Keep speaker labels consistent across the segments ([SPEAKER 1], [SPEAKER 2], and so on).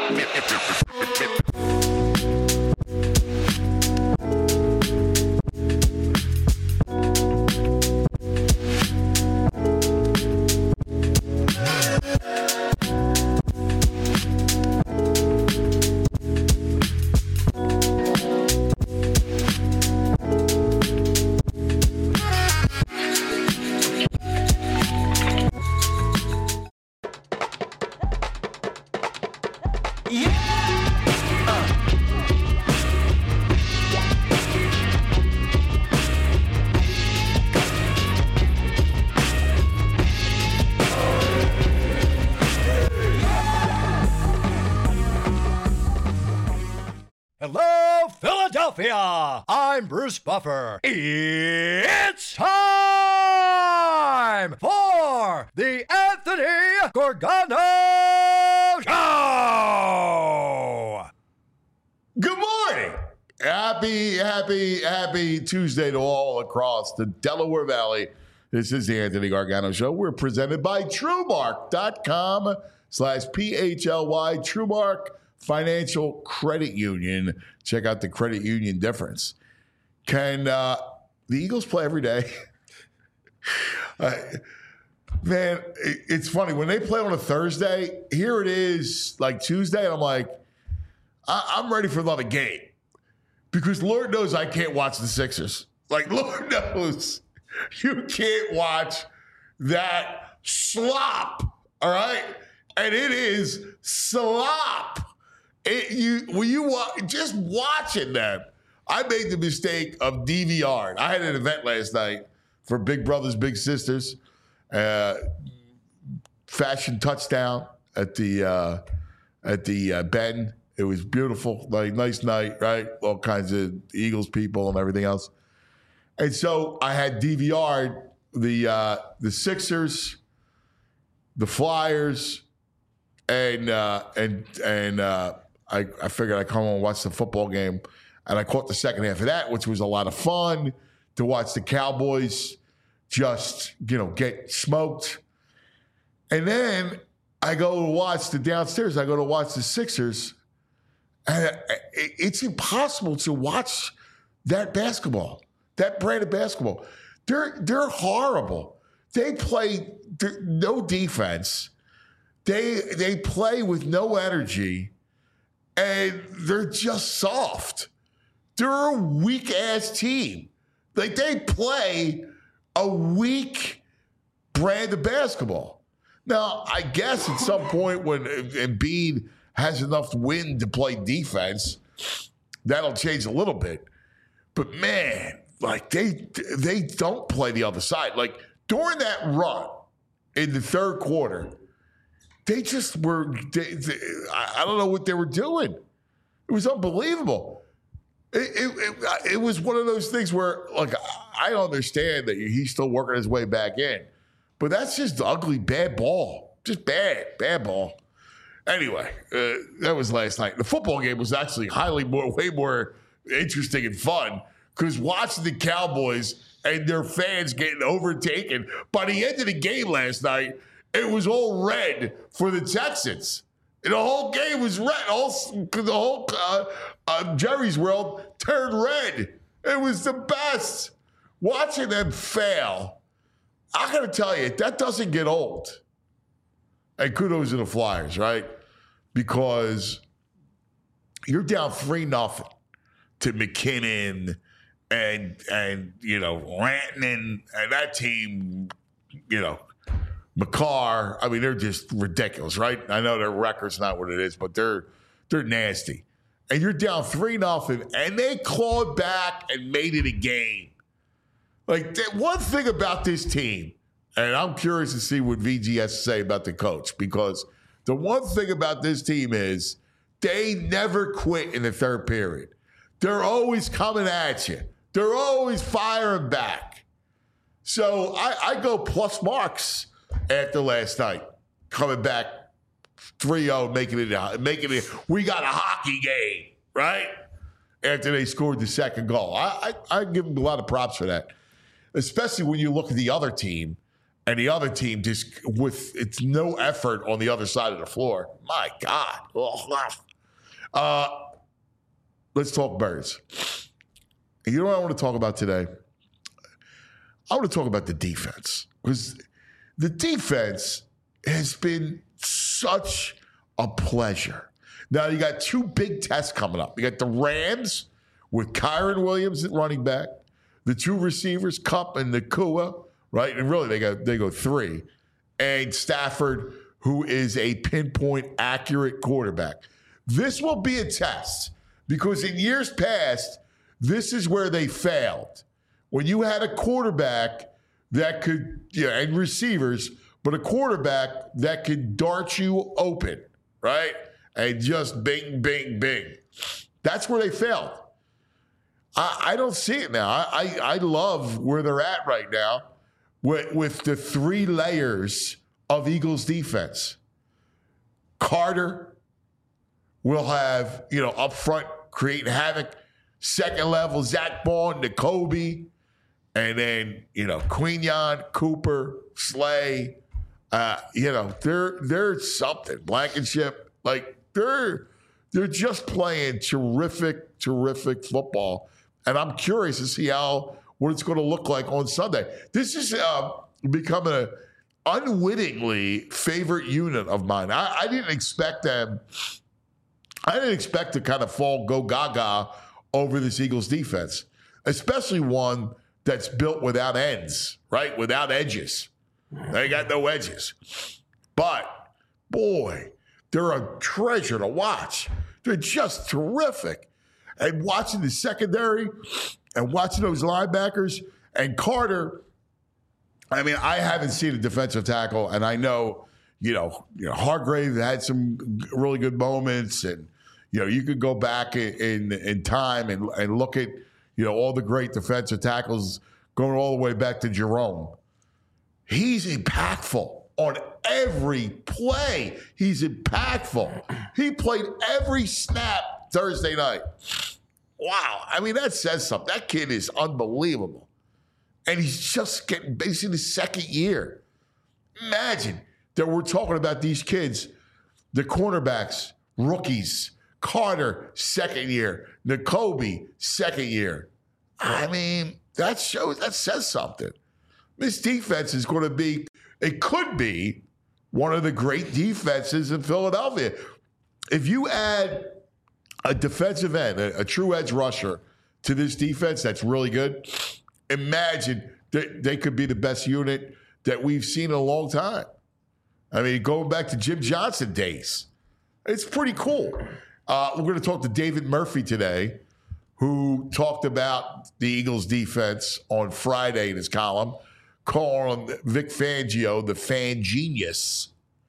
[SPEAKER 1] Hello, Philadelphia! I'm Bruce Buffer. It's time for the Anthony Gorgano Show!
[SPEAKER 2] Good morning! Happy Tuesday to all across the Delaware Valley. This is the Anthony Gargano Show. We're presented by TrueMark.com/PHLY. TrueMark Financial Credit Union. Check out the credit union difference. Can the Eagles play every day? Man, it's funny. When they play on a Thursday, here it is like Tuesday, and I'm like, I'm ready for another game. Because Lord knows I can't watch the Sixers. Like, Lord knows you can't watch that slop, all right? And it is slop. Just watching them. I made the mistake of DVRing. I had an event last night for Big Brothers Big Sisters, fashion touchdown at the Bend. It was beautiful, like nice night, right? All kinds of Eagles people and everything else. And so I had DVR'd the Sixers, the Flyers, and I figured I'd come home and watch the football game. And I caught the second half of that, which was a lot of fun to watch the Cowboys just, get smoked. And then I go to watch the Sixers. And it's impossible to watch that basketball, that brand of basketball. They're horrible. They play no defense. They play with no energy. And they're just soft. They're a weak-ass team. Like, they play a weak brand of basketball. Now, I guess at some point when Embiid has enough wind to play defense, that'll change a little bit. But, man, like, they don't play the other side. Like, during that run in the third quarter, they just were, I don't know what they were doing. It was unbelievable. It was one of those things where, like, I understand that he's still working his way back in. But that's just ugly, bad ball. Just bad ball. Anyway, that was last night. The football game was actually way more interesting and fun because watching the Cowboys and their fans getting overtaken. By the end of the game last night, it was all red for the Texans. And the whole game was red. The whole Jerry's World turned red. It was the best. Watching them fail, I got to tell you, that doesn't get old. And kudos to the Flyers, right? Because you're down 3-0 to McKinnon and Rantanen and that team, McCarr, I mean, they're just ridiculous, right? I know their record's not what it is, but they're nasty. And you're down 3-0, and they clawed back and made it a game. Like, one thing about this team, and I'm curious to see what VG has to say about the coach, because the one thing about this team is they never quit in the third period. They're always coming at you. They're always firing back. So I go plus marks after last night, coming back 3-0, making it. We got a hockey game, right? After they scored the second goal. I give them a lot of props for that, especially when you look at the other team and the other team just with it's no effort on the other side of the floor. My God. Let's talk Birds. And you know what I want to talk about today? I want to talk about the defense, because the defense has been such a pleasure. Now, you got two big tests coming up. You got the Rams with Kyron Williams at running back, the two receivers, Kupp and Nacua, right? And really, they go three. And Stafford, who is a pinpoint accurate quarterback. This will be a test, because in years past, this is where they failed. When you had a quarterback that could, and receivers, but a quarterback that could dart you open, right? And just bing, bing, bing. That's where they failed. I don't see it now. I love where they're at right now with the three layers of Eagles defense. Carter will have, up front, creating havoc. Second level, Zach Bond, N'Kobe. And then, Quinyon, Cooper, Slay. They're something. Blankenship. Like, they're just playing terrific, terrific football. And I'm curious to see what it's going to look like on Sunday. This is becoming an unwittingly favorite unit of mine. I didn't expect them. I didn't expect to kind of go gaga over this Eagles defense, especially one that's built without ends, right? Without edges. They got no edges. But, boy, they're a treasure to watch. They're just terrific. And watching the secondary and watching those linebackers and Carter, I mean, I haven't seen a defensive tackle, and I know, Hargrave had some really good moments, and, you could go back in time and look at, all the great defensive tackles going all the way back to Jerome. He's impactful on every play. He's impactful. He played every snap Thursday night. Wow. I mean, that says something. That kid is unbelievable. And he's just getting basically his second year. Imagine that we're talking about these kids, the cornerbacks, rookies, Carter, second year, N'Kobe, second year. I mean, that says something. This defense is going to be, it could be one of the great defenses in Philadelphia. If you add a defensive end, a true edge rusher to this defense that's really good, imagine that they could be the best unit that we've seen in a long time. I mean, going back to Jim Johnson days, it's pretty cool. We're going to talk to David Murphy today, who talked about the Eagles defense on Friday in his column, calling Vic Fangio the fan genius.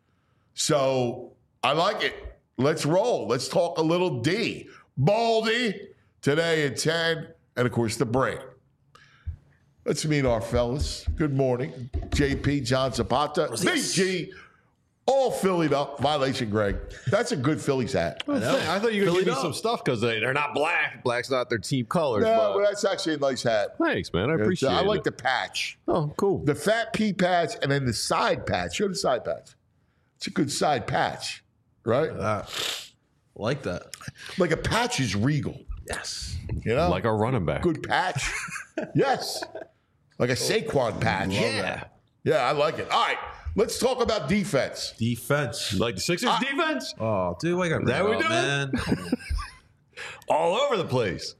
[SPEAKER 2] So I like it. Let's roll. Let's talk a little D. Baldy today at 10, and of course the break. Let's meet our fellas. Good morning. JP, John Zapata, BG, all Phillied up. Violation, Greg. That's a good Phillies hat.
[SPEAKER 3] I thought you were going to give me some stuff because they're not black. Black's not their team colors.
[SPEAKER 2] No, but that's actually a nice hat.
[SPEAKER 3] Thanks, man. I appreciate it.
[SPEAKER 2] I like the patch.
[SPEAKER 3] Oh, cool.
[SPEAKER 2] The fat pea patch and then the side patch. Show the side patch. It's a good side patch, right?
[SPEAKER 4] Like that.
[SPEAKER 2] Like a patch is regal.
[SPEAKER 4] Yes.
[SPEAKER 3] Like a running back.
[SPEAKER 2] Good patch. Yes. Like a Saquon patch.
[SPEAKER 3] Yeah.
[SPEAKER 2] Yeah, I like it. All right. Let's talk about defense.
[SPEAKER 4] Defense.
[SPEAKER 3] Like the Sixers defense?
[SPEAKER 4] Oh, dude, I got
[SPEAKER 3] that we
[SPEAKER 4] up,
[SPEAKER 3] doing?
[SPEAKER 4] man.
[SPEAKER 3] All over the place.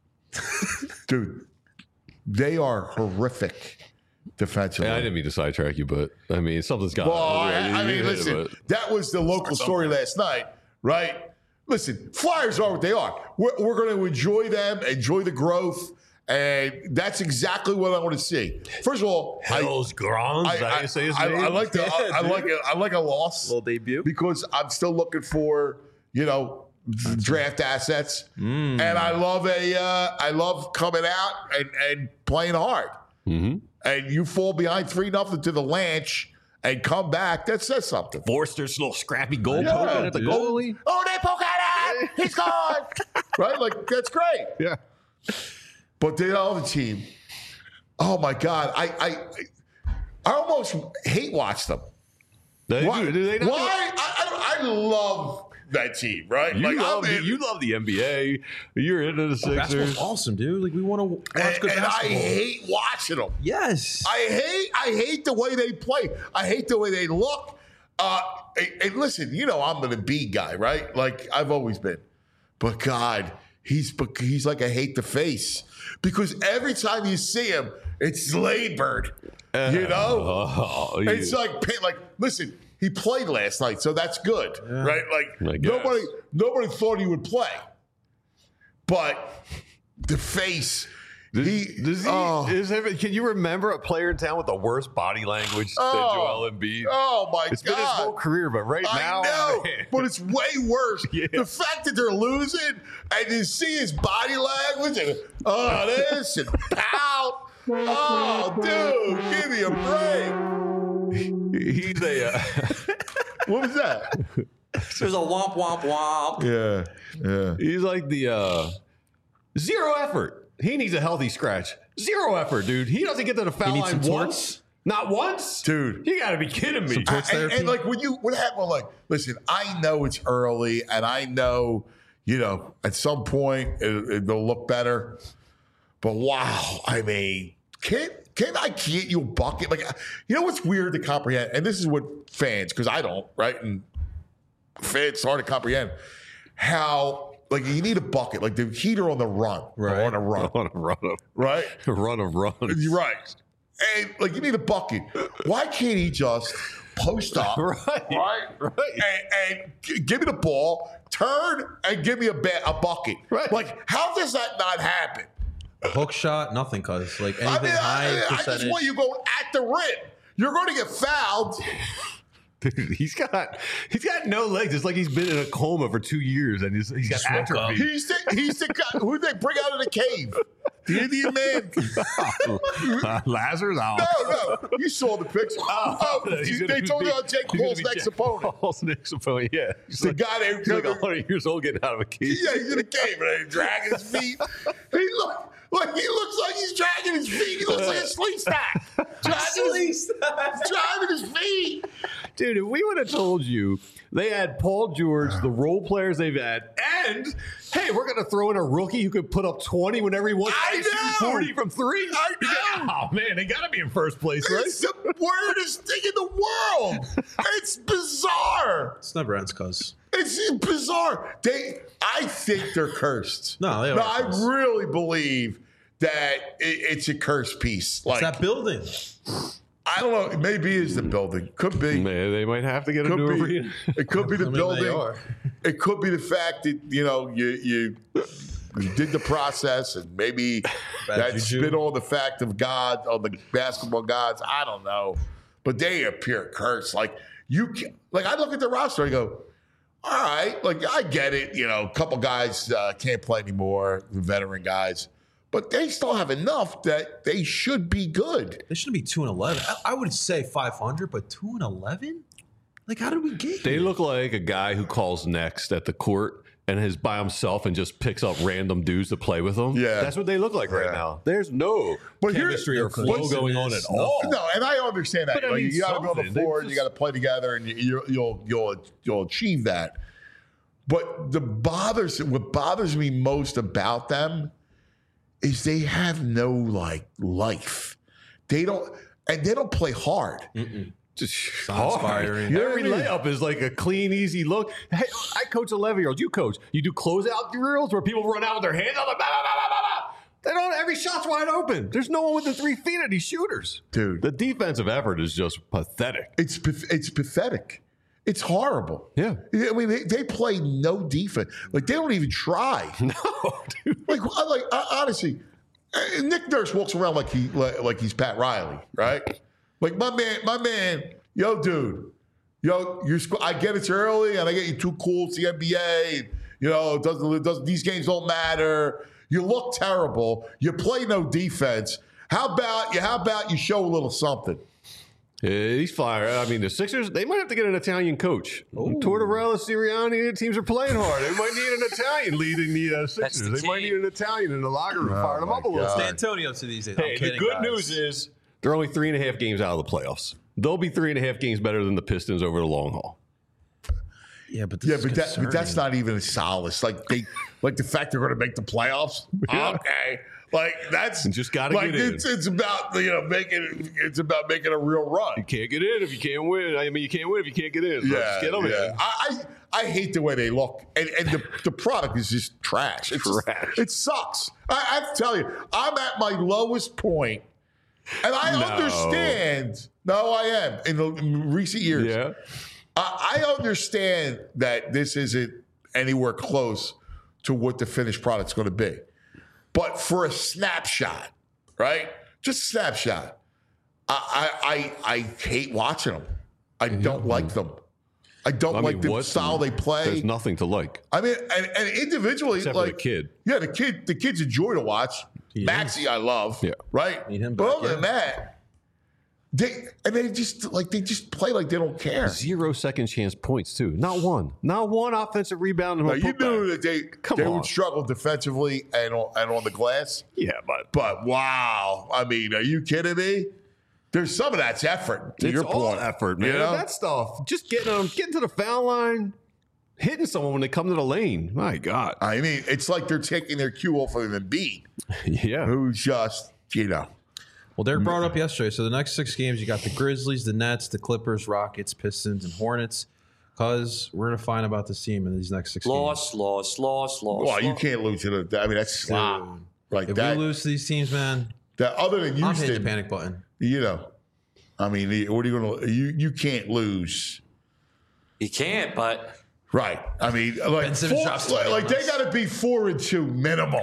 [SPEAKER 2] Dude, they are horrific defensively.
[SPEAKER 3] I didn't mean to sidetrack you, but I mean, something's got
[SPEAKER 2] Well, I mean, listen, that was the local story last night, right? Listen, Flyers are what they are. We're going to enjoy them, enjoy the growth, and that's exactly what I want to see. First of all,
[SPEAKER 3] Hell's Grons.
[SPEAKER 2] I like a loss,
[SPEAKER 4] Little debut.
[SPEAKER 2] because I'm still looking for draft assets, and I love coming out and playing hard.
[SPEAKER 3] Mm-hmm.
[SPEAKER 2] And you fall behind 3-0 to the Lanch and come back. That says something.
[SPEAKER 3] Forster's little scrappy goal poking at the goalie.
[SPEAKER 2] Oh, they poke at him. He's gone. Right? Like, that's great.
[SPEAKER 3] Yeah.
[SPEAKER 2] But the other team, oh my God, I almost hate watch them.
[SPEAKER 3] Do they not?
[SPEAKER 2] Why? I love that team, right?
[SPEAKER 3] You love the NBA. You're into the Sixers.
[SPEAKER 4] Basketball's awesome, dude. Like we want to watch good
[SPEAKER 2] and I
[SPEAKER 4] basketball.
[SPEAKER 2] hate watching them.
[SPEAKER 4] Yes.
[SPEAKER 2] I hate the way they play. I hate the way they look. And listen, I'm an Embiid guy, right? Like I've always been. But God, he's like I hate the face because every time you see him, it's Laidbird. It's like listen. He played last night, so that's good, right? Like nobody thought he would play, but the face.
[SPEAKER 3] Can you remember a player in town with the worst body language than Joel Embiid?
[SPEAKER 2] Oh my God!
[SPEAKER 3] It's been his whole career, but now,
[SPEAKER 2] I know,
[SPEAKER 3] man.
[SPEAKER 2] but it's way worse.
[SPEAKER 3] Yeah.
[SPEAKER 2] The fact that they're losing and you see his body language and this and pout. Oh, dude, give me a break.
[SPEAKER 3] He's a.
[SPEAKER 2] What was that?
[SPEAKER 5] There's a womp womp womp.
[SPEAKER 2] Yeah.
[SPEAKER 3] He's like the zero effort. He needs a healthy scratch. Zero effort, dude. He doesn't get to the foul
[SPEAKER 4] needs
[SPEAKER 3] line
[SPEAKER 4] some
[SPEAKER 3] once. Not once,
[SPEAKER 2] dude.
[SPEAKER 3] You got to be kidding me.
[SPEAKER 2] And like what happened? Like, listen, I know it's early, and I know at some point they'll look better. But wow, I mean, can I get you a bucket? Like, what's weird to comprehend, and this is what fans, because I don't, right? And fans hard to comprehend how. Like you need a bucket, like the Heat are on the run,
[SPEAKER 4] right?
[SPEAKER 3] On a run of
[SPEAKER 2] right,
[SPEAKER 3] a run of runs,
[SPEAKER 2] You're right? And like you need a bucket. Why can't he just post up, right, and give me the ball, turn, and give me a bucket?
[SPEAKER 3] Right.
[SPEAKER 2] Like how does that not happen?
[SPEAKER 4] A hook shot, nothing, cuz like anything high
[SPEAKER 2] I
[SPEAKER 4] percentage.
[SPEAKER 2] just want you going at the rim. You're going to get fouled.
[SPEAKER 3] Dude, he's got no legs. It's like he's been in a coma for 2 years, and he's got atrophy.
[SPEAKER 2] He's the guy who they bring out of the cave. The Indian man.
[SPEAKER 3] Lazarus?
[SPEAKER 2] No. You saw the picture. They told you on Jake Paul's next opponent.
[SPEAKER 3] Paul's next opponent, yeah.
[SPEAKER 2] He's the guy that
[SPEAKER 3] he's like 100 years old getting out of a cage.
[SPEAKER 2] Yeah, he's in a cave and he's dragging his feet. He looks like he's dragging his feet. He looks like a sleep stack. Driving his feet.
[SPEAKER 3] Dude, if we would have told you they had Paul George, the role players they've had, and hey, we're going to throw in a rookie who could put up 20 whenever he wants.
[SPEAKER 2] I know.
[SPEAKER 3] 40 from three.
[SPEAKER 2] I know.
[SPEAKER 3] Oh man, they got to be in first place, right?
[SPEAKER 2] It's the weirdest thing in the world. It's bizarre.
[SPEAKER 4] It's never ends, cuz.
[SPEAKER 2] It's bizarre. I think they're cursed.
[SPEAKER 4] No, they are
[SPEAKER 2] I
[SPEAKER 4] cursed.
[SPEAKER 2] really believe that it's a cursed piece. Like
[SPEAKER 4] It's that building.
[SPEAKER 2] I don't know. Maybe it's the building. Could be.
[SPEAKER 3] Man, they might have to get a new arena.
[SPEAKER 2] It could be the
[SPEAKER 4] I mean, they
[SPEAKER 2] building.
[SPEAKER 4] are.
[SPEAKER 2] It could be the fact that you did the process, and maybe that's
[SPEAKER 4] juju.
[SPEAKER 2] been on the fact of God, on the basketball gods. I don't know, but they appear cursed. Like I look at the roster, I go, all right, like I get it. A couple guys can't play anymore, the veteran guys. But they still have enough that they should be good.
[SPEAKER 4] They shouldn't be 2-11. I would say 500, but 2-11? Like, how did we get
[SPEAKER 3] They
[SPEAKER 4] here?
[SPEAKER 3] look like a guy who calls next at the court and is by himself and just picks up random dudes to play with him.
[SPEAKER 2] Yeah.
[SPEAKER 3] That's what they look like right now. There's no chemistry or flow going on at all.
[SPEAKER 2] No, and I understand that.
[SPEAKER 3] But I mean,
[SPEAKER 2] you got to be on the
[SPEAKER 3] something.
[SPEAKER 2] floor,
[SPEAKER 3] They
[SPEAKER 2] you got to play together, and you'll achieve that. But what bothers me most about them is they have no life. They don't play hard.
[SPEAKER 3] Just
[SPEAKER 4] Sounds inspiring.
[SPEAKER 2] You know what
[SPEAKER 3] Every
[SPEAKER 2] I mean?
[SPEAKER 3] layup is like a clean, easy look. Hey, I coach 11-year-olds. You coach. You do closeout drills where people run out with their hands on the blah, blah, blah, blah, blah. They don't. Every shot's wide open. There's no one within 3 feet of these shooters.
[SPEAKER 2] Dude.
[SPEAKER 3] The defensive effort is just pathetic.
[SPEAKER 2] It's pathetic. It's horrible.
[SPEAKER 3] Yeah.
[SPEAKER 2] I mean, they play no defense. Like they don't even try.
[SPEAKER 3] No, dude.
[SPEAKER 2] Honestly, Nick Nurse walks around like he's Pat Riley, right? Like my man, yo, dude, I get it's early and I get you too cool. It's the NBA. It doesn't. These games don't matter. You look terrible. You play no defense. How about you show a little something?
[SPEAKER 3] He's fire. I mean, the Sixers, they might have to get an Italian coach. Tortorella, Sirianni, the teams are playing hard. They might need an Italian leading the Sixers.
[SPEAKER 5] the
[SPEAKER 3] They might
[SPEAKER 5] team.
[SPEAKER 3] need an Italian in the locker room, fire them up a little.
[SPEAKER 5] It's D'Antonio to these days.
[SPEAKER 3] Hey,
[SPEAKER 5] I'm kidding,
[SPEAKER 3] the good
[SPEAKER 5] guys.
[SPEAKER 3] news is They're only 3.5 games out of the playoffs. They'll be 3.5 games better than the Pistons over the long haul.
[SPEAKER 4] Yeah, but
[SPEAKER 2] but that's not even a solace. Like the fact they're going to make the playoffs.
[SPEAKER 3] Yeah.
[SPEAKER 2] Okay, like that's
[SPEAKER 3] Just gotta
[SPEAKER 2] like
[SPEAKER 3] get in.
[SPEAKER 2] it's about making a real run.
[SPEAKER 3] You can't get in if you can't win. I mean, you can't win if you can't get in. So just get them in.
[SPEAKER 2] I hate the way they look, and the product is just trash. It's
[SPEAKER 3] Trash.
[SPEAKER 2] It sucks. I tell you, I'm at my lowest point, and I understand. No, I am in recent years.
[SPEAKER 3] Yeah.
[SPEAKER 2] I understand that this isn't anywhere close to what the finished product's going to be. But for a snapshot, right? Just a snapshot. I hate watching them. I don't like them. I don't like the style they play.
[SPEAKER 3] There's nothing to like.
[SPEAKER 2] I mean, and individually,
[SPEAKER 3] Except
[SPEAKER 2] like
[SPEAKER 3] for the kid.
[SPEAKER 2] Yeah, the kids enjoy to watch. Maxie, I love.
[SPEAKER 3] Yeah.
[SPEAKER 2] Right.
[SPEAKER 4] Need him
[SPEAKER 2] But
[SPEAKER 4] back,
[SPEAKER 2] other than that, they just play like they don't care.
[SPEAKER 3] 0 second chance points too. Not one offensive rebound.
[SPEAKER 2] Now, you knew that they
[SPEAKER 3] on.
[SPEAKER 2] would struggle defensively and on the glass.
[SPEAKER 3] Yeah,
[SPEAKER 2] But wow, I mean, are you kidding me? There's some of that's effort. To
[SPEAKER 3] it's
[SPEAKER 2] your
[SPEAKER 3] all
[SPEAKER 2] point,
[SPEAKER 3] effort, man.
[SPEAKER 2] You know?
[SPEAKER 3] That stuff, just getting to the foul line, hitting someone when they come to the lane. My God.
[SPEAKER 2] I mean, it's like they're taking their cue off of Embiid,
[SPEAKER 3] Yeah.
[SPEAKER 2] who's just
[SPEAKER 4] Well, Derek brought it up yesterday. So the next 6 games, you got the Grizzlies, the Nets, the Clippers, Rockets, Pistons, and Hornets. Because we're going to find about this team in these next 6 games.
[SPEAKER 5] Loss.
[SPEAKER 2] Well, you can't lose to the. I mean, that's slop. Like
[SPEAKER 4] If
[SPEAKER 2] that.
[SPEAKER 4] we lose to these teams, man,
[SPEAKER 2] That other than
[SPEAKER 4] I'm hitting the
[SPEAKER 2] Houston,
[SPEAKER 4] panic button.
[SPEAKER 2] I mean, what are you going to? You can't lose.
[SPEAKER 5] You can't, but
[SPEAKER 2] Right. I mean, like,
[SPEAKER 4] Ben Simmons drops 20
[SPEAKER 2] like
[SPEAKER 4] on
[SPEAKER 2] they
[SPEAKER 4] us.
[SPEAKER 2] got to be 4-2 minimum.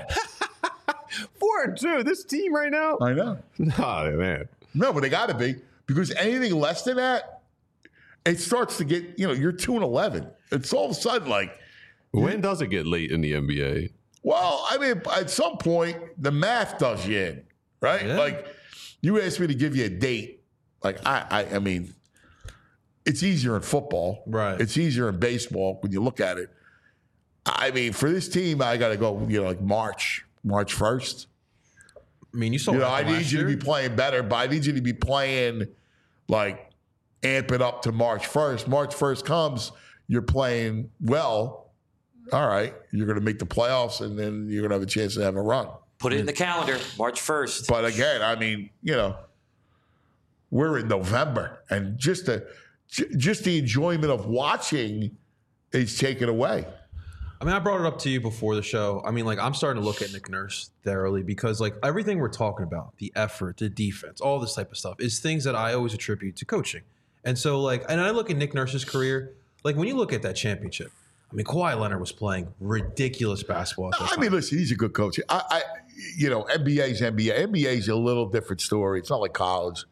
[SPEAKER 3] 4-2. This team right now.
[SPEAKER 2] I know.
[SPEAKER 3] Oh, man.
[SPEAKER 2] No, but they got to be, because anything less than that, it starts to get, you're 2-11. It's all of a sudden like,
[SPEAKER 3] When does it get late in the NBA?
[SPEAKER 2] well, I mean, at some point, the math does you in, right?
[SPEAKER 4] Yeah.
[SPEAKER 2] Like, you asked me to give you a date. Like, I mean, it's easier in football.
[SPEAKER 4] Right.
[SPEAKER 2] It's easier in baseball when you look at it. I mean, for this team, I got to go, like March 1st.
[SPEAKER 4] I mean, you saw
[SPEAKER 2] I need you to be playing better, but I need you to be playing, like, amp it up to March 1st. March 1st comes, you're playing well. All right, you're going to make the playoffs, and then you're going to have a chance to have a run.
[SPEAKER 5] put it in the calendar, March 1st.
[SPEAKER 2] But again, I mean, we're in November, and just the enjoyment of watching is taken away.
[SPEAKER 4] I mean, I brought it up to you before the show. I mean, like, I'm starting to look at Nick Nurse thoroughly because, like, everything we're talking about, the effort, the defense, all this type of stuff, is things that I always attribute to coaching. And so, like, and I look at Nick Nurse's career, like, when you look at that championship, I mean, Kawhi Leonard was playing ridiculous basketball at that
[SPEAKER 2] I
[SPEAKER 4] time.
[SPEAKER 2] mean, listen, he's a good coach. NBA's NBA. NBA's a little different story. It's not like college,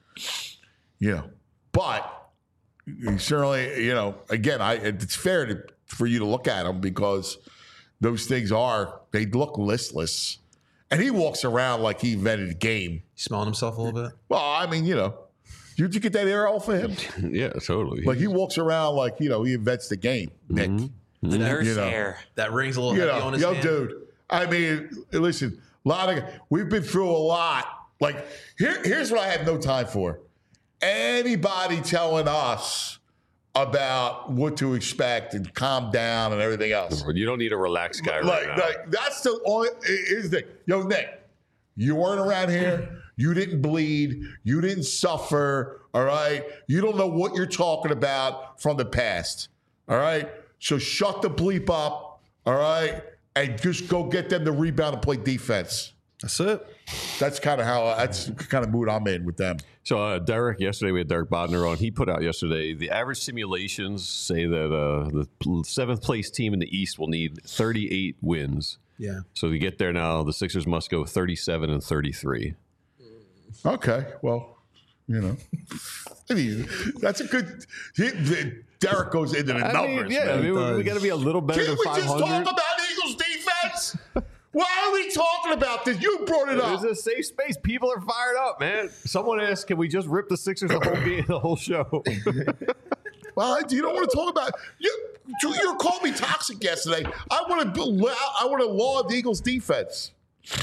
[SPEAKER 2] But he certainly, again, it's fair for you to look at him because those things they look listless. And he walks around like he invented the game.
[SPEAKER 4] He's smelling himself a little bit.
[SPEAKER 2] Well, I mean, did you get that air off of him?
[SPEAKER 3] Yeah, totally.
[SPEAKER 2] Like he walks around like, he invents the game, Nick.
[SPEAKER 5] The nurse hair.
[SPEAKER 4] That ring's a little heavy on his hand.
[SPEAKER 2] Dude. I mean, listen, we've been through a lot. Like, here's what I have no time for. Anybody telling us about what to expect and calm down and everything else.
[SPEAKER 3] You don't need a relaxed guy right now.
[SPEAKER 2] Like that's the only is the yo, Nick, you weren't around here. You didn't bleed. You didn't suffer. All right. You don't know what you're talking about from the past. All right. So shut the bleep up. All right. And just go get them to rebound and play defense.
[SPEAKER 4] That's it.
[SPEAKER 2] That's kind of mood I'm in with them.
[SPEAKER 3] So yesterday we had Derek Bodner on. He put out yesterday, the average simulations say that the seventh place team in the East will need 38 wins.
[SPEAKER 4] Yeah.
[SPEAKER 3] So to get there now, the Sixers must go 37 and 33.
[SPEAKER 2] Okay. Well, I mean, that's a good. Derek goes into the numbers.
[SPEAKER 3] We got to be a little better
[SPEAKER 2] Can't
[SPEAKER 3] than
[SPEAKER 2] we
[SPEAKER 3] 500.
[SPEAKER 2] just talk about Eagles defense? Why are we talking about this? You brought it up.
[SPEAKER 3] There's a safe space. People are fired up, man. Someone asked, "Can we just rip the Sixers the whole game, the whole show?"
[SPEAKER 2] Well, you don't want to talk about you called me toxic yesterday. I want to laud the Eagles defense.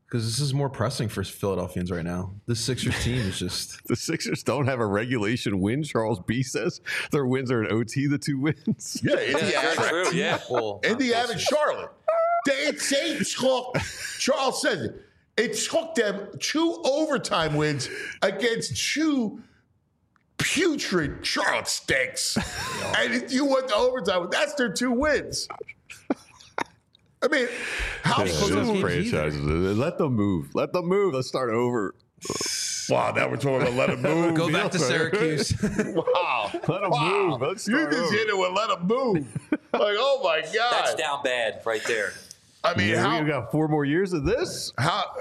[SPEAKER 4] Because this is more pressing for Philadelphians right now. The Sixers team is just...
[SPEAKER 3] The Sixers don't have a regulation win, Charles B says. Their wins are in OT, the 2 wins.
[SPEAKER 2] Yeah,
[SPEAKER 5] That's
[SPEAKER 2] Indiana,
[SPEAKER 5] true. Yeah.
[SPEAKER 4] Well,
[SPEAKER 2] Indiana and Charlotte. They took, Charles says it took them 2 overtime wins against 2 putrid Charlotte stinks. And if you went to overtime, that's their 2 wins. I mean, how soon?
[SPEAKER 3] Franchises. Let them move. Let them move. Let's start over.
[SPEAKER 2] Wow, now we're talking about let them move.
[SPEAKER 4] Go back to Syracuse.
[SPEAKER 2] Wow.
[SPEAKER 3] Let them move. Let's
[SPEAKER 2] You
[SPEAKER 3] start
[SPEAKER 2] just
[SPEAKER 3] over.
[SPEAKER 2] hit it with let them move. Like, oh my God.
[SPEAKER 5] That's down bad right there.
[SPEAKER 2] I mean,
[SPEAKER 3] Yeah, we got 4 more years of this.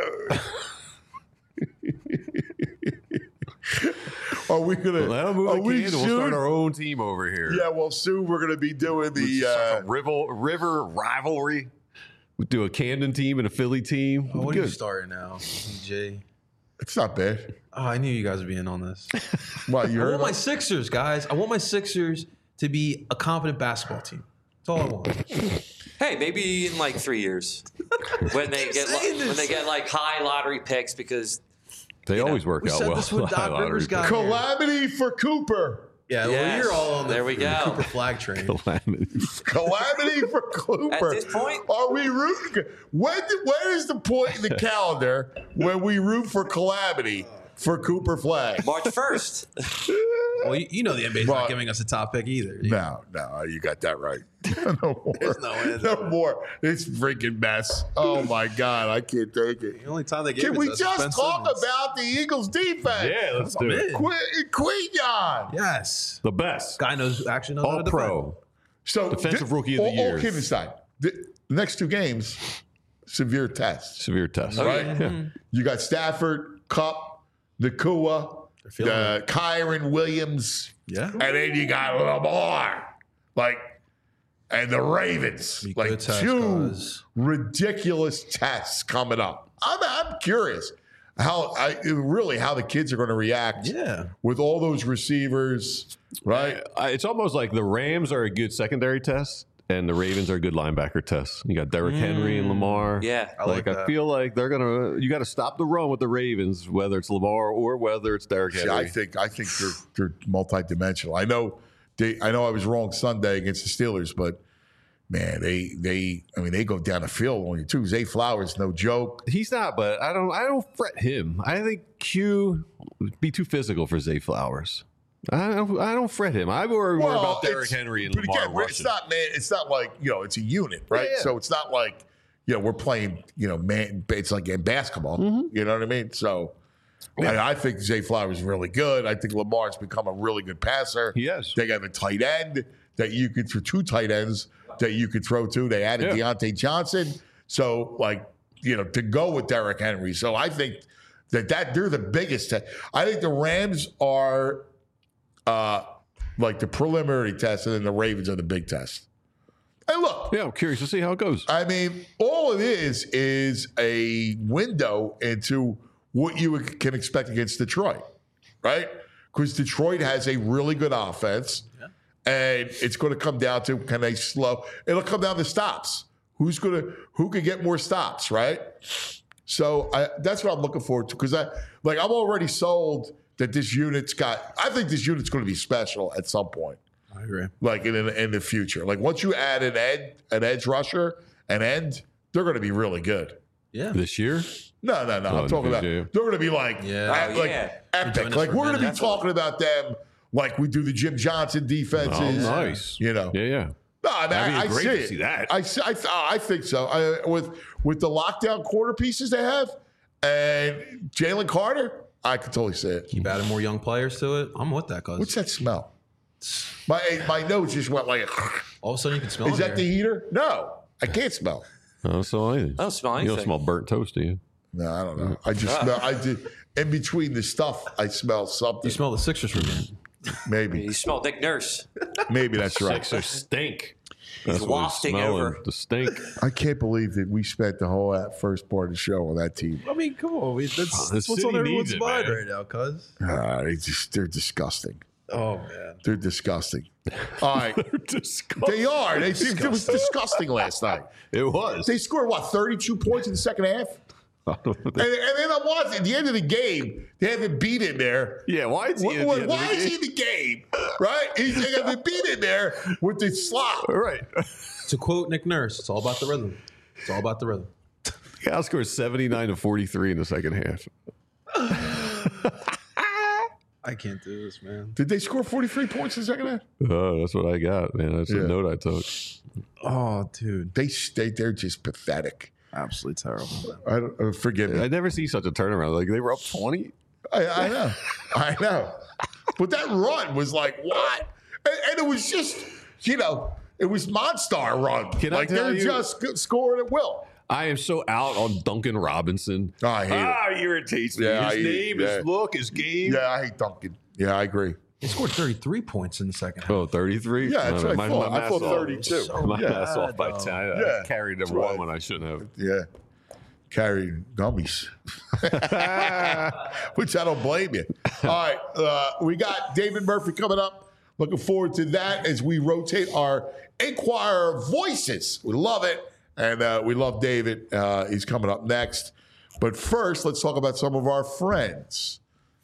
[SPEAKER 2] Are we going to?
[SPEAKER 3] Let them move
[SPEAKER 2] Are
[SPEAKER 3] the
[SPEAKER 2] we
[SPEAKER 3] candle. We'll start our own team over here.
[SPEAKER 2] Yeah, well, soon we're going to be doing
[SPEAKER 3] It's like
[SPEAKER 2] the.
[SPEAKER 3] a river rivalry. We do a Camden team and a Philly team.
[SPEAKER 4] What are you
[SPEAKER 3] Good.
[SPEAKER 4] starting now, DJ?
[SPEAKER 2] It's not bad.
[SPEAKER 4] Oh, I knew you guys would be in on this.
[SPEAKER 2] What, you
[SPEAKER 4] I
[SPEAKER 2] heard
[SPEAKER 4] want my
[SPEAKER 2] about?
[SPEAKER 4] Sixers, guys. I want my Sixers to be a competent basketball team. That's all I want.
[SPEAKER 5] Hey, maybe in like 3 years when they get like high lottery picks because
[SPEAKER 3] They always work
[SPEAKER 4] We
[SPEAKER 3] out
[SPEAKER 4] said
[SPEAKER 3] well.
[SPEAKER 4] this when Doc
[SPEAKER 3] Lottery
[SPEAKER 4] Rivers got
[SPEAKER 3] picks.
[SPEAKER 4] here.
[SPEAKER 2] Calamity for Cooper.
[SPEAKER 4] Yeah, well,
[SPEAKER 5] Yes.
[SPEAKER 4] you're all on the,
[SPEAKER 5] There we
[SPEAKER 4] the
[SPEAKER 5] go.
[SPEAKER 4] Cooper flag train.
[SPEAKER 3] Calamity.
[SPEAKER 2] Calamity for Cooper.
[SPEAKER 5] At this point?
[SPEAKER 2] Are we rooting? When is the point in the calendar when we root for Calamity for Cooper Flag?
[SPEAKER 5] March 1st.
[SPEAKER 4] Well, you know the NBA's
[SPEAKER 2] Right.
[SPEAKER 4] not giving us a top pick either.
[SPEAKER 2] No, you got that right. No more.
[SPEAKER 4] There's no way.
[SPEAKER 2] No more. It's freaking mess. Oh my God, I can't take it.
[SPEAKER 4] The only time they gave
[SPEAKER 2] Can
[SPEAKER 4] it
[SPEAKER 2] we
[SPEAKER 4] to us
[SPEAKER 2] just
[SPEAKER 4] was Ben
[SPEAKER 2] talk
[SPEAKER 4] Simmons.
[SPEAKER 2] about the Eagles' defense?
[SPEAKER 3] Yeah, let's do
[SPEAKER 4] I'm
[SPEAKER 3] it.
[SPEAKER 4] in.
[SPEAKER 2] Quinyon.
[SPEAKER 4] Yes.
[SPEAKER 3] The best.
[SPEAKER 4] Guy actually knows how
[SPEAKER 3] All
[SPEAKER 4] to defend.
[SPEAKER 3] pro.
[SPEAKER 2] So
[SPEAKER 3] Defensive Rookie of the
[SPEAKER 2] all
[SPEAKER 3] Year.
[SPEAKER 2] kidding aside, the next 2 games, severe tests.
[SPEAKER 3] Severe test.
[SPEAKER 2] Right?
[SPEAKER 3] Yeah.
[SPEAKER 2] You got Stafford, Kupp, Nakua,
[SPEAKER 4] feeling
[SPEAKER 2] the Kyron Williams,
[SPEAKER 4] Yeah.
[SPEAKER 2] and then you got Lamar, and the Ravens.
[SPEAKER 4] Be
[SPEAKER 2] Like
[SPEAKER 4] good test,
[SPEAKER 2] 2
[SPEAKER 4] guys.
[SPEAKER 2] ridiculous tests coming up. I'm curious how the kids are going to react.
[SPEAKER 4] Yeah.
[SPEAKER 2] With all those receivers, right?
[SPEAKER 3] It's almost like the Rams are a good secondary test, and the Ravens are a good linebacker test. You got Derrick Henry and Lamar.
[SPEAKER 5] Yeah.
[SPEAKER 4] I like
[SPEAKER 3] I
[SPEAKER 4] that.
[SPEAKER 3] feel like they're gonna. You got to stop the run with the Ravens, whether it's Lamar or whether it's Derrick
[SPEAKER 2] See,
[SPEAKER 3] Henry.
[SPEAKER 2] I think they're multidimensional. I know I was wrong Sunday against the Steelers, but man, they go down the field on you too. Zay Flowers, no joke.
[SPEAKER 3] He's not, but I don't fret him. I think Q would be too physical for Zay Flowers. I don't fret him. I worry more about Derrick Henry and
[SPEAKER 2] but
[SPEAKER 3] Lamar
[SPEAKER 2] again,
[SPEAKER 3] rushing.
[SPEAKER 2] it's not, man. It's not like it's a unit, right?
[SPEAKER 3] Yeah.
[SPEAKER 2] So it's not like we're playing man. It's like in basketball.
[SPEAKER 3] Mm-hmm.
[SPEAKER 2] You know what I mean? So. I think Zay Flowers is really good. I think Lamar's become a really good passer.
[SPEAKER 3] He is.
[SPEAKER 2] They got a tight end that you could throw 2 tight ends that you could throw to. They added Deontay Johnson. So, to go with Derrick Henry. So I think that they're the biggest test. I think the Rams are the preliminary test, and then the Ravens are the big test. And look,
[SPEAKER 3] Yeah, I'm curious to see how it goes.
[SPEAKER 2] I mean, all it is a window into what you can expect against Detroit, right? Because Detroit has a really good offense, and it's going to come down to can they slow? It'll come down to stops. Who can get more stops, right? So that's what I'm looking forward to because I'm already sold that this unit's got. I think this unit's going to be special at some point.
[SPEAKER 4] I agree.
[SPEAKER 2] In the future. Once you add an edge rusher, an end, they're going to be really good.
[SPEAKER 4] Yeah.
[SPEAKER 3] This year,
[SPEAKER 2] No. I'm talking about
[SPEAKER 3] yeah.
[SPEAKER 2] they're going to be epic.
[SPEAKER 4] Enjoying
[SPEAKER 2] Like
[SPEAKER 4] us
[SPEAKER 2] we're
[SPEAKER 4] for a
[SPEAKER 2] going to be
[SPEAKER 4] minute.
[SPEAKER 2] talking about them like we do the Jim Johnson defenses.
[SPEAKER 3] oh nice.
[SPEAKER 2] Yeah.
[SPEAKER 3] Yeah.
[SPEAKER 2] No, I mean,
[SPEAKER 3] That'd be great
[SPEAKER 2] see
[SPEAKER 3] to
[SPEAKER 2] it.
[SPEAKER 3] see that.
[SPEAKER 2] I think so. With the lockdown corner pieces they have and Jalen Carter, I could totally see it.
[SPEAKER 4] Keep adding more young players to it. I'm with that, cuz.
[SPEAKER 2] What's that smell? My nose just went like.
[SPEAKER 4] All of a sudden you can smell
[SPEAKER 2] Is
[SPEAKER 4] it
[SPEAKER 2] that the
[SPEAKER 4] here.
[SPEAKER 2] heater? No, I can't smell.
[SPEAKER 3] I don't smell anything.
[SPEAKER 5] I don't smell
[SPEAKER 3] You don't
[SPEAKER 5] anything.
[SPEAKER 3] smell burnt toast, do you?
[SPEAKER 2] No, I don't know. I just smell. I did in between the stuff. I smell something.
[SPEAKER 4] You smell the Sixers from here.
[SPEAKER 2] Maybe,
[SPEAKER 5] You smell Nick Nurse.
[SPEAKER 2] maybe that's right.
[SPEAKER 3] Sixers stink. That's what
[SPEAKER 5] wafting
[SPEAKER 3] he's smelling,
[SPEAKER 5] over.
[SPEAKER 3] the stink.
[SPEAKER 2] I can't believe that we spent the whole first part of the show on that team.
[SPEAKER 4] I mean, come on. That's
[SPEAKER 3] The
[SPEAKER 4] what's
[SPEAKER 3] city
[SPEAKER 4] on everyone's
[SPEAKER 3] needs it,
[SPEAKER 4] mind
[SPEAKER 3] man.
[SPEAKER 4] right now, cuz.
[SPEAKER 2] They're disgusting.
[SPEAKER 4] Oh, man.
[SPEAKER 2] They're disgusting. All right,
[SPEAKER 3] Disgusting.
[SPEAKER 2] they are. It was disgusting last night.
[SPEAKER 3] It was.
[SPEAKER 2] They scored 32 points in the second half. And then I'm watching. At the end of the game, they have him beat in there.
[SPEAKER 3] Yeah, why is he in the
[SPEAKER 2] Why is he in the game? Right? They have him beat in there with the slop.
[SPEAKER 3] Right.
[SPEAKER 4] To quote Nick Nurse, it's all about the rhythm. It's all about the rhythm.
[SPEAKER 3] Cal scores 79-43 in the second half.
[SPEAKER 4] I can't do this, man.
[SPEAKER 2] Did they score 43 points in the second half?
[SPEAKER 3] Oh, that's what I got, man. That's the note I took.
[SPEAKER 4] Oh, dude.
[SPEAKER 2] They're just pathetic.
[SPEAKER 4] Absolutely terrible.
[SPEAKER 2] I don't, forgive me.
[SPEAKER 3] I never see such a turnaround. Like, they were up 20.
[SPEAKER 2] I know. I know. But that run was like, what? And it was just, it was Monstar run.
[SPEAKER 3] Can I
[SPEAKER 2] like,
[SPEAKER 3] tell
[SPEAKER 2] they're
[SPEAKER 3] you-
[SPEAKER 2] just scoring at will.
[SPEAKER 3] I am so out on Duncan Robinson.
[SPEAKER 2] I hate it.
[SPEAKER 3] Irritates me.
[SPEAKER 2] Yeah,
[SPEAKER 3] His name, his look, his game.
[SPEAKER 2] Yeah, I hate Duncan. Yeah, I agree.
[SPEAKER 4] They scored 33 points in the second half.
[SPEAKER 3] Oh, 33?
[SPEAKER 2] Yeah, that's what I thought. I
[SPEAKER 3] math's
[SPEAKER 2] thought
[SPEAKER 3] off.
[SPEAKER 2] 32.
[SPEAKER 3] My
[SPEAKER 2] Yeah.
[SPEAKER 3] math's off by 10. I carried them
[SPEAKER 2] right.
[SPEAKER 3] one when I shouldn't have.
[SPEAKER 2] Yeah. Carrying gummies. Which I don't blame you. All right. We got David Murphy coming up. Looking forward to that as we rotate our Inquirer voices. We love it. And we love David. He's coming up next. But first, let's talk about some of our friends.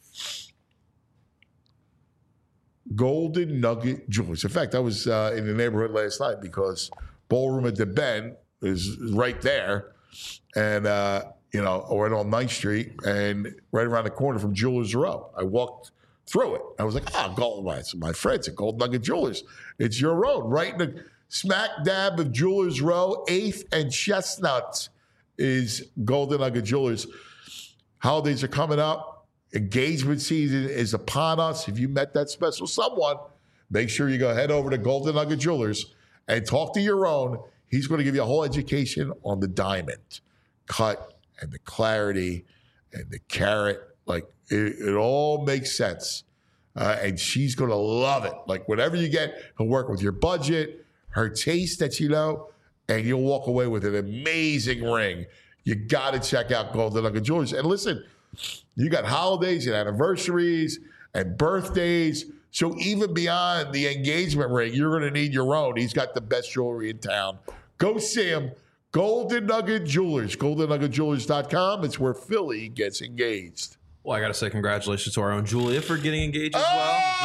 [SPEAKER 2] Golden Nugget Jewelers. In fact, I was in the neighborhood last night because Ballroom at the Bend is right there. And, or on 9th Street and right around the corner from Jewelers Row. I walked through it. I was like, it's my friends at Golden Nugget Jewelers. It's your road, right in the smack dab of Jewelers Row, 8th and Chestnut is Golden Nugget Jewelers. Holidays are coming up. Engagement season is upon us. If you met that special someone, make sure you go head over to Golden Nugget Jewelers and talk to your own. He's going to give you a whole education on the diamond cut and the clarity and the carat. Like, it all makes sense. And she's going to love it. Like, whatever you get, he'll work with your budget, her taste that you know, and you'll walk away with an amazing ring. You got to check out Golden Nugget Jewelers. And listen, you got holidays and anniversaries and birthdays. So even beyond the engagement ring, you're going to need your own. He's got the best jewelry in town. Go see him. Golden Nugget Jewelers. GoldenNuggetJewelers.com. It's where Philly gets engaged.
[SPEAKER 4] Well, I got to say congratulations to our own Julia for getting engaged as well.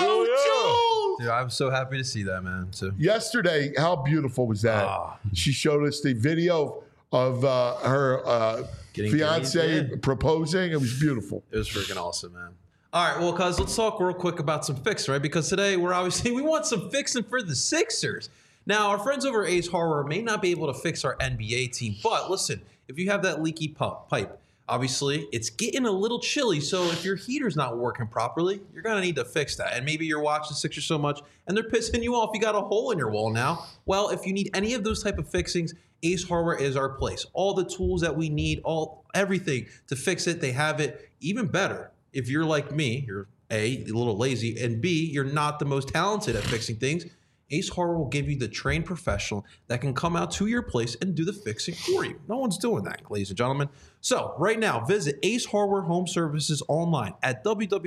[SPEAKER 2] Oh, Jules!
[SPEAKER 4] Dude, I'm so happy to see that, man. So.
[SPEAKER 2] Yesterday, how beautiful was that? She showed us the video of her
[SPEAKER 4] Getting
[SPEAKER 2] fiance
[SPEAKER 4] engaged, yeah.
[SPEAKER 2] proposing. It was beautiful.
[SPEAKER 4] It was freaking awesome, man. All right, well, cuz let's talk real quick about some fixing, right? Because today we want some fixing for the Sixers. Now, our friends over at Ace Hardware may not be able to fix our NBA team, but listen, if you have that leaky pipe, obviously it's getting a little chilly, so if your heater's not working properly, you're going to need to fix that. And maybe you're watching Sixers so much and they're pissing you off. You got a hole in your wall now. Well, if you need any of those type of fixings, Ace Hardware is our place. All the tools that we need, everything to fix it, they have it. Even better, if you're like me, you're A, a little lazy, and B, you're not the most talented at fixing things, Ace Hardware will give you the trained professional that can come out to your place and do the fixing for you. No one's doing that, ladies and gentlemen. So right now, visit Ace Hardware Home Services online at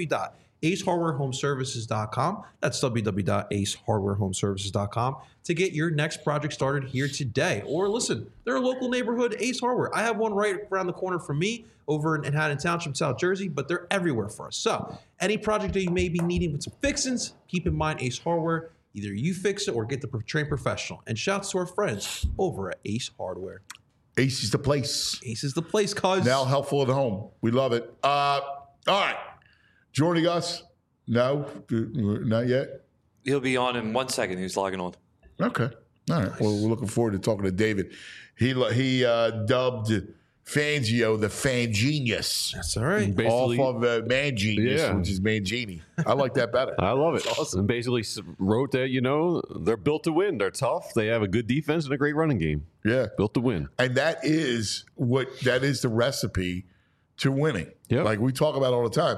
[SPEAKER 4] www.acehardwarehomeservices.com. That's www.acehardwarehomeservices.com to get your next project started here today. Or listen, they're a local neighborhood Ace Hardware. I have one right around the corner from me over in Haddon Township, South Jersey, but they're everywhere for us. So any project that you may be needing with some fixings, keep in mind Ace Hardware. Either you fix it or get the trained professional. And shouts to our friends over at Ace Hardware.
[SPEAKER 2] Ace is the place.
[SPEAKER 4] Ace is the place, cuz.
[SPEAKER 2] Now helpful at home. We love it. All right. Joining us? No, not yet.
[SPEAKER 5] He'll be on in 1 second. He's logging on.
[SPEAKER 2] Okay. All right. Well, we're looking forward to talking to David. He dubbed Fangio the Fan Genius.
[SPEAKER 4] That's all right.
[SPEAKER 2] Off of Man Genius,
[SPEAKER 3] Yeah.
[SPEAKER 2] which is Mangini. I like that better.
[SPEAKER 3] I love it. Awesome. And basically wrote that, they're built to win. They're tough. They have a good defense and a great running game.
[SPEAKER 2] Yeah.
[SPEAKER 3] Built to win.
[SPEAKER 2] And that is the recipe to winning.
[SPEAKER 3] Yep.
[SPEAKER 2] Like we talk about all the time.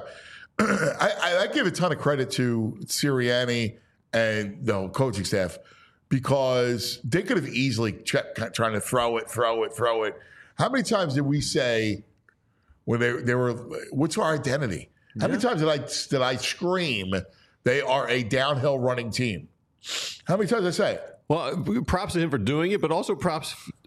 [SPEAKER 2] I give a ton of credit to Sirianni and the whole coaching staff because they could have easily kept trying to throw it. How many times did we say when they were, what's our identity? How many times did I scream they are a downhill running team? How many times did I say it?
[SPEAKER 3] Well, props to him for doing it, but also props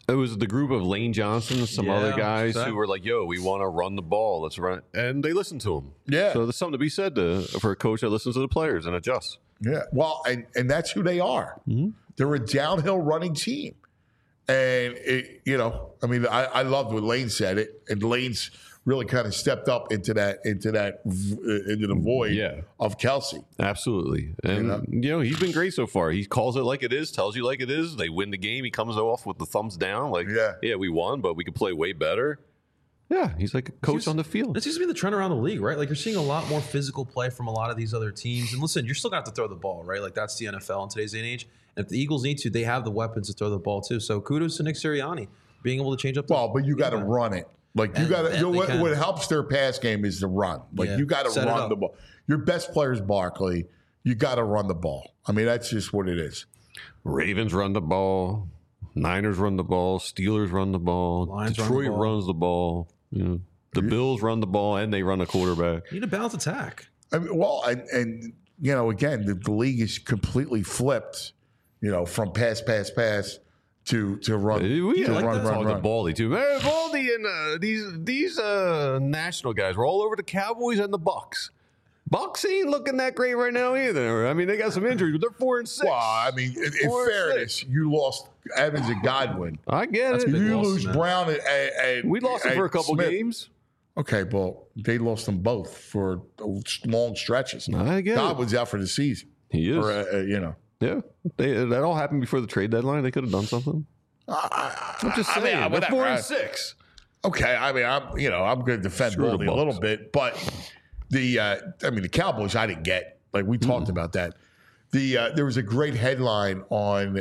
[SPEAKER 3] It was the group of Lane Johnson and some other guys who were like, yo, we want to run the ball. Let's run. And they listened to him.
[SPEAKER 2] Yeah.
[SPEAKER 3] So there's something to be said for a coach that listens to the players and adjusts.
[SPEAKER 2] Yeah. Well, and that's who they are. Mm-hmm. They're a downhill running team. And, I loved what Lane said it. And Lane's really kind of stepped up into the void of Kelsey.
[SPEAKER 3] Absolutely. And, he's been great so far. He calls it like it is, tells you like it is. They win the game. He comes off with the thumbs down. Like, we won, but we could play way better. Yeah, he's like a coach on the field.
[SPEAKER 4] It seems to be the trend around the league, right? Like, you're seeing a lot more physical play from a lot of these other teams. And listen, you're still going to have to throw the ball, right? Like, that's the NFL in today's day and age. And if the Eagles need to, they have the weapons to throw the ball, too. So kudos to Nick Sirianni being able to change up the
[SPEAKER 2] but you got to run it. Like, you got to, what helps their pass game is the run. Like, you got to run the ball. Your best player is Barkley. You got to run the ball. I mean, that's just what it is.
[SPEAKER 3] Ravens run the ball. Niners run the ball. Steelers run the ball. Detroit runs the ball. The Bills run the ball, and they run a quarterback.
[SPEAKER 4] You need a balanced attack.
[SPEAKER 2] I mean, again, the league is completely flipped, from pass to run.
[SPEAKER 3] Run to Baldy too. Man, Baldy and these national guys were all over the Cowboys and the Bucks. Bucks ain't looking that great right now either. I mean, they got some injuries, but they're 4-6.
[SPEAKER 2] Well, I mean, in fairness, you lost Evans and Godwin.
[SPEAKER 3] I get it.
[SPEAKER 2] You lose Brown and
[SPEAKER 3] we lost them for a couple games.
[SPEAKER 2] Okay, well, they lost them both for long stretches.
[SPEAKER 3] I get
[SPEAKER 2] Godwin's out for the season.
[SPEAKER 3] He is.
[SPEAKER 2] Yeah,
[SPEAKER 3] that all happened before the trade deadline. They could have done something. I'm just saying. They're 4-6.
[SPEAKER 2] Okay, I mean, I'm going to defend Baldy a little bit, but the Cowboys, I didn't get. Like, we talked about that. There was a great headline on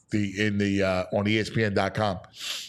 [SPEAKER 2] ESPN.com.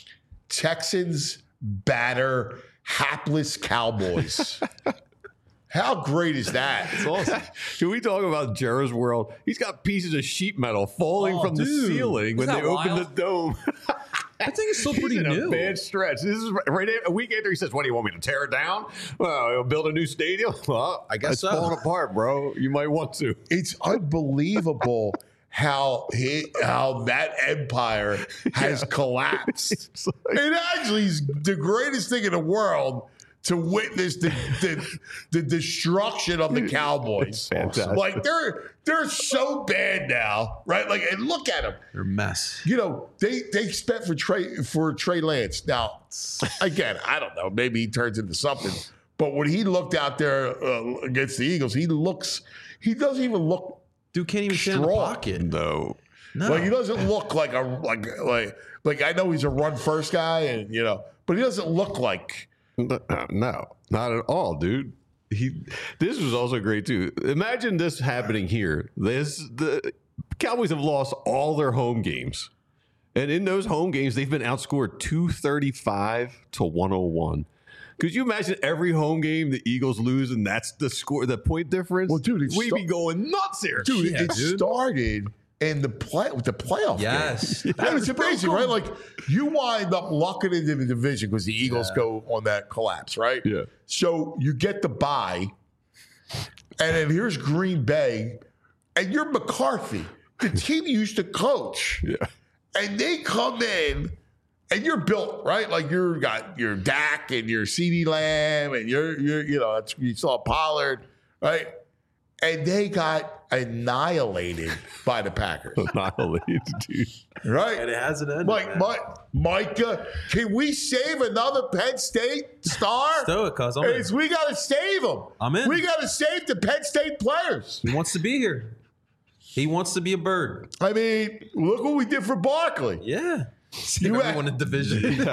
[SPEAKER 2] Texans batter hapless Cowboys. How great is that?
[SPEAKER 3] It's awesome. Can we talk about Jerry's world? He's got pieces of sheet metal falling from the ceiling when they open the dome.
[SPEAKER 4] I think it's still pretty new.
[SPEAKER 3] A bad stretch. This is right a week after he says, "What do you want me to tear it down? Well, build a new stadium." Well, I guess it's falling apart, bro. You might want to.
[SPEAKER 2] It's unbelievable how that empire has collapsed. It actually is the greatest thing in the world to witness the destruction of the Cowboys. Like, they're so bad now, right? Like, and look at them.
[SPEAKER 4] They're a mess.
[SPEAKER 2] They spent for Trey Lance. Now, again, I don't know. Maybe he turns into something. But when he looked out there against the Eagles, he doesn't even look.
[SPEAKER 4] Dude can't even stand in the pocket.
[SPEAKER 3] No.
[SPEAKER 2] Like, he doesn't look like I know he's a run first guy, and but he doesn't look like.
[SPEAKER 3] No, not at all, dude. This was also great too. Imagine this happening here. The Cowboys have lost all their home games, and in those home games, they've been outscored 235-101. Could you imagine every home game the Eagles lose, and that's the score, the point difference?
[SPEAKER 2] Well, dude,
[SPEAKER 3] we'd be going nuts here,
[SPEAKER 2] dude. It started. And the playoff game. It's amazing, right? Like, you wind up locking into the division because the Eagles go on that collapse, right?
[SPEAKER 3] Yeah.
[SPEAKER 2] So you get the bye, and then here's Green Bay, and you're McCarthy, the team you used to coach.
[SPEAKER 3] Yeah.
[SPEAKER 2] And they come in, and you're built, right? Like, you got your Dak and your CeeDee Lamb, and you saw Pollard, right? And they got annihilated by the Packers.
[SPEAKER 3] Annihilated, dude.
[SPEAKER 2] Right?
[SPEAKER 4] And it hasn't ended.
[SPEAKER 2] Micah, can we save another Penn State star?
[SPEAKER 4] Let's do it, cuz
[SPEAKER 2] we got to save them.
[SPEAKER 4] I'm in.
[SPEAKER 2] We got to save the Penn State players.
[SPEAKER 4] He wants to be here. He wants to be a bird.
[SPEAKER 2] I mean, look what we did for Barkley.
[SPEAKER 4] Yeah. Everyone in division.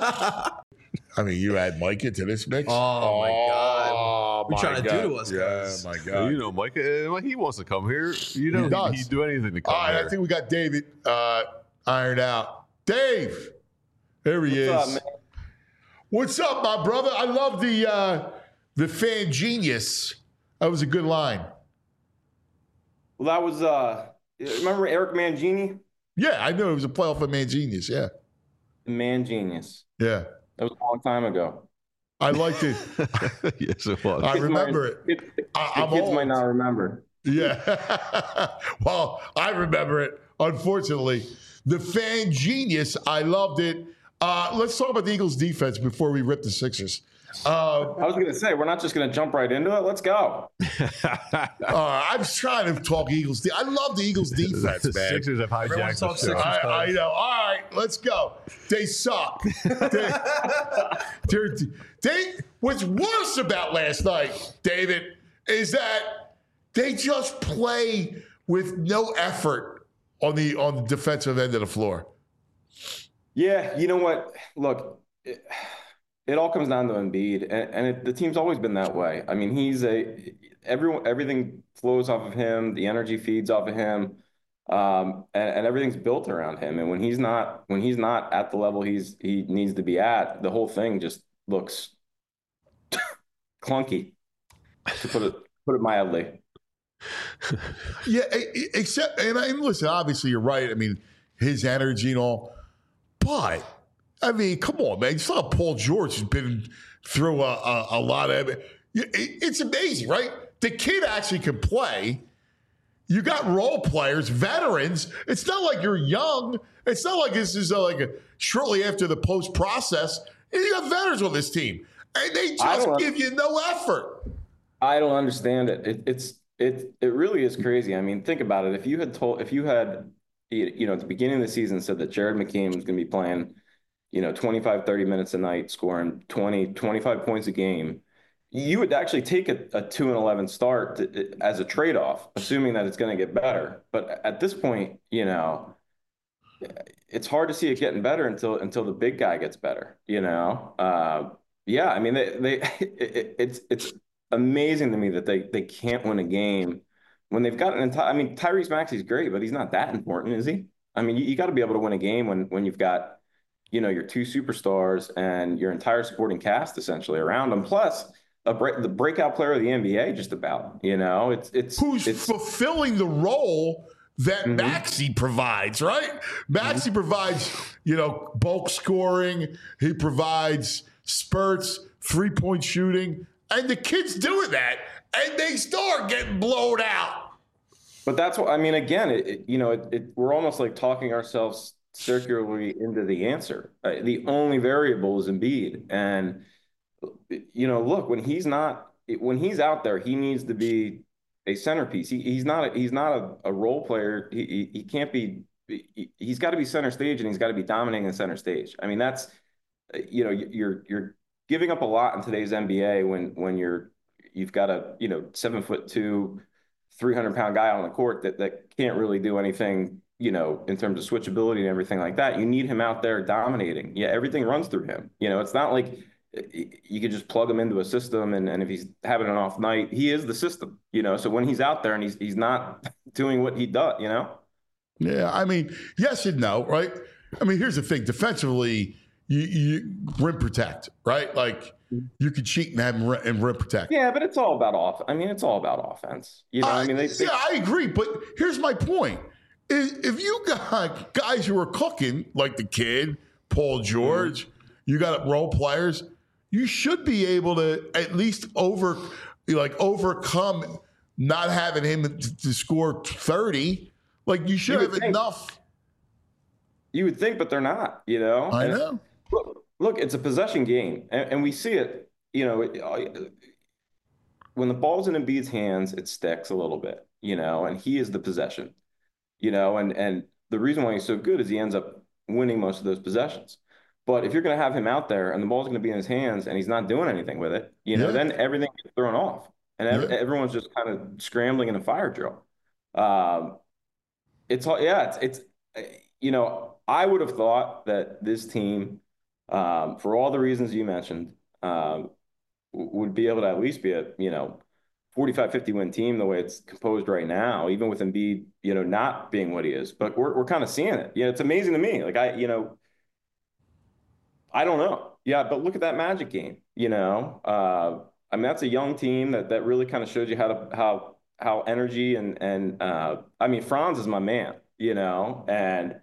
[SPEAKER 2] I mean, you add Micah to this mix?
[SPEAKER 4] Oh, my God. What are you trying to do to us, guys?
[SPEAKER 2] Yeah, my God.
[SPEAKER 3] Micah, he wants to come here. He'd do anything to come
[SPEAKER 2] here. All right, I think we got David ironed out. Dave. There he is.
[SPEAKER 6] What's up, man?
[SPEAKER 2] What's up, my brother? I love the fan genius. That was a good line.
[SPEAKER 6] Well, that was, remember Eric Mangini?
[SPEAKER 2] Yeah, I knew it was a playoff of Mangenius, yeah.
[SPEAKER 6] The Man Genius.
[SPEAKER 2] Yeah.
[SPEAKER 6] That was a long time ago.
[SPEAKER 2] I liked it.
[SPEAKER 3] Yes, it was.
[SPEAKER 2] I remember it.
[SPEAKER 6] The kids might not remember.
[SPEAKER 2] Yeah. Well, I remember it, unfortunately. The fan genius, I loved it. Let's talk about the Eagles defense before we rip the Sixers.
[SPEAKER 6] I was going to say, we're not just going to jump right into it. Let's go.
[SPEAKER 2] I was trying to talk Eagles. I love the Eagles defense,
[SPEAKER 3] The
[SPEAKER 2] man.
[SPEAKER 3] Sixers have hijacked the show.
[SPEAKER 2] I know. All right, let's go. They suck. What's worse about last night, David, is that they just play with no effort on the defensive end of the floor.
[SPEAKER 6] Yeah, you know what? Look, it all comes down to Embiid, and the team's always been that way. I mean, everything flows off of him. The energy feeds off of him, and everything's built around him. And when he's not at the level he needs to be at, the whole thing just looks clunky, to put it mildly.
[SPEAKER 2] Yeah, except and listen, obviously you're right. I mean, his energy and all, but I mean, come on, man. You saw Paul George has been through a lot of it. It's amazing, right? The kid actually can play. You got role players, veterans. It's not like you're young. It's not like this is shortly after the post process. You got veterans on this team, and they just give you no effort.
[SPEAKER 6] I don't understand it. It really is crazy. I mean, think about it. If you had at the beginning of the season said that Jared McKeon was going to be playing, 25, 30 minutes a night, scoring 20, 25 points a game, you would actually take a 2-11 start as a trade-off, assuming that it's going to get better. But at this point, it's hard to see it getting better until the big guy gets better, Yeah, I mean, it's amazing to me that they can't win a game when they've got an entire. I mean, Tyrese Maxey's great, but he's not that important, is he? I mean, you got to be able to win a game when you've got, your two superstars and your entire supporting cast essentially around them. Plus, the breakout player of the NBA, just about. It's
[SPEAKER 2] fulfilling the role that Maxey provides, right? Maxey provides, bulk scoring. He provides spurts, 3-point shooting. And the kid's doing that, and they start getting blown out.
[SPEAKER 6] But that's what I mean. Again, we're almost like talking ourselves circularly into the answer. The only variable is Embiid, and look, when he's out there, he needs to be a centerpiece. He's not a role player. He can't be. He's got to be center stage, and he's got to be dominating the center stage. I mean, that's you're giving up a lot in today's NBA when you've got a 7'2", 300-pound guy on the court that can't really do anything in terms of switchability and everything like that. You need him out there dominating. Yeah, everything runs through him. It's not like you could just plug him into a system and if he's having an off night, he is the system. So when he's out there and he's not doing what he does,
[SPEAKER 2] Yeah, I mean, yes and no, right? I mean, here's the thing: defensively, you rim protect, right? Like you could cheat and have him and rim protect.
[SPEAKER 6] Yeah, but it's all about it's all about offense.
[SPEAKER 2] I agree. But here's my point: if you got guys who are cooking like the kid, Paul George, you got role players, you should be able to at least overcome not having him to score 30. Like you should have enough.
[SPEAKER 6] You would think, but they're not.
[SPEAKER 2] I know.
[SPEAKER 6] Look, it's a possession game, and we see it. When the ball's in Embiid's hands, it sticks a little bit. And he is the possession. And the reason why he's so good is he ends up winning most of those possessions. But if you're going to have him out there and the ball's going to be in his hands and he's not doing anything with it, then everything gets thrown off, and everyone's just kind of scrambling in a fire drill. I would have thought that this team, for all the reasons you mentioned, would be able to at least be a 45-50 win team the way it's composed right now, even with Embiid not being what he is. But we're kind of seeing it. It's amazing to me. Like I don't know. Yeah, but look at that Magic game. I mean, that's a young team that really kind of shows you how energy and I mean, Franz is my man. And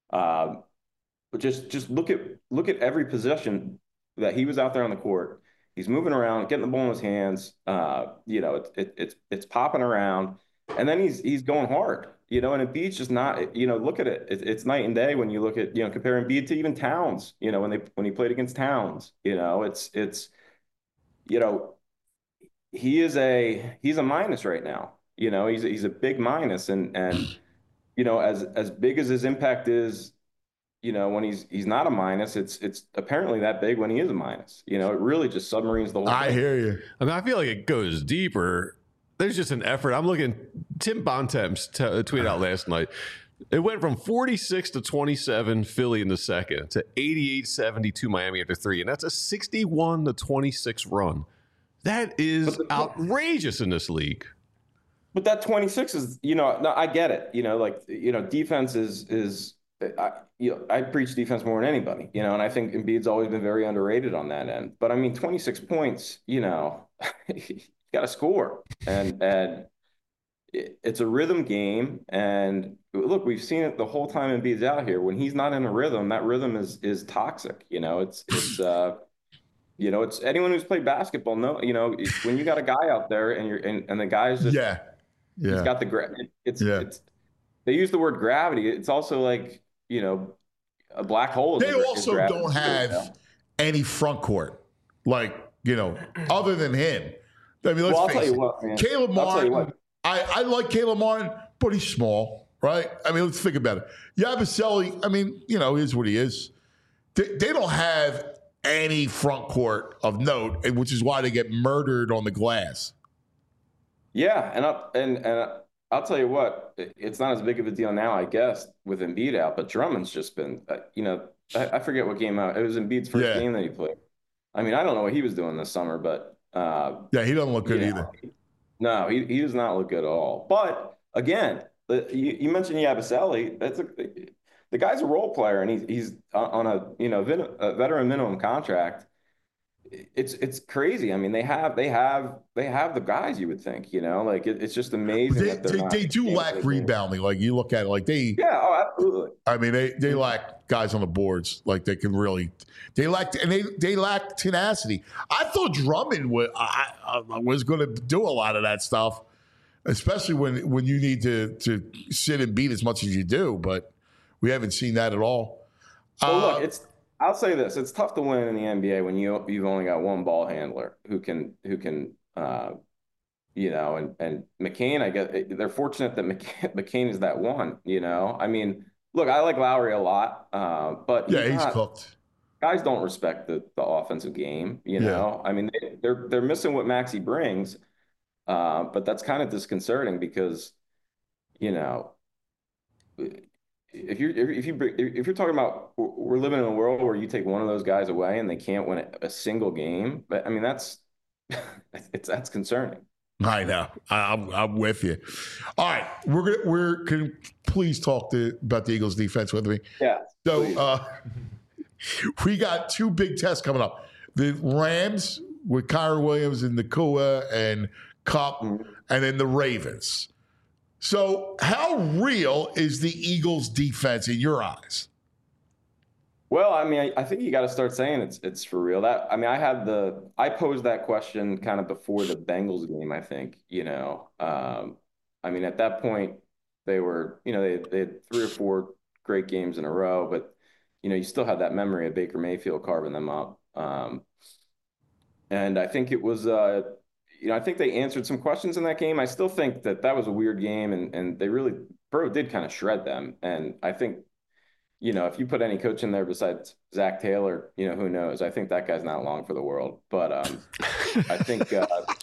[SPEAKER 6] just look at every possession that he was out there on the court. He's moving around, getting the ball in his hands. It's popping around, and then he's going hard. you know, and Embiid's just not, you know, look at it. It's night and day when you look at, you know, compare Embiid to even Towns, you know, when he played against Towns, you know, it's, you know, he's a minus right now. You know, he's a big minus, and you know, as big as his impact is, you know, when he's not a minus, it's apparently that big when he is a minus. You know, it really just submarines the whole thing.
[SPEAKER 2] I hear you.
[SPEAKER 3] I mean, I feel like it goes deeper. There's just an effort. I'm looking. Tim Bontemps tweeted out last night. It went from 46-27 Philly in the second to 88-72 Miami after 3, and that's a 61-26 run. That is outrageous in this league.
[SPEAKER 6] But that 26 is, you know, no, I get it. You know, like, you know, defense is I preach defense more than anybody, you know, and I think Embiid's always been very underrated on that end. But I mean, 26 points, you know, you got to score, and it's a rhythm game. And look, we've seen it the whole time Embiid's out here. When he's not in a rhythm, that rhythm is toxic. You know, it's you know, it's anyone who's played basketball know, you know, when you got a guy out there and the guy's just he's got the it's they use the word gravity. It's also like, you know, a black hole.
[SPEAKER 2] They also don't have any front court, like, you know, other than him. I mean, let's face it. Caleb Martin, I like Caleb Martin, but he's small, right? I mean, let's think about it. Yabusele, I mean, you know, is what he is. They don't have any front court of note, which is why they get murdered on the glass.
[SPEAKER 6] Yeah, and I'll tell you what, it's not as big of a deal now, I guess, with Embiid out, but Drummond's just been, you know, I forget what game out. It was Embiid's first game that he played. I mean, I don't know what he was doing this summer, but
[SPEAKER 2] yeah, he doesn't look good either.
[SPEAKER 6] No, he does not look good at all. But again, you mentioned Yabusele. The guy's a role player, and he's on a veteran minimum contract. It's crazy. I mean, they have the guys, you would think, you know, like it's just amazing.
[SPEAKER 2] They do lack rebounding. Like you look at it, like
[SPEAKER 6] absolutely.
[SPEAKER 2] I mean, they lack guys on the boards. Like they can really, they lack tenacity. I thought Drummond was going to do a lot of that stuff, especially when you need to sit and beat as much as you do. But we haven't seen that at all.
[SPEAKER 6] Well, look, I'll say this: it's tough to win in the NBA when you've only got one ball handler who can you know, and McCain. I guess they're fortunate that McCain is that one. You know, I mean, look, I like Lowry a lot, but
[SPEAKER 2] he's cooked.
[SPEAKER 6] Guys don't respect the offensive game. You know, I mean, they're missing what Maxey brings, but that's kind of disconcerting because, you know. If you're talking about, we're living in a world where you take one of those guys away and they can't win a single game, but I mean that's concerning.
[SPEAKER 2] I know. I'm with you. All right, can please talk about the Eagles defense with me?
[SPEAKER 6] Yeah.
[SPEAKER 2] So we got two big tests coming up: the Rams with Kyren Williams and Nacua and Kupp, and then the Ravens. So how real is the Eagles defense in your eyes?
[SPEAKER 6] Well, I mean, I think you got to start saying it's for real. I posed that question kind of before the Bengals game, I think, you know. I mean, at that point they were, you know, they had 3 or 4 great games in a row, but you know, you still had that memory of Baker Mayfield carving them up. And I think it was you know, I think they answered some questions in that game. I still think that was a weird game, and they really, Burrow did kind of shred them. And I think, you know, if you put any coach in there besides Zach Taylor, you know, who knows? I think that guy's not long for the world. But I think,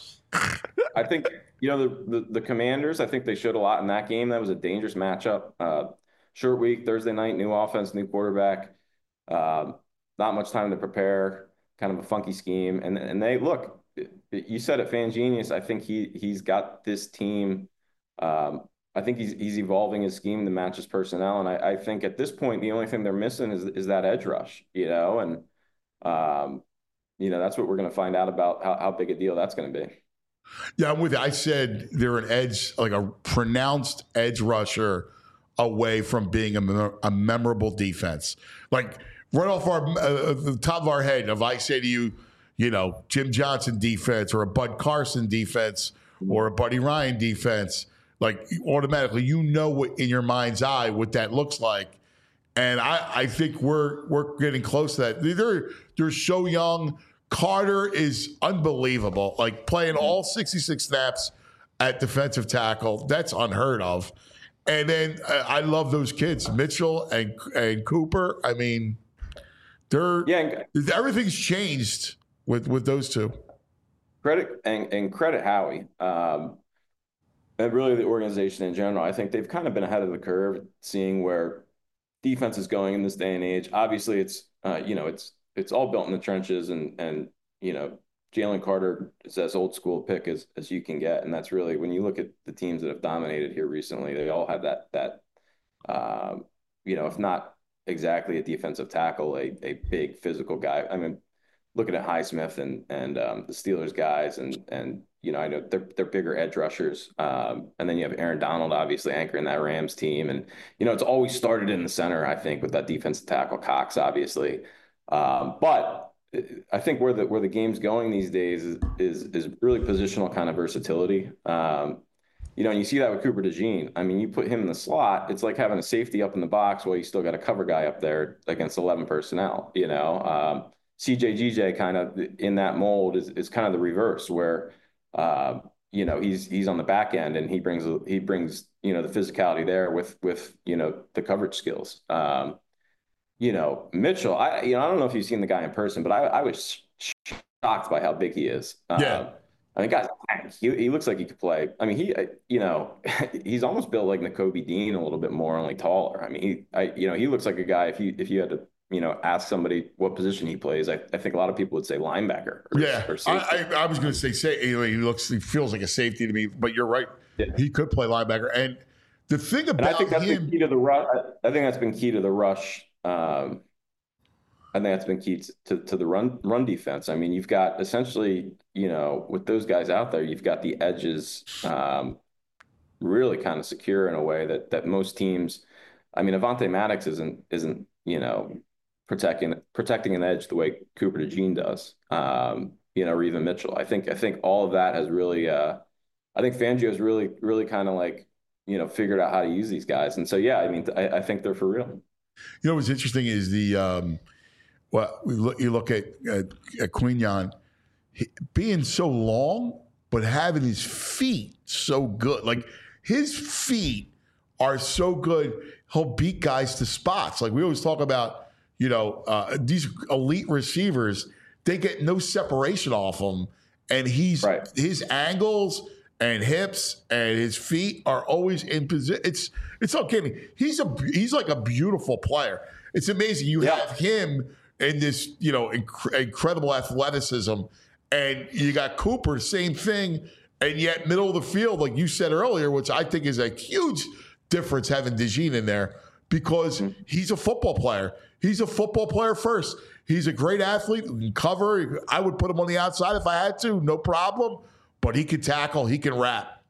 [SPEAKER 6] you know, the Commanders, I think they showed a lot in that game. That was a dangerous matchup. Short week, Thursday night, new offense, new quarterback. Not much time to prepare. Kind of a funky scheme, and they look. You said it, Fan Genius. I think he's got this team. I think he's evolving his scheme to match his personnel, and I think at this point the only thing they're missing is that edge rush. You know, and you know, that's what we're going to find out about how big a deal that's going to be.
[SPEAKER 2] Yeah, I'm with you. I said they're an edge, like a pronounced edge rusher away from being a memorable defense. Like right off the top of our head, if I say to you, you know, Jim Johnson defense or a Bud Carson defense or a Buddy Ryan defense, like automatically, you know what in your mind's eye what that looks like. And I think we're getting close to that. They're so young. Carter is unbelievable. Like playing all 66 snaps at defensive tackle, that's unheard of. And then I love those kids, Mitchell and Cooper. I mean, everything's changed with those two.
[SPEAKER 6] Credit Howie. And really the organization in general. I think they've kind of been ahead of the curve, seeing where defense is going in this day and age. Obviously, it's all built in the trenches, and Jalen Carter is as old school pick as you can get, and that's really, when you look at the teams that have dominated here recently, they all have that if not exactly a defensive tackle, a big physical guy. I mean, looking at Highsmith and the Steelers guys, and I know they're bigger edge rushers. And then you have Aaron Donald, obviously anchoring that Rams team. And, it's always started in the center, I think, with that defensive tackle, Cox, obviously. But I think where the game's going these days is really positional kind of versatility. And you see that with Cooper DeJean. I mean, you put him in the slot, it's like having a safety up in the box while you still got a cover guy up there against 11 personnel, CJ kind of in that mold is kind of the reverse, where he's on the back end, and he brings the physicality there with the coverage skills. Mitchell, I don't know if you've seen the guy in person, but I was shocked by how big he is. I mean, guys, he looks like he could play. I mean, he's almost built like Nakobe Dean a little bit more, only taller. I mean, he looks like a guy, if you had to ask somebody what position he plays, I think a lot of people would say linebacker. Or safety.
[SPEAKER 2] I was going to say he feels like a safety to me, but you're right. Yeah. He could play linebacker. And the thing about
[SPEAKER 6] I think that's
[SPEAKER 2] him,
[SPEAKER 6] been key to the rush. I think that's been key to the rush. I think that's been key to the run defense. I mean, you've got essentially, with those guys out there, you've got the edges really kind of secure in a way that most teams. I mean, Avonte Maddox isn't protecting an edge the way Cooper DeJean does, or even Mitchell. I think all of that has really, I think Fangio's really kind of like, figured out how to use these guys. And so, I mean, I think they're for real.
[SPEAKER 2] What's interesting is you look at Quinyon being so long, but having his feet so good. Like his feet are so good, he'll beat guys to spots. Like we always talk about, these elite receivers, they get no separation off them, and his angles and hips and his feet are always in position. It's not kidding. He's like a beautiful player. It's amazing. You have him in this, incredible athleticism, and you got Cooper, same thing, and yet middle of the field, like you said earlier, which I think is a huge difference having DeJean in there, because he's a football player. He's a football player first. He's a great athlete who can cover. I would put him on the outside if I had to, no problem. But he can tackle. He can rap.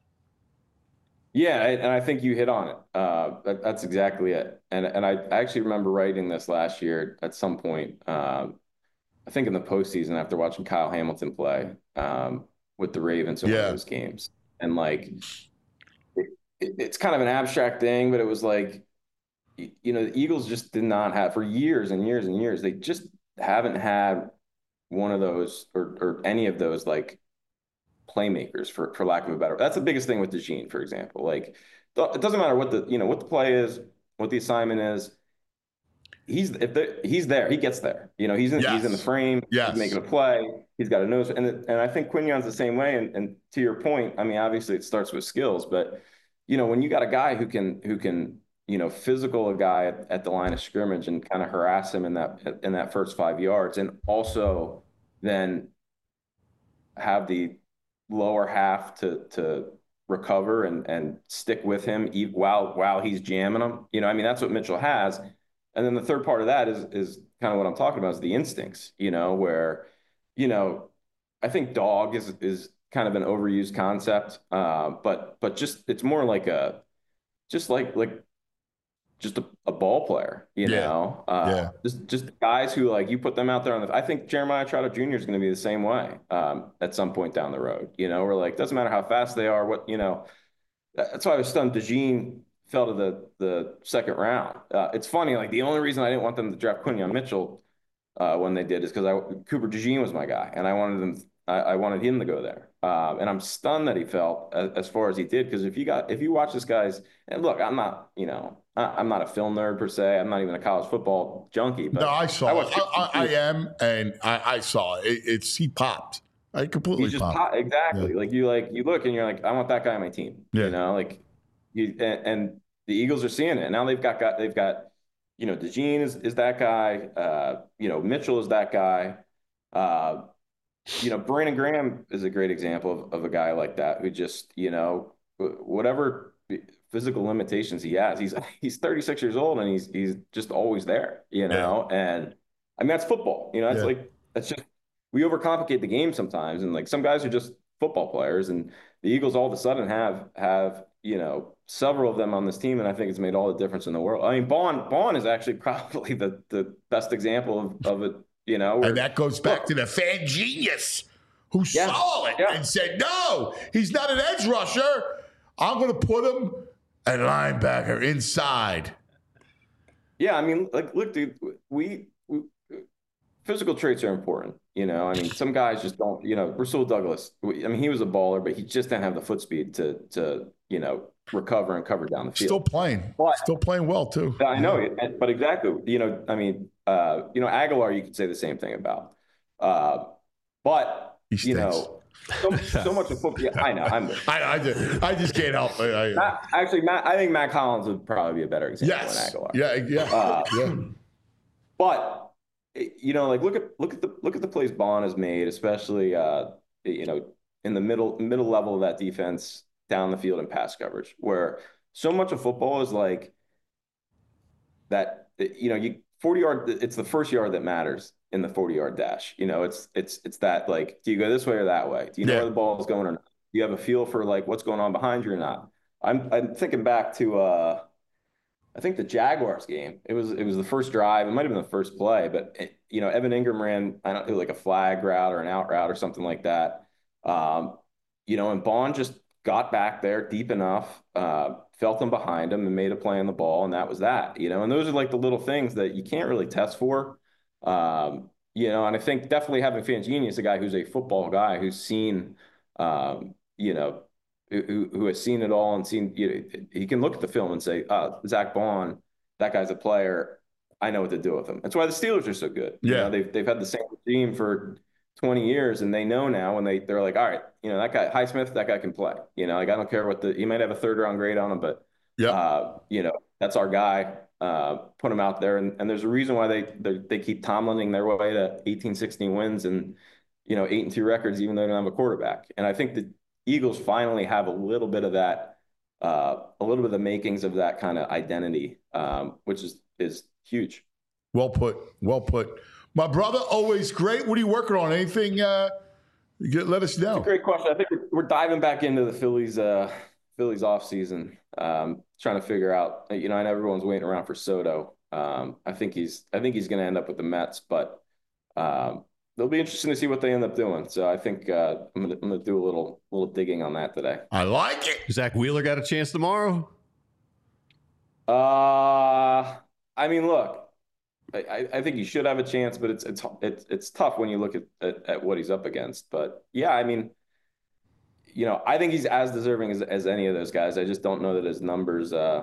[SPEAKER 6] Yeah, and I think you hit on it. That's exactly it. And I actually remember writing this last year at some point. I think in the postseason after watching Kyle Hamilton play with the Ravens in one of those games, and like it's kind of an abstract thing, but it was like, the Eagles just did not have, for years and years and years, they just haven't had one of those or any of those like playmakers, for lack of a better. That's the biggest thing with DeJean, for example. Like it doesn't matter what the play is, what the assignment is. He's there. He gets there. He's in the frame.
[SPEAKER 2] Yes.
[SPEAKER 6] He's making a play. He's got a nose, and I think Quinyon's the same way. And to your point, I mean, obviously it starts with skills, but when you got a guy who can physical a guy at the line of scrimmage and kind of harass him in that first 5 yards, and also then have the lower half to recover and stick with him while he's jamming them. I mean, that's what Mitchell has. And then the third part of that is kind of what I'm talking about, is the instincts, where, I think dog is kind of an overused concept. But just, it's more like just a ball player, just guys who, like, you put them out there I think Jeremiah Trotter Jr. is going to be the same way at some point down the road, where like, doesn't matter how fast they are, what, That's why I was stunned. DeJean fell to the second round. It's funny, like the only reason I didn't want them to draft Quinyon Mitchell when they did is because Cooper DeJean was my guy, and I wanted him to go there. And I'm stunned that he fell as far as he did, because if you watch this guy's, and look, I'm not a film nerd per se. I'm not even a college football junkie. But
[SPEAKER 2] No, I saw it. I am, and I saw it. He popped. I completely
[SPEAKER 6] He just
[SPEAKER 2] popped.
[SPEAKER 6] exactly.
[SPEAKER 2] Yeah.
[SPEAKER 6] Like you look and you're like, I want that guy on my team.
[SPEAKER 2] Yeah.
[SPEAKER 6] You know, like and the Eagles are seeing it. And now they've got DeJean is that guy. Mitchell is that guy. Brandon Graham is a great example of a guy like that who just, whatever physical limitations he has, he's 36 years old and he's just always there, and I mean, that's football, that's just, we overcomplicate the game sometimes. And like some guys are just football players, and the Eagles all of a sudden have several of them on this team. And I think it's made all the difference in the world. I mean, Bond is actually probably the best example of it.
[SPEAKER 2] And that goes back to the fan genius who saw it and said, no, he's not an edge rusher. I'm going to put him at linebacker inside. Yeah,
[SPEAKER 6] I mean, like, look, dude, we physical traits are important. I mean, some guys just don't, Rasul Douglas, he was a baller, but he just didn't have the foot speed to recover and cover down the field.
[SPEAKER 2] Still playing well too.
[SPEAKER 6] I know, but exactly, Aguilar, you could say the same thing about, but so much of football. Yeah, I know.
[SPEAKER 2] I just can't help it.
[SPEAKER 6] Matt, I think Matt Collins would probably be a better example than Aguilar.
[SPEAKER 2] Yeah.
[SPEAKER 6] But look at the plays Bond has made, especially in the middle level of that defense, down the field in pass coverage, where so much of football is like that. 40-yard. It's the first yard that matters in the 40-yard dash. It's that, like, do you go this way or that way? Do you know where the ball is going or not? Do you have a feel for like what's going on behind you or not? I'm thinking back to I think the Jaguars game. It was the first drive. It might have been the first play, but Evan Ingram ran, I don't know, like a flag route or an out route or something like that. And Bond just got back there deep enough, felt them behind him and made a play on the ball, and that was that. And those are like the little things that you can't really test for. And I think definitely having Fanginius, a guy who's a football guy who's seen, who has seen it all and seen, he can look at the film and say, Zach Bond, that guy's a player. I know what to do with him. That's why the Steelers are so good.
[SPEAKER 2] Yeah.
[SPEAKER 6] They've had the same team for 20 years, and they know now when they're like, all right, that guy, Highsmith, that guy can play. Like, I don't care what he might have a 3rd round grade on him, but that's our guy. Put him out there, and there's a reason why they keep Tomlining their way to 18-16 wins and 8-2 records, even though they don't have a quarterback. And I think the Eagles finally have a little bit of that, a little bit of the makings of that kind of identity, which is huge.
[SPEAKER 2] Well put. My brother, always great. What are you working on? Anything? Let us know.
[SPEAKER 6] It's a great question. I think we're diving back into the Phillies off season, trying to figure out. I know everyone's waiting around for Soto. I think he's going to end up with the Mets, but it'll be interesting to see what they end up doing. So I think I'm gonna do a little digging on that today.
[SPEAKER 2] I like it.
[SPEAKER 3] Zach Wheeler got a chance tomorrow.
[SPEAKER 6] I mean, look. I think he should have a chance, but it's tough when you look at what he's up against. But yeah, I mean, I think he's as deserving as any of those guys. I just don't know that his numbers. Do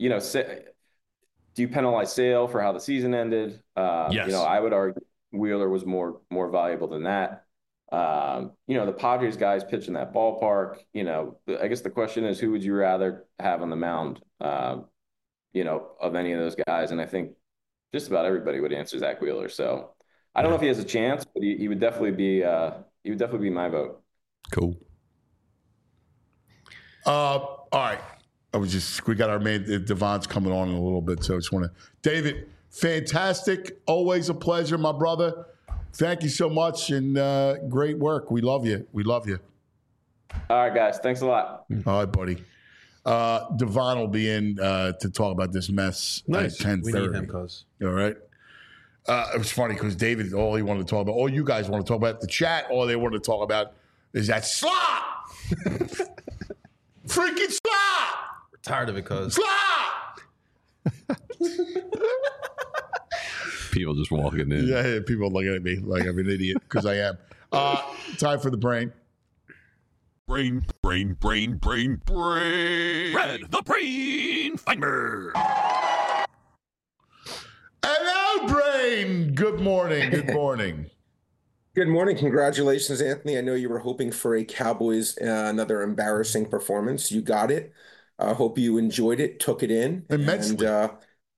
[SPEAKER 6] you penalize Sale for how the season ended?
[SPEAKER 3] Yes.
[SPEAKER 6] I would argue Wheeler was more valuable than that. The Padres guys pitch in that ballpark. I guess the question is, who would you rather have on the mound? Of any of those guys, and I think just about everybody would answer Zach Wheeler. So I don't know if he has a chance, but he would definitely be my vote.
[SPEAKER 3] Cool.
[SPEAKER 2] All right. We got our man Devon's coming on in a little bit, so I just want to. David, fantastic. Always a pleasure, my brother. Thank you so much, and great work. We love you.
[SPEAKER 6] All right, guys. Thanks a lot.
[SPEAKER 2] All right, buddy. Devon will be in to talk about this mess at 10:30.
[SPEAKER 4] We need him, cuz.
[SPEAKER 2] All right. It was funny because David, all he wanted to talk about, all you guys want to talk about, the chat, all they want to talk about is that slop. Freaking slop.
[SPEAKER 4] Tired of it, cuz.
[SPEAKER 2] Stop!
[SPEAKER 3] People just walking in.
[SPEAKER 2] Yeah, people looking at me like I'm an idiot because I am. Time for the brain.
[SPEAKER 1] Brain. Red, the brain finder.
[SPEAKER 2] Hello, brain. Good morning. Good morning.
[SPEAKER 7] Good morning. Congratulations, Anthony. I know you were hoping for a Cowboys another embarrassing performance. You got it. I hope you enjoyed it, took it in.
[SPEAKER 2] Immensely.
[SPEAKER 7] And,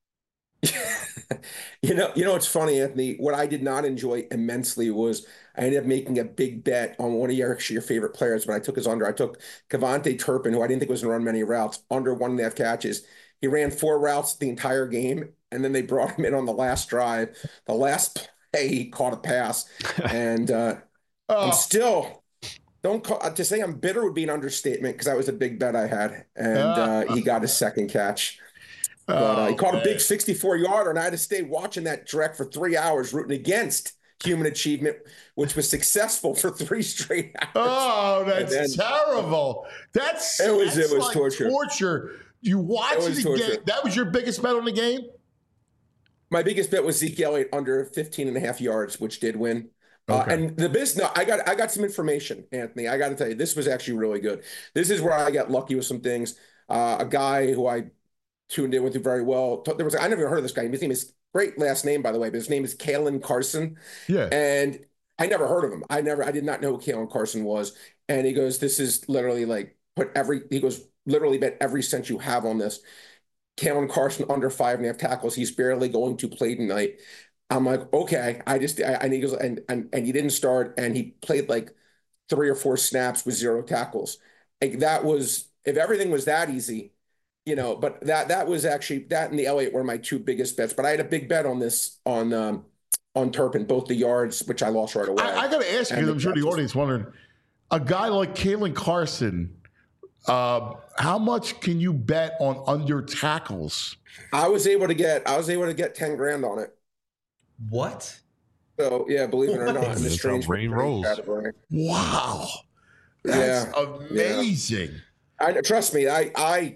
[SPEAKER 7] it's funny, Anthony. What I did not enjoy immensely was I ended up making a big bet on one of your favorite players when I took his under. I took Kevontae Turpin, who I didn't think was going to run many routes, under 1.5 catches. He ran 4 routes the entire game, and then they brought him in on the last drive. The last play, he caught a pass. And I'm still, to say I'm bitter would be an understatement because that was a big bet I had. And he got his second catch. But he caught a big 64-yarder, and I had to stay watching that direct for 3 hours, rooting against human achievement, which was successful for 3 straight hours.
[SPEAKER 2] Oh, that's terrible. It was like torture. You watched the game. That was your biggest bet on the game?
[SPEAKER 7] My biggest bet was Zeke Elliott under 15.5 yards, which did win.
[SPEAKER 2] Okay.
[SPEAKER 7] And I got some information, Anthony. I got to tell you, this was actually really good. This is where I got lucky with some things. A guy who I tuned in with very well. I never even heard of this guy. His name is great last name, by the way, but his name is Kalen Carson.
[SPEAKER 2] Yeah.
[SPEAKER 7] And I never heard of him. I did not know who Kalen Carson was. And he goes, this is literally like literally bet every cent you have on this. Kalen Carson under 5.5 tackles. He's barely going to play tonight. I'm like, okay. And he goes, and he didn't start, and he played like 3 or 4 snaps with 0 tackles. Like that was, if everything was that easy, but that was actually, that and the Elliott were my 2 biggest bets. But I had a big bet on this on Turpin, both the yards, which I lost right away.
[SPEAKER 2] I got to ask you, because I'm sure the audience wondering, a guy like Kalen Carson, how much can you bet on under tackles?
[SPEAKER 7] I was able to get $10,000 on it.
[SPEAKER 4] What?
[SPEAKER 7] So yeah, believe it or not, in the
[SPEAKER 3] That's
[SPEAKER 7] strange
[SPEAKER 3] how brain rolls.
[SPEAKER 7] category.
[SPEAKER 2] Wow, that's amazing.
[SPEAKER 7] Trust me, I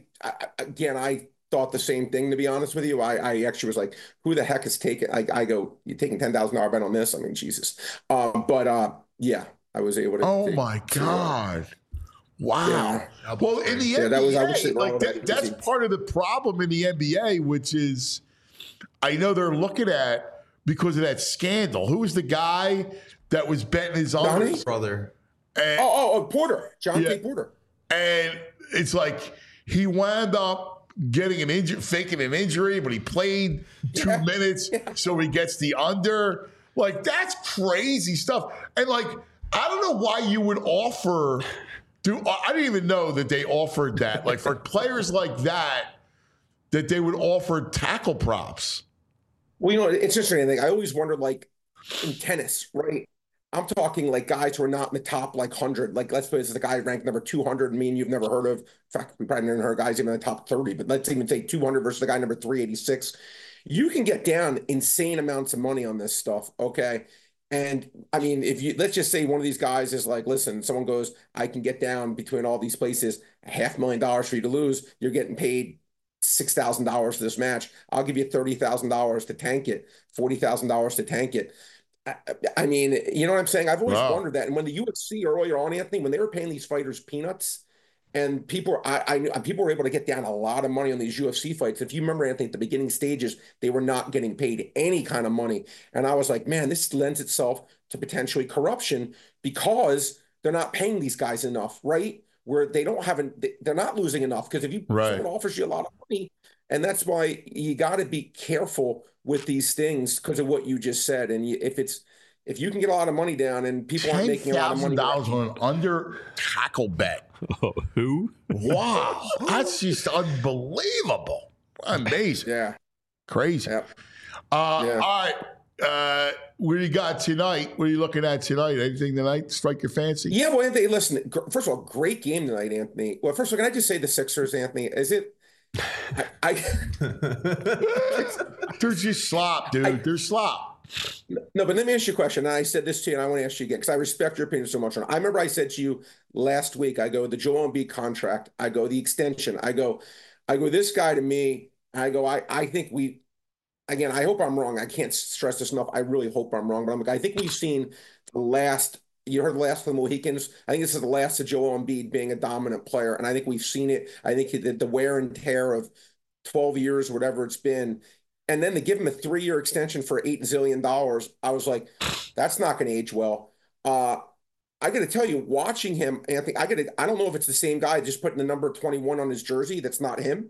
[SPEAKER 7] thought the same thing, to be honest with you. I actually was like, who the heck is taking, I go, you're taking $10,000 bet on this? I mean, Jesus. Yeah, I was able to.
[SPEAKER 2] Oh my God. Wow.
[SPEAKER 7] Yeah.
[SPEAKER 2] Well, in the NBA, that's
[SPEAKER 7] easy.
[SPEAKER 2] part of the problem in the NBA, which is, I know they're looking at, because of that scandal. Who was the guy that was betting his unders?
[SPEAKER 4] Brother.
[SPEAKER 7] Porter. John T. Porter.
[SPEAKER 2] And it's like he wound up getting an injury, faking an injury, but he played 2 minutes, so he gets the under. Like, that's crazy stuff. And like, I don't know why you would offer. I didn't even know that they offered that. Like, for players like that they would offer tackle props.
[SPEAKER 7] Well, it's interesting. I always wondered, like, in tennis, right? I'm talking like guys who are not in the top 100. Like, let's suppose the guy ranked number 200, and me and you've never heard of. In fact, we probably never heard guys even in the top 30. But let's even say 200 versus the guy number 386. You can get down insane amounts of money on this stuff. Okay. And I mean, let's just say one of these guys is like, listen, someone goes, I can get down between all these places, $500,000 for you to lose. You're getting paid $6,000 for this match. I'll give you $30,000 to tank it, $40,000 to tank it. I mean, you know what I'm saying? I've always wondered that. And when the UFC earlier on, Anthony, when they were paying these fighters peanuts, and people were able to get down a lot of money on these UFC fights. If you remember, Anthony, at the beginning stages, they were not getting paid any kind of money. And I was like, man, this lends itself to potentially corruption because they're not paying these guys enough, right? Where they're not losing enough. Because if someone offers you a lot of money, and that's why you got to be careful with these things because of what you just said. And if you can get a lot of money down and people aren't making a lot of money,
[SPEAKER 2] $10,000 on an under tackle bet.
[SPEAKER 3] Oh, who?
[SPEAKER 2] Wow, that's just unbelievable. Amazing.
[SPEAKER 7] Yeah,
[SPEAKER 2] crazy.
[SPEAKER 7] Yep.
[SPEAKER 2] All right. What do you got tonight? What are you looking at tonight? Anything tonight strike your fancy?
[SPEAKER 7] Yeah, well, Anthony, listen. First of all, great game tonight, Anthony. Well, first of all, can I just say the Sixers, Anthony? Is it?
[SPEAKER 2] They're just slop, dude. They're slop.
[SPEAKER 7] No, but let me ask you a question. And I said this to you, and I want to ask you again because I respect your opinion so much. I remember I said to you last week, I go, the Joel Embiid contract, I go, the extension, I go, I go, this guy to me, I go, I think we, again, I hope I'm wrong. I can't stress this enough. I really hope I'm wrong, but I'm like, I think we've seen the last, you heard the last of the Mohicans. I think this is the last of Joel Embiid being a dominant player. And I think we've seen it. I think the wear and tear of 12 years, whatever it's been. And then to give him a 3-year extension for $8 zillion, I was like, that's not going to age well. I got to tell you, watching him, Anthony, I don't know if it's the same guy just putting the number 21 on his jersey. That's not him.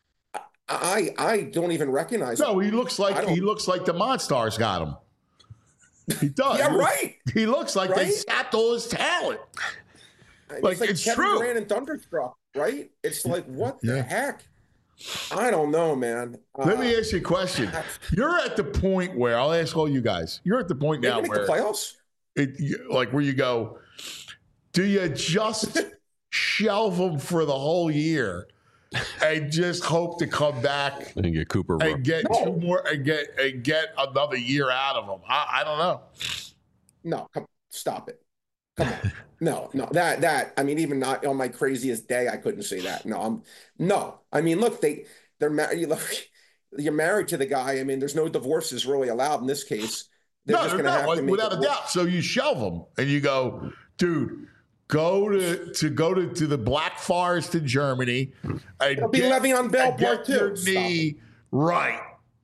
[SPEAKER 7] I don't even recognize him.
[SPEAKER 2] No, he looks like the Monstars got him. He does.
[SPEAKER 7] Yeah, right.
[SPEAKER 2] He looks like they
[SPEAKER 7] Right?
[SPEAKER 2] sapped all his talent. Like, it's
[SPEAKER 7] Kevin
[SPEAKER 2] true.
[SPEAKER 7] Durant and Thunderstruck, right? It's like, what the heck? I don't know, man.
[SPEAKER 2] Let me ask you a question. You're at the point where, I'll ask all you guys, you're at the point now
[SPEAKER 7] make
[SPEAKER 2] where
[SPEAKER 7] the playoffs.
[SPEAKER 2] where you go, do you just shelve them for the whole year and just hope to come back
[SPEAKER 3] And get Cooper.
[SPEAKER 2] and get two more and get another year out of them? I don't know.
[SPEAKER 7] No, stop it. Come on. No, that I mean, even not on my craziest day, I couldn't say that. No. I mean, look, they're married. Look, you're married to the guy. I mean, there's no divorces really allowed in this case. They're just going to have to make
[SPEAKER 2] without a doubt. So you shelve them and you go, dude, go to the Black Forest in Germany and
[SPEAKER 7] It'll be Le'Veon Bell part two.
[SPEAKER 2] Your knee right.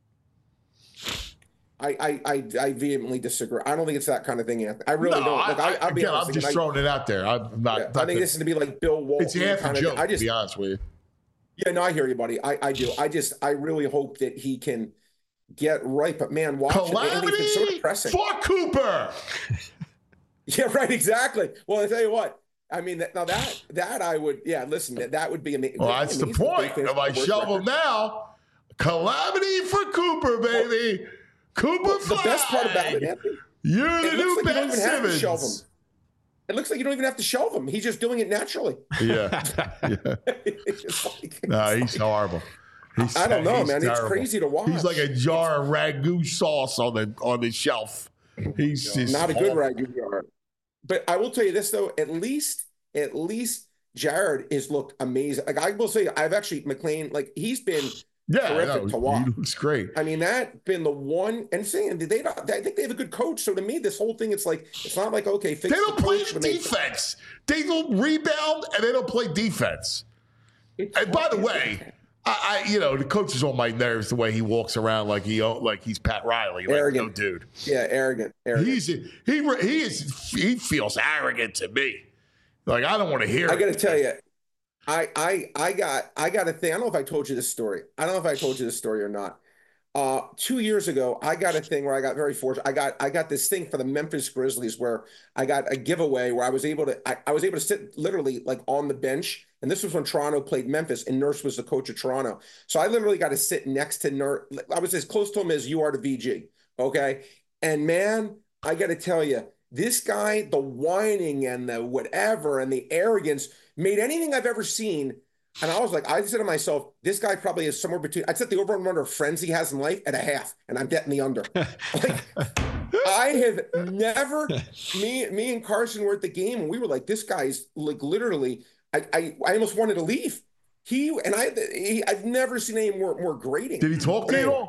[SPEAKER 7] I vehemently disagree. I don't think it's that kind of thing, Anthony. I really don't. Look, I'll be honest.
[SPEAKER 2] I'm just throwing it out there. I'm not.
[SPEAKER 7] I think this is to be like Bill Walton.
[SPEAKER 2] It's half a
[SPEAKER 7] kind of
[SPEAKER 2] joke.
[SPEAKER 7] thing.
[SPEAKER 2] To be honest with you.
[SPEAKER 7] Yeah, no, I hear you, buddy. I do. I really hope that he can get right. But man, watch
[SPEAKER 2] Calamity
[SPEAKER 7] it's so depressing.
[SPEAKER 2] for Cooper.
[SPEAKER 7] Yeah, right. Exactly. Well, I tell you what. I mean, that I would. Yeah, listen, that would be amazing.
[SPEAKER 2] Well, that's the point. If I shelve him now, calamity for Cooper, baby. Cooper
[SPEAKER 7] The best part about it, Anthony,
[SPEAKER 2] you're the new Ben Simmons.
[SPEAKER 7] It looks like you don't even have to shelve him. He's just doing it naturally.
[SPEAKER 2] Yeah. No, he's horrible.
[SPEAKER 7] I don't know, man.
[SPEAKER 2] Terrible.
[SPEAKER 7] It's crazy to watch.
[SPEAKER 2] He's like a jar of ragu sauce on the shelf. He's just
[SPEAKER 7] not a good ragu jar. But I will tell you this though, at least Jared has looked amazing. Like I will say, I've actually McLean, like he's been terrific to watch.
[SPEAKER 2] He looks great.
[SPEAKER 7] I mean, that's been the one. And saying I think they have a good coach. So to me, this whole thing, it's like it's not like okay,
[SPEAKER 2] they don't play defense. They don't rebound and they don't play defense. And by the way, I the coach is on my nerves the way he walks around like he's Pat Riley, like,
[SPEAKER 7] arrogant,
[SPEAKER 2] no dude.
[SPEAKER 7] Yeah, arrogant.
[SPEAKER 2] He feels arrogant to me. Like I don't want to hear.
[SPEAKER 7] I got to tell you, I got a thing. I don't know if I told you this story. I don't know if I told you this story or not. 2 years ago, I got a thing where I got very fortunate. I got this thing for the Memphis Grizzlies where I got a giveaway where I was able to sit literally like on the bench. And this was when Toronto played Memphis and Nurse was the coach of Toronto. So I literally got to sit next to Nurse. I was as close to him as you are to VG. Okay. And man, I got to tell you, this guy, the whining and the whatever and the arrogance made anything I've ever seen. And I was like, I said to myself, this guy probably is somewhere between, I'd set the over and under of friends he has in life at a half, and I'm betting the under. Like, I have never, me and Carson were at the game, and we were like, this guy's like literally, I almost wanted to leave. I've never seen any more grating.
[SPEAKER 2] Did he talk to you at all?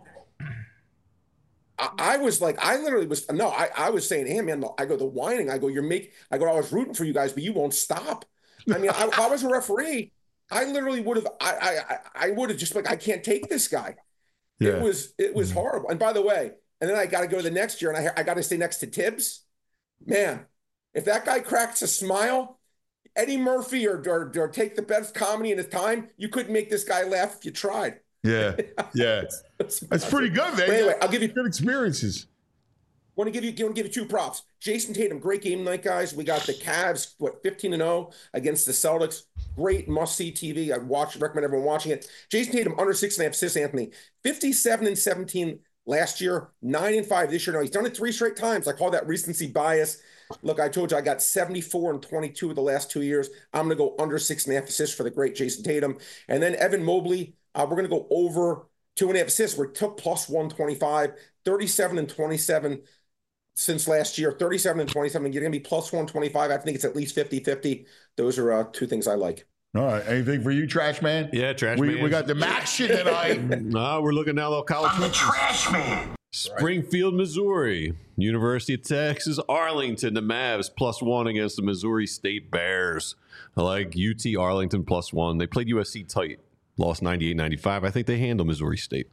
[SPEAKER 7] I was like, I was saying to him, man, I go, the whining, I go, I was rooting for you guys, but you won't stop. I mean, if I was a referee, I literally would have, I would have just like, I can't take this guy. Yeah. It was horrible. And by the way, and then I got to go the next year and I got to stay next to Tibbs. Man, if that guy cracks a smile, Eddie Murphy or take the best comedy in his time, you couldn't make this guy laugh if you tried.
[SPEAKER 2] Yeah. That's pretty good, man.
[SPEAKER 7] But anyway, I'll give you
[SPEAKER 2] good experiences.
[SPEAKER 7] Want to give you two props. Jason Tatum, great game tonight, guys. We got the Cavs, 15-0 against the Celtics. Great must-see TV. Recommend everyone watching it. Jason Tatum, under 6.5 assists, Anthony. 57-17 last year, 9-5 this year. Now, he's done it 3 straight times. I call that recency bias. Look, I told you I got 74 and 22 of the last 2 years. I'm going to go under 6.5 assists for the great Jason Tatum. And then Evan Mobley, we're going to go over 2.5 assists. We're plus 125, 37 and 27 since last year, 37 and 27. You're going to be plus 125. I think it's at least 50-50. Those are 2 things I like.
[SPEAKER 2] All right. Anything for you, Trash Man?
[SPEAKER 3] Yeah, Trash
[SPEAKER 2] We
[SPEAKER 3] Man.
[SPEAKER 2] got the action tonight.
[SPEAKER 3] No, we're looking now, though. College.
[SPEAKER 8] I'm the trash man.
[SPEAKER 3] Springfield, Missouri. University of Texas, Arlington, the Mavs +1 against the Missouri State Bears. I like UT Arlington +1. They played USC tight, lost 98-95. I think they handle Missouri State.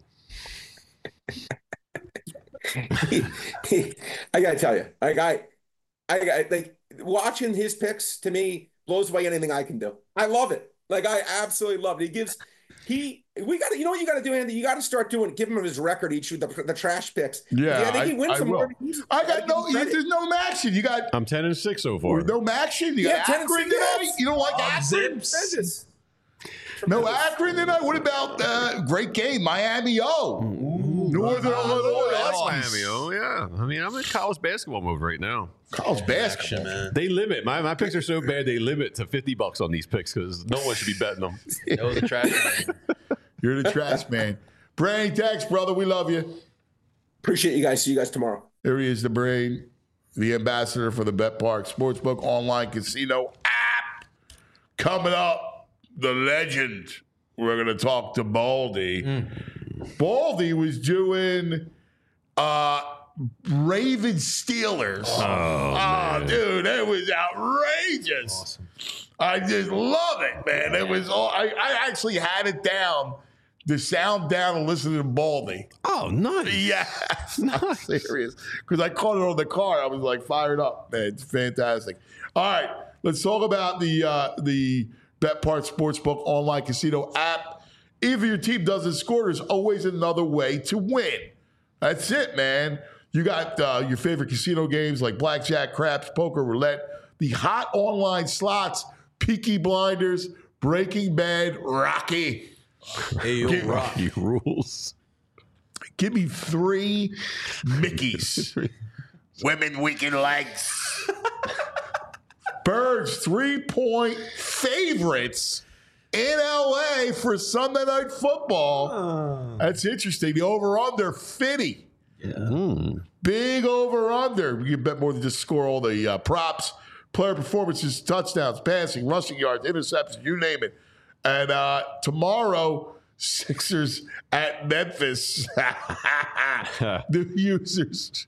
[SPEAKER 7] I gotta tell you, I like watching his picks. To me, blows away anything I can do. I love it. Like I absolutely love it. We got to, you know what you got to do, Andy? You got to start give him his record each week, the trash picks.
[SPEAKER 2] Yeah,
[SPEAKER 7] I think he wins some more.
[SPEAKER 2] There's no action. You got.
[SPEAKER 3] I'm 10-6 so far.
[SPEAKER 2] No action. You got
[SPEAKER 7] 10 and
[SPEAKER 2] Akron
[SPEAKER 7] 6.
[SPEAKER 2] tonight. You don't like Akron?
[SPEAKER 7] Tremendous.
[SPEAKER 2] No Akron tonight. What about great game, Miami? Northern Illinois.
[SPEAKER 3] That's Miami. Oh, yeah. I mean, I'm in college basketball mode right now.
[SPEAKER 2] College basketball.
[SPEAKER 4] Man.
[SPEAKER 3] They limit. My picks are so bad, they limit to $50 on these picks because no one should be betting them.
[SPEAKER 4] That was a trash man.
[SPEAKER 2] You're the trash man. Brain, thanks, brother. We love you.
[SPEAKER 7] Appreciate you guys. See you guys tomorrow.
[SPEAKER 2] There he is, the Brain, the ambassador for the Bet Park Sportsbook online casino app. Coming up, the legend. We're going to talk to Baldy. Baldy was doing Ravens Steelers. Oh, dude, it was outrageous.
[SPEAKER 4] Awesome.
[SPEAKER 2] I just love it, man. It was all I actually had it down, the sound down, and listened to Baldy.
[SPEAKER 3] Oh, nice.
[SPEAKER 2] Yeah, I'm serious. Because I caught it on the car. I was like fired up, man. It's fantastic. All right, let's talk about the BetPart Sportsbook online casino app. Even if your team doesn't score, there's always another way to win. That's it, man. You got your favorite casino games like blackjack, craps, poker, roulette, the hot online slots, Peaky Blinders, Breaking Bad, Rocky.
[SPEAKER 4] Hey, yo,
[SPEAKER 3] Rocky rules.
[SPEAKER 2] Give me 3 Mickeys. Women weakened legs. Birds 3-point favorites in LA for Sunday Night Football. That's interesting. The over-under 50. Big over-under. You can bet more than just score all the props. Player performances, touchdowns, passing, rushing yards, interceptions, you name it. And tomorrow, Sixers at Memphis. The users.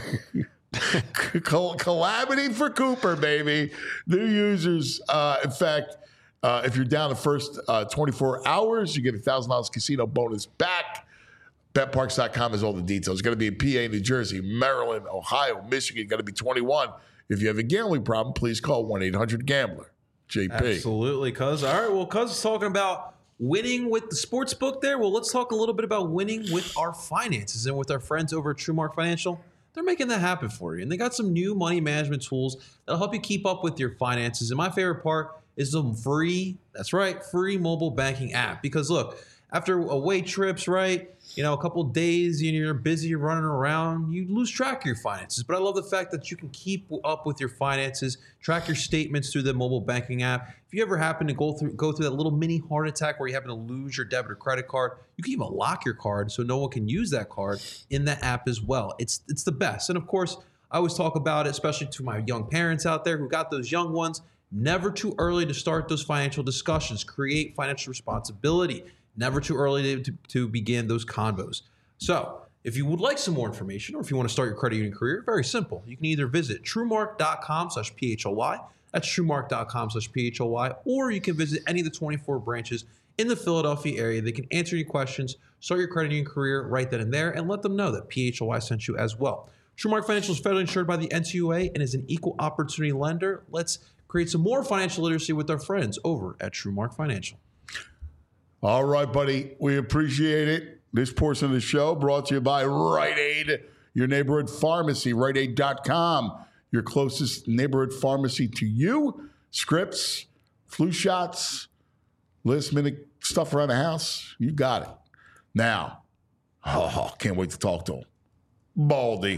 [SPEAKER 2] Calamity for Cooper, baby. New users, in fact, if you're down the first 24 hours, you get $1,000 casino bonus back. BetParks.com has all the details. It's going to be in PA, New Jersey, Maryland, Ohio, Michigan. Got to be 21. If you have a gambling problem, please call 1-800-GAMBLER. JP.
[SPEAKER 4] Absolutely, cuz. All right, well, cuz is talking about winning with the sports book there. Well, let's talk a little bit about winning with our finances and with our friends over at TrueMark Financial. They're making that happen for you. And they got some new money management tools that'll help you keep up with your finances. And my favorite part is the free mobile banking app. Because look, after away trips, right? A couple of days, you're busy, you're running around, you lose track of your finances. But I love the fact that you can keep up with your finances, track your statements through the mobile banking app. If you ever happen to go through that little mini heart attack where you happen to lose your debit or credit card, you can even lock your card so no one can use that card in the app as well. It's the best. And of course, I always talk about it, especially to my young parents out there who got those young ones. Never too early to start those financial discussions. Create financial responsibility. Never too early to begin those convos. So if you would like some more information or if you want to start your credit union career, very simple. You can either visit truemark.com/PHLY. That's truemark.com/PHLY. Or you can visit any of the 24 branches in the Philadelphia area. They can answer your questions, start your credit union career right then and there, and let them know that PHLY sent you as well. TrueMark Financial is federally insured by the NCUA and is an equal opportunity lender. Let's create some more financial literacy with our friends over at TrueMark Financial.
[SPEAKER 2] All right, buddy. We appreciate it. This portion of the show brought to you by Rite Aid, your neighborhood pharmacy, RiteAid.com, your closest neighborhood pharmacy to you. Scripts, flu shots, last-minute stuff around the house. You got it. Now, can't wait to talk to him. Baldy.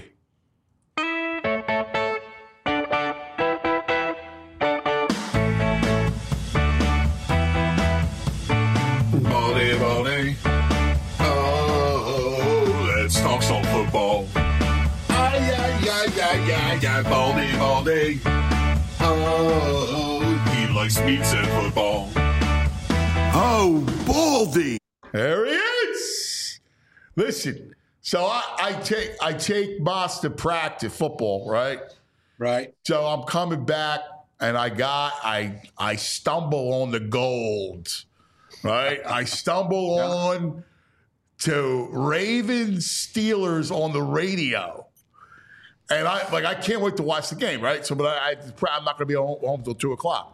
[SPEAKER 1] Baldy. Oh, let's talk some football. Baldy. Oh, he likes meats and football. Oh, Baldy.
[SPEAKER 2] There he is. Listen, so I take Moss to practice football, right?
[SPEAKER 8] Right.
[SPEAKER 2] So I'm coming back, and I stumble on the gold, right? I stumble on to Ravens Steelers on the radio, and I can't wait to watch the game, right? So, but I'm not going to be home till 2:00.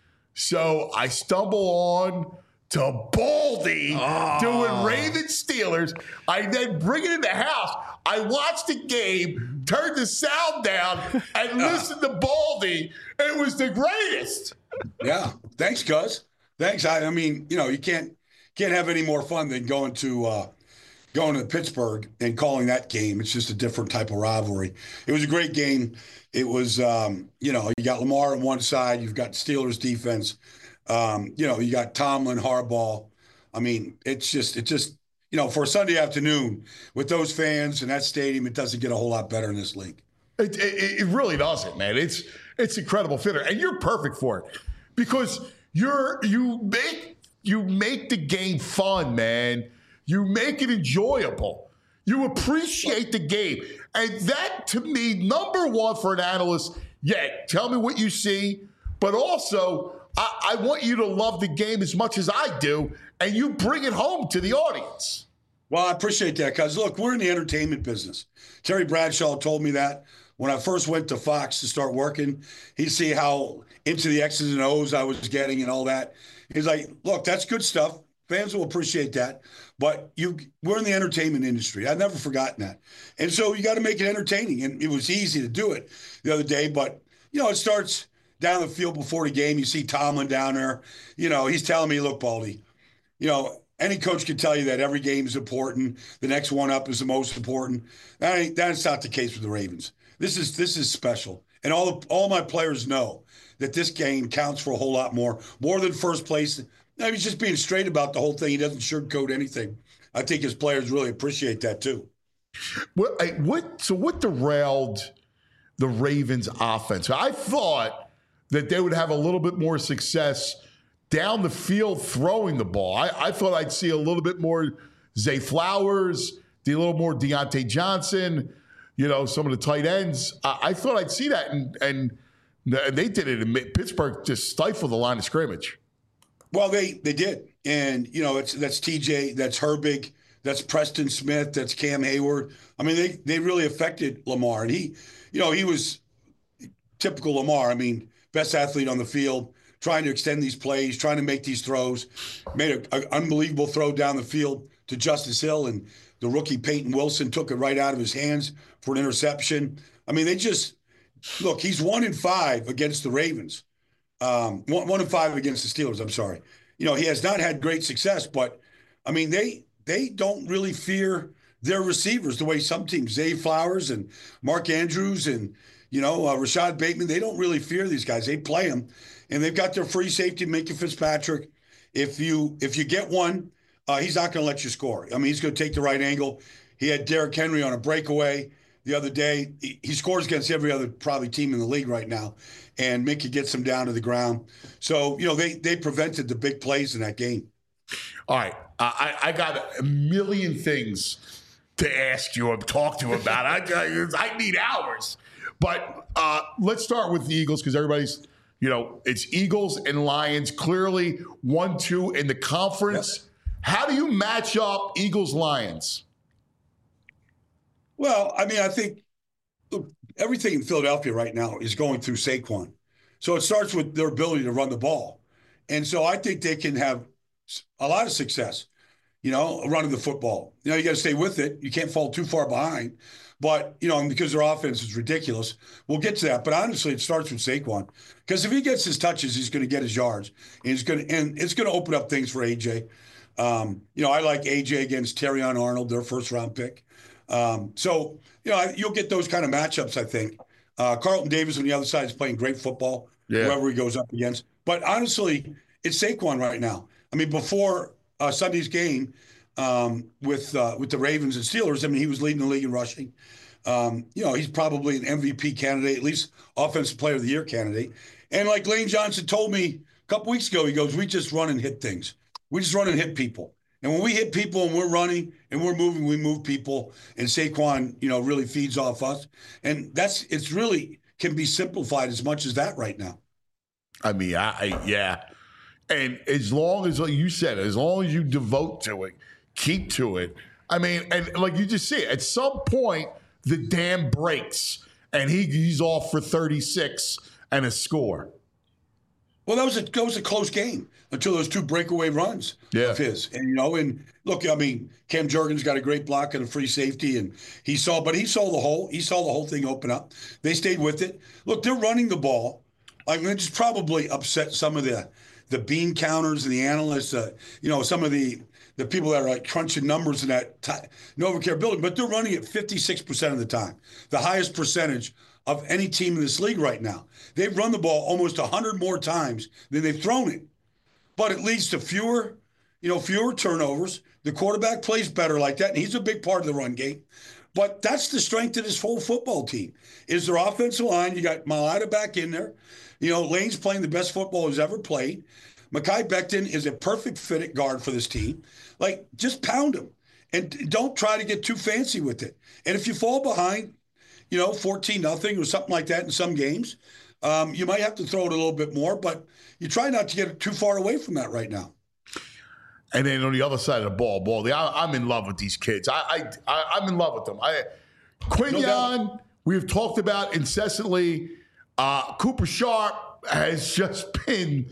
[SPEAKER 2] So I stumble on to Baldy doing Ravens Steelers. I then bring it in the house. I watched the game, turned the sound down, and listened to Baldy. It was the greatest.
[SPEAKER 8] Yeah. Thanks, Gus. Thanks. I mean, you can't have any more fun than going to Pittsburgh and calling that game. It's just a different type of rivalry. It was a great game. It was, you got Lamar on one side. You've got Steelers defense. You got Tomlin, Harbaugh. I mean, it's just, for a Sunday afternoon with those fans and that stadium, it doesn't get a whole lot better in this league.
[SPEAKER 2] It really doesn't, man. It's incredible theater, and you're perfect for it because you make the game fun, man. You make it enjoyable. You appreciate the game, and that to me, number one for an analyst. Yeah, tell me what you see, but also I want you to love the game as much as I do, and you bring it home to the audience.
[SPEAKER 8] Well, I appreciate that because, look, we're in the entertainment business. Terry Bradshaw told me that when I first went to Fox to start working. He'd see how into the X's and O's I was getting and all that. He's like, look, that's good stuff. Fans will appreciate that. But we're in the entertainment industry. I've never forgotten that. And so you got to make it entertaining. And it was easy to do it the other day. But, it starts down the field before the game. You see Tomlin down there. He's telling me, look, Baldy, any coach can tell you that every game is important. The next one up is the most important. That's not the case with the Ravens. This is special. And all my players know that this game counts for a whole lot more than first place. He's just being straight about the whole thing. He doesn't sugarcoat anything. I think his players really appreciate that too.
[SPEAKER 2] What derailed the Ravens offense? I thought that they would have a little bit more success down the field throwing the ball. I thought I'd see a little bit more Zay Flowers, a little more Deontay Johnson, some of the tight ends. I thought I'd see that, and they did it in Pittsburgh, just stifled the line of scrimmage.
[SPEAKER 8] Well, they did. And, that's TJ, that's Herbig, that's Preston Smith, that's Cam Hayward. I mean, they really affected Lamar. And he was typical Lamar. I mean, best athlete on the field, trying to extend these plays, trying to make these throws. Made an unbelievable throw down the field to Justice Hill, and the rookie Peyton Wilson took it right out of his hands for an interception. I mean, he's 1-5 against the Ravens. 1-5 against the Steelers, I'm sorry. He has not had great success, but, I mean, they don't really fear their receivers the way some teams, Zay Flowers and Mark Andrews and, Rashad Bateman, they don't really fear these guys. They play them, and they've got their free safety, Minkah Fitzpatrick. If you get one, he's not going to let you score. I mean, he's going to take the right angle. He had Derrick Henry on a breakaway the other day. He scores against every other probably team in the league right now, and Minkah gets him down to the ground. So, they prevented the big plays in that game.
[SPEAKER 2] All right. I got a million things to ask you and talk to you about. I need hours. But let's start with the Eagles because everybody's, it's Eagles and Lions, clearly 1-2 in the conference. Yep. How do you match up Eagles-Lions?
[SPEAKER 8] Well, I mean, I think everything in Philadelphia right now is going through Saquon. So it starts with their ability to run the ball. And so I think they can have a lot of success, running the football. You got to stay with it. You can't fall too far behind. But, because their offense is ridiculous, we'll get to that. But honestly, it starts with Saquon. Because if he gets his touches, he's going to get his yards. And it's going to open up things for AJ. I like AJ against Terrion Arnold, their first-round pick. So, you'll get those kind of matchups, I think. Carlton Davis on the other side is playing great football, whoever he goes up against. But honestly, it's Saquon right now. I mean, before Sunday's game with the Ravens and Steelers, I mean, he was leading the league in rushing. He's probably an MVP candidate, at least Offensive Player of the Year candidate. And like Lane Johnson told me a couple weeks ago, he goes, we just run and hit things. We just run and hit people. And when we hit people and we're running and we're moving, we move people. And Saquon, really feeds off us. And it's really can be simplified as much as that right now.
[SPEAKER 2] I mean, yeah. And as long as, like you said, as long as you devote to it, keep to it. I mean, and like you just see, at some point, the dam breaks and he's off for 36 and a score.
[SPEAKER 8] Well, that was a close game until those 2 breakaway runs of his. And, and look, I mean, Cam Jurgens got a great block and a free safety, and he saw the whole thing open up. They stayed with it. Look, they're running the ball. I mean, it's probably upset some of the bean counters and the analysts, some of the people that are like crunching numbers in that NovaCare building, but they're running it 56% of the time, the highest percentage of any team in this league right now. They've run the ball almost 100 more times than they've thrown it, but it leads to fewer turnovers. The quarterback plays better like that, and he's a big part of the run game. But that's the strength of this whole football team is their offensive line. You got Mailata back in there. Lane's playing the best football he's ever played. Mekhi Becton is a perfect fit at guard for this team. Like, just pound him. And don't try to get too fancy with it. And if you fall behind, 14-0 or something like that in some games, you might have to throw it a little bit more, but you try not to get too far away from that right now.
[SPEAKER 2] And then on the other side of the ball, Baldy, I'm in love with these kids. I'm in love with them. Quinyon, we've talked about incessantly. Cooper Sharp has just been.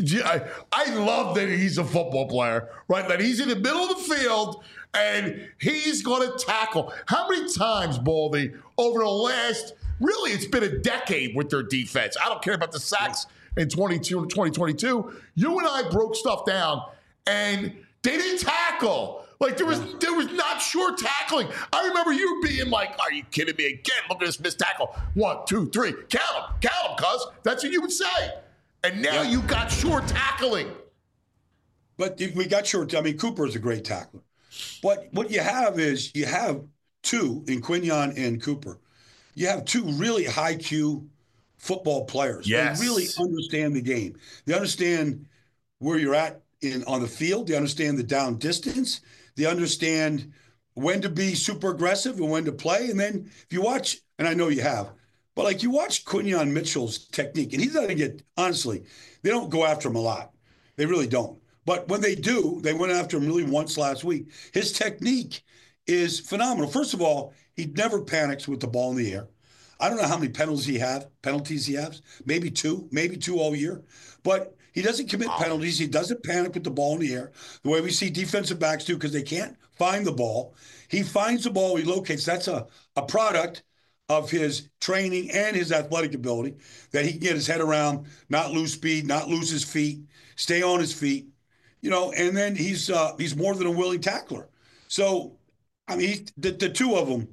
[SPEAKER 2] I love that he's a football player, right? That he's in the middle of the field and he's going to tackle. How many times, Baldy, over the last, really, it's been a decade with their defense. I don't care about the sacks in 2022. You and I broke stuff down, and they didn't tackle. Like, there was not sure tackling. I remember you being like, are you kidding me again? Look at this missed tackle. 1, 2, 3. Count them, cuz. That's what you would say. And now you got sure tackling.
[SPEAKER 8] But we got short. I mean, Cooper is a great tackler. But what you have is you have 2 in Quinyon and Cooper. You have 2 really high Q football players.
[SPEAKER 2] Yes.
[SPEAKER 8] They really understand the game. They understand where you're at on the field. They understand the down distance. They understand when to be super aggressive and when to play. And then if you watch, and I know you have, but like you watch Quinyon Mitchell's technique, and he doesn't get, honestly, they don't go after him a lot. They really don't. But when they do, they went after him really once last week. His technique is phenomenal. First of all, he never panics with the ball in the air. I don't know how many penalties he has. Maybe two all year. But he doesn't commit penalties. He doesn't panic with the ball in the air, the way we see defensive backs do because they can't find the ball. He finds the ball, he locates. That's a product of his training and his athletic ability that he can get his head around, not lose speed, not lose his feet, stay on his feet, and then he's more than a willing tackler. So, I mean, the 2 of them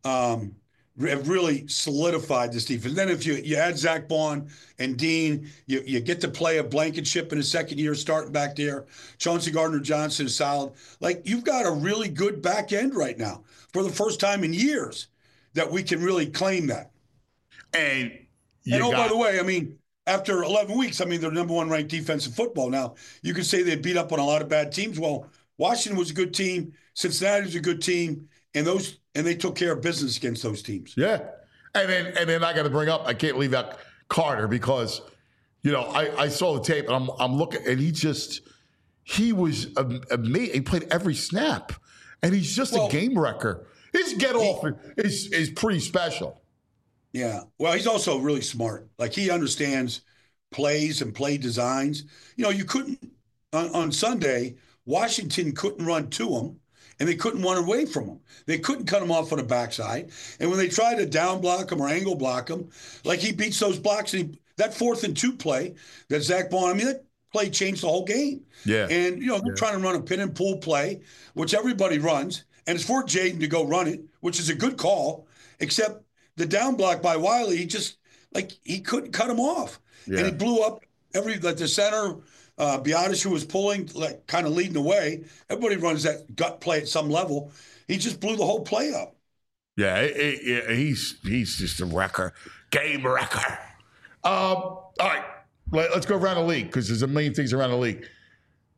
[SPEAKER 8] have really solidified this defense. Then if you add Zach Bond and Dean, you get to play a Blankenship in his second year starting back there. Chauncey Gardner-Johnson is solid. Like, you've got a really good back end right now for the first time in years that we can really claim that.
[SPEAKER 2] And
[SPEAKER 8] by the way, I mean, after 11 weeks, I mean, they're number 1 ranked defense in football. Now, you could say they beat up on a lot of bad teams. Well, Washington was a good team. Cincinnati was a good team. And they took care of business against those teams.
[SPEAKER 2] Yeah. And then I got to bring up, I can't leave out Carter because, I saw the tape and I'm looking and he was amazing. He played every snap and he's just a game wrecker. His get off is pretty special.
[SPEAKER 8] Yeah. Well, he's also really smart. Like, he understands plays and play designs. You couldn't, on Sunday, Washington couldn't run to him. And they couldn't run away from him. They couldn't cut him off on the backside. And when they tried to down block him or angle block him, like, he beats those blocks. And that 4th and 2 play that Zach Bond, I mean, that play changed the whole game.
[SPEAKER 2] Yeah.
[SPEAKER 8] And, they're trying to run a pin and pull play, which everybody runs. And it's for Jaden to go run it, which is a good call, except the down block by Wiley, he couldn't cut him off. Yeah. And he blew up the center. Biotis, who was pulling, kind of leading the way. Everybody runs that gut play at some level. He just blew the whole play up.
[SPEAKER 2] Yeah, he's just a wrecker, game wrecker. All right, let's go around the league because there's a million things around the league.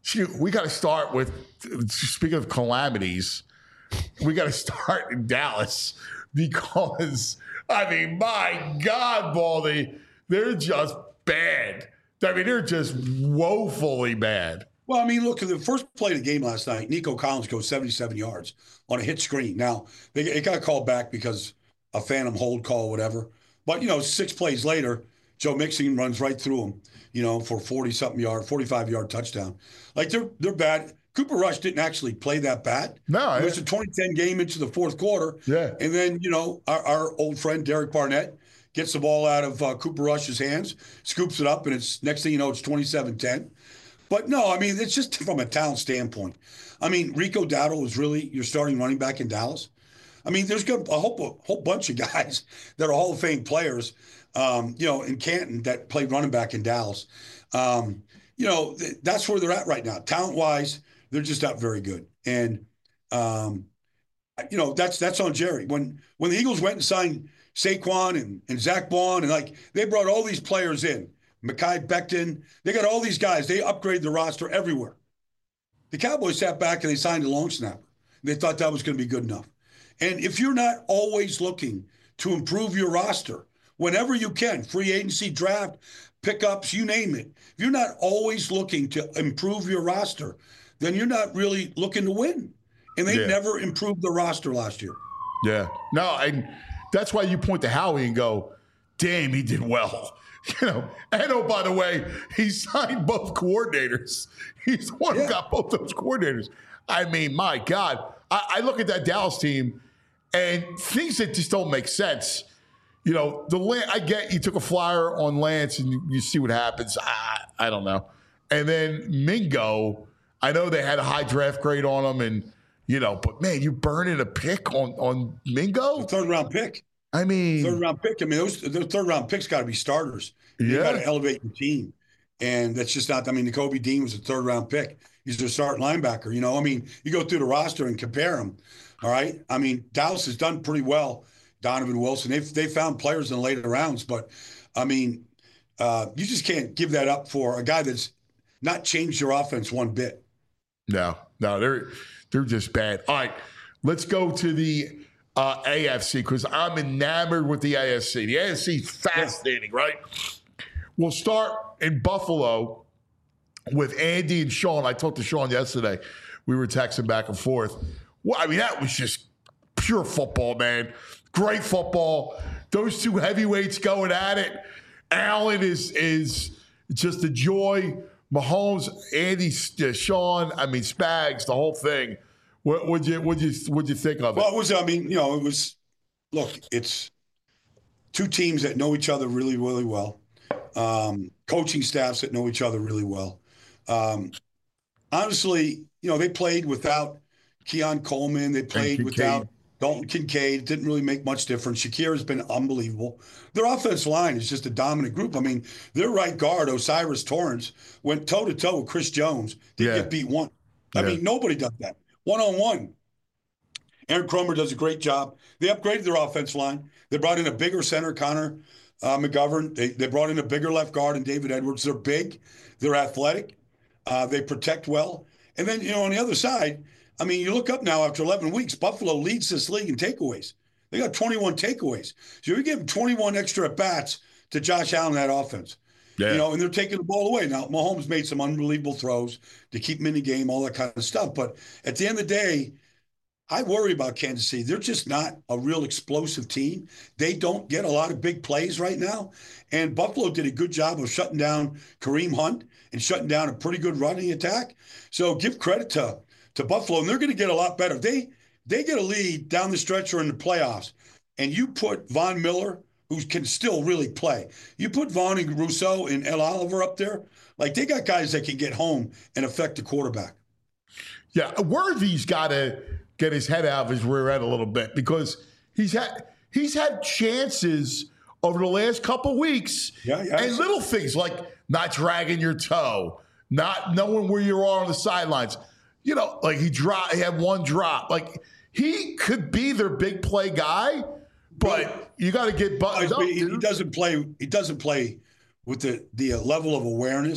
[SPEAKER 2] we got to start with, speaking of calamities, we got to start in Dallas because, I mean, my God, Baldy, they're just bad. I mean, they're just woefully bad.
[SPEAKER 8] Well, I mean, look, at the first play of the game last night, Nico Collins goes 77 yards on a hit screen. Now, it got called back because a phantom hold call, whatever. But, 6 plays later, Joe Mixon runs right through him, for 40-something yard, 45-yard touchdown. Like, they're bad. Cooper Rush didn't actually play that bad.
[SPEAKER 2] No.
[SPEAKER 8] It was a 2010 game into the fourth quarter.
[SPEAKER 2] Yeah.
[SPEAKER 8] And then, our old friend Derek Barnett gets the ball out of Cooper Rush's hands, scoops it up, and it's next thing you know, it's 27-10. But no, I mean, it's just from a talent standpoint. I mean, Rico Dowdle is really your starting running back in Dallas. I mean, there's a whole bunch of guys that are Hall of Fame players, in Canton that played running back in Dallas. That's where they're at right now. Talent-wise, they're just not very good. And, that's on Jerry. When the Eagles went and signed Saquon and Zach Bond, and they brought all these players in, Mekhi Becton, they got all these guys. They upgraded the roster everywhere. The Cowboys sat back and they signed a long snapper. They thought that was going to be good enough. And if you're not always looking to improve your roster, whenever you can, free agency, draft, pickups, you name it, if you're not always looking to improve your roster, then you're not really looking to win. And they never improved the roster last year.
[SPEAKER 2] Yeah. No, and that's why you point to Howie and go, damn, he did well. And oh, by the way, he signed both coordinators. He's the one who got both those coordinators. I mean, my God. I look at that Dallas team and things that just don't make sense. I get you took a flyer on Lance and you see what happens. I don't know. And then Mingo, I know they had a high draft grade on him, and but man, you burning a pick on Mingo?
[SPEAKER 8] Third round pick.
[SPEAKER 2] I mean,
[SPEAKER 8] third round pick. I mean, those third round picks got to be starters. You got to elevate your team, and that's just not. I mean, Nakobe Dean was a third round pick. He's their starting linebacker. I mean, you go through the roster and compare them. All right. I mean, Dallas has done pretty well. Donovan Wilson. They found players in the later rounds, but I mean, you just can't give that up for a guy that's not changed your offense one bit.
[SPEAKER 2] No, they're just bad. All right, let's go to the AFC because I'm enamored with the AFC. The AFC is fascinating, right? We'll start in Buffalo with Andy and Sean. I talked to Sean yesterday. We were texting back and forth. Well, I mean, that was just pure football, man. Great football. Those two heavyweights going at it. Allen is just a joy. Mahomes, Andy, Sean, I mean, Spags, the whole thing. What'd you think of it?
[SPEAKER 8] Well, it was, look, it's two teams that know each other really, really well. Coaching staffs that know each other really well. Honestly, they played without Keon Coleman. They played without Dalton Kincaid. It didn't really make much difference. Shakir has been unbelievable. Their offensive line is just a dominant group. I mean, their right guard, Osiris Torrance, went toe-to-toe with Chris Jones. Didn't get beat one. I mean, nobody does that. One-on-one. Aaron Cromer does a great job. They upgraded their offensive line. They brought in a bigger center, Connor McGovern. They brought in a bigger left guard in David Edwards. They're big. They're athletic. They protect well. And then, on the other side, I mean, you look up now after 11 weeks, Buffalo leads this league in takeaways. They got 21 takeaways. So you give them 21 extra at-bats to Josh Allen, that offense. Yeah. And they're taking the ball away. Now, Mahomes made some unbelievable throws to keep him in the game, all that kind of stuff. But at the end of the day, I worry about Kansas City. They're just not a real explosive team. They don't get a lot of big plays right now. And Buffalo did a good job of shutting down Kareem Hunt and shutting down a pretty good running attack. So give credit to Buffalo, and they're going to get a lot better. They get a lead down the stretch or in the playoffs, and you put Von Miller, who can still really play. You put Vaughn and Rousseau and El Oliver up there, they got guys that can get home and affect the quarterback.
[SPEAKER 2] Yeah, Worthy's got to get his head out of his rear end a little bit because he's had chances over the last couple weeks, and little things like not dragging your toe, not knowing where you are on the sidelines. He had one drop. He could be their big play guy, but you got to get buttoned up.
[SPEAKER 8] He doesn't play with the level of awareness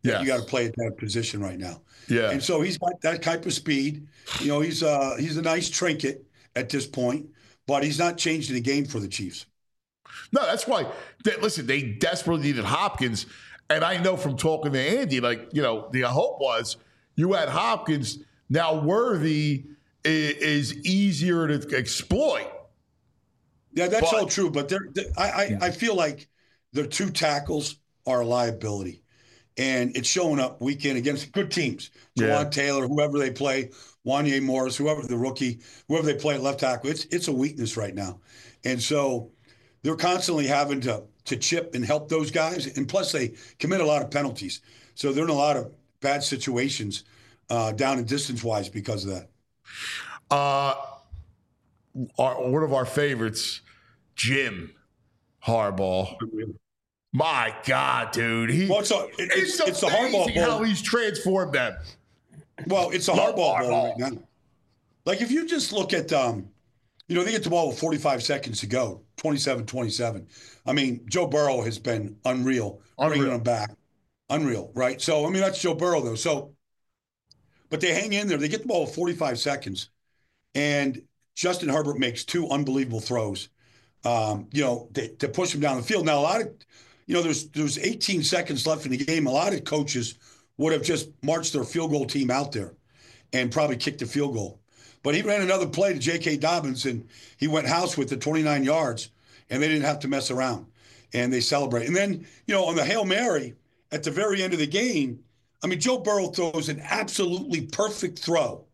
[SPEAKER 2] Yeah.
[SPEAKER 8] You got to play at that position right now.
[SPEAKER 2] Yeah.
[SPEAKER 8] And so he's got that type of speed. You know, he's a nice trinket at this point, but he's not changing the game for the Chiefs.
[SPEAKER 2] No, that's why. Listen, they desperately needed Hopkins, and I know from talking to Andy, like, you know, the hope was you had Hopkins. Now Worthy is easier to exploit.
[SPEAKER 8] Yeah, that's all true. But I feel like the two tackles are a liability, and it's showing up week in against good teams. Jawan Taylor, whoever they play, Wanya Morris, whoever the rookie, whoever they play at left tackle, it's a weakness right now, and so they're constantly having to chip and help those guys, and plus they commit a lot of penalties, so they're in a lot of bad situations down and distance wise because of that.
[SPEAKER 2] One of our favorites, Jim Harbaugh. My God, dude.
[SPEAKER 8] It's the Harbaugh Bowl.
[SPEAKER 2] How he's transformed them.
[SPEAKER 8] Well, it's a Harbaugh Bowl right now. Like, if you just look at, you know, they get the ball with 45 seconds to go, 27-27. I mean, Joe Burrow has been unreal. Bringing them back. Unreal, right? So, I mean, that's Joe Burrow, though. So, but they hang in there. They get the ball with 45 seconds, and Justin Herbert makes two unbelievable throws, you know, to push him down the field. Now, a lot of, you know, there's 18 seconds left in the game. A lot of coaches would have just marched their field goal team out there and probably kicked the field goal. But he ran another play to J.K. Dobbins, and he went house with the 29 yards, and they didn't have to mess around, and they celebrate. And then, you know, on the Hail Mary at the very end of the game, I mean, Joe Burrow throws an absolutely perfect throw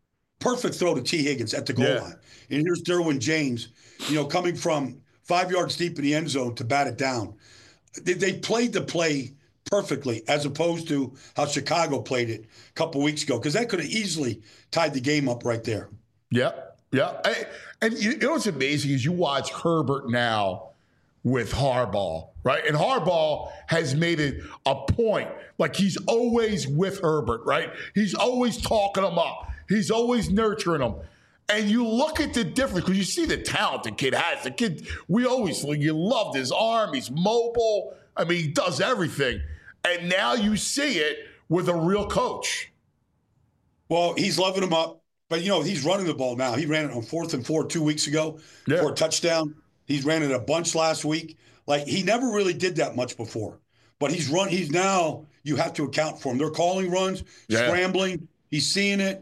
[SPEAKER 8] to T. Higgins at the goal line. And here's Derwin James, you know, coming from 5 yards deep in the end zone to bat it down. They played the play perfectly, as opposed to how Chicago played it a couple weeks ago, because that could have easily tied the game up right there.
[SPEAKER 2] Yep. And you know what's amazing is you watch Herbert now with Harbaugh, right? And Harbaugh has made it a point. Like, he's always with Herbert, right? He's always talking him up. He's always nurturing him. And you look at the difference, because you see the talent the kid has. The kid, you loved his arm. He's mobile. I mean, he does everything. And now you see it with a real coach.
[SPEAKER 8] Well, he's loving him up. But, you know, he's running the ball now. He ran it on 4th and 4 2 weeks ago for a touchdown. He's ran it a bunch last week. Like, he never really did that much before. But he's now, you have to account for him. They're calling runs, scrambling. He's seeing it.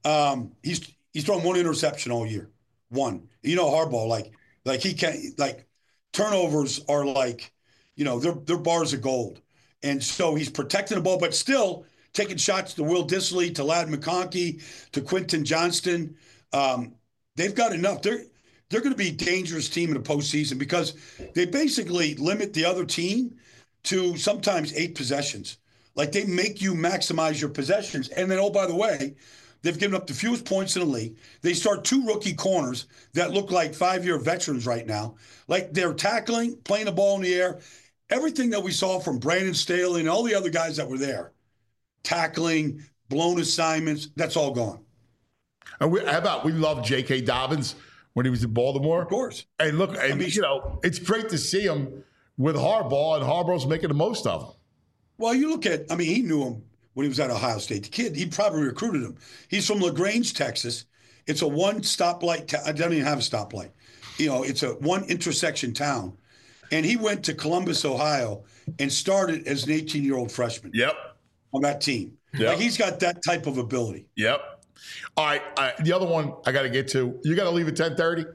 [SPEAKER 8] He's thrown one interception all year. One. You know, Harbaugh, like he can't, like, turnovers are like, you know, they're bars of gold. And so he's protecting the ball, but still taking shots to Will Dissly, to Ladd McConkey, to Quentin Johnston. They've got enough. They're going to be a dangerous team in the postseason, because they basically limit the other team to sometimes 8 possessions. Like, they make you maximize your possessions. And then, oh, by the way, they've given up the fewest points in the league. They start 2 rookie corners that look like 5-year veterans right now. Like, they're tackling, playing the ball in the air. Everything that we saw from Brandon Staley and all the other guys that were there, tackling, blown assignments, that's all gone.
[SPEAKER 2] And we love J.K. Dobbins when he was in Baltimore.
[SPEAKER 8] Of course.
[SPEAKER 2] And look, you know, it's great to see him with Harbaugh, and Harbaugh's making the most of him.
[SPEAKER 8] Well, you look at, I mean, he knew him when he was at Ohio State. The kid, he probably recruited him. He's from LaGrange, Texas. It's a one stoplight. I don't even have a stoplight. You know, it's a one intersection town. And he went to Columbus, Ohio, and started as an 18-year-old freshman.
[SPEAKER 2] Yep.
[SPEAKER 8] On that team.
[SPEAKER 2] Yep.
[SPEAKER 8] Like, he's got that type of ability.
[SPEAKER 2] Yep. All right. The other one I got to get to. You got to leave at 10:30?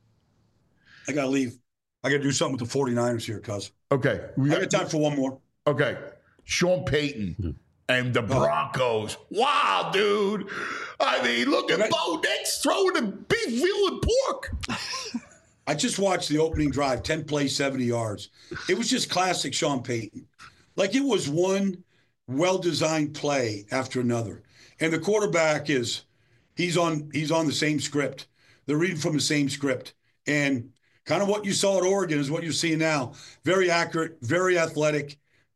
[SPEAKER 8] I got to leave. I got to do something with the 49ers here, cuz.
[SPEAKER 2] Okay.
[SPEAKER 8] I got time for one more.
[SPEAKER 2] Okay. Sean Payton and the Broncos. Wow, dude. I mean, look at Bo Nix throwing the beef, veal, and pork.
[SPEAKER 8] I just watched the opening drive, 10 plays, 70 yards. It was just classic Sean Payton. Like, it was one well-designed play after another. And the quarterback he's on the same script. They're reading from the same script. And kind of what you saw at Oregon is what you're seeing now. Very accurate, very athletic,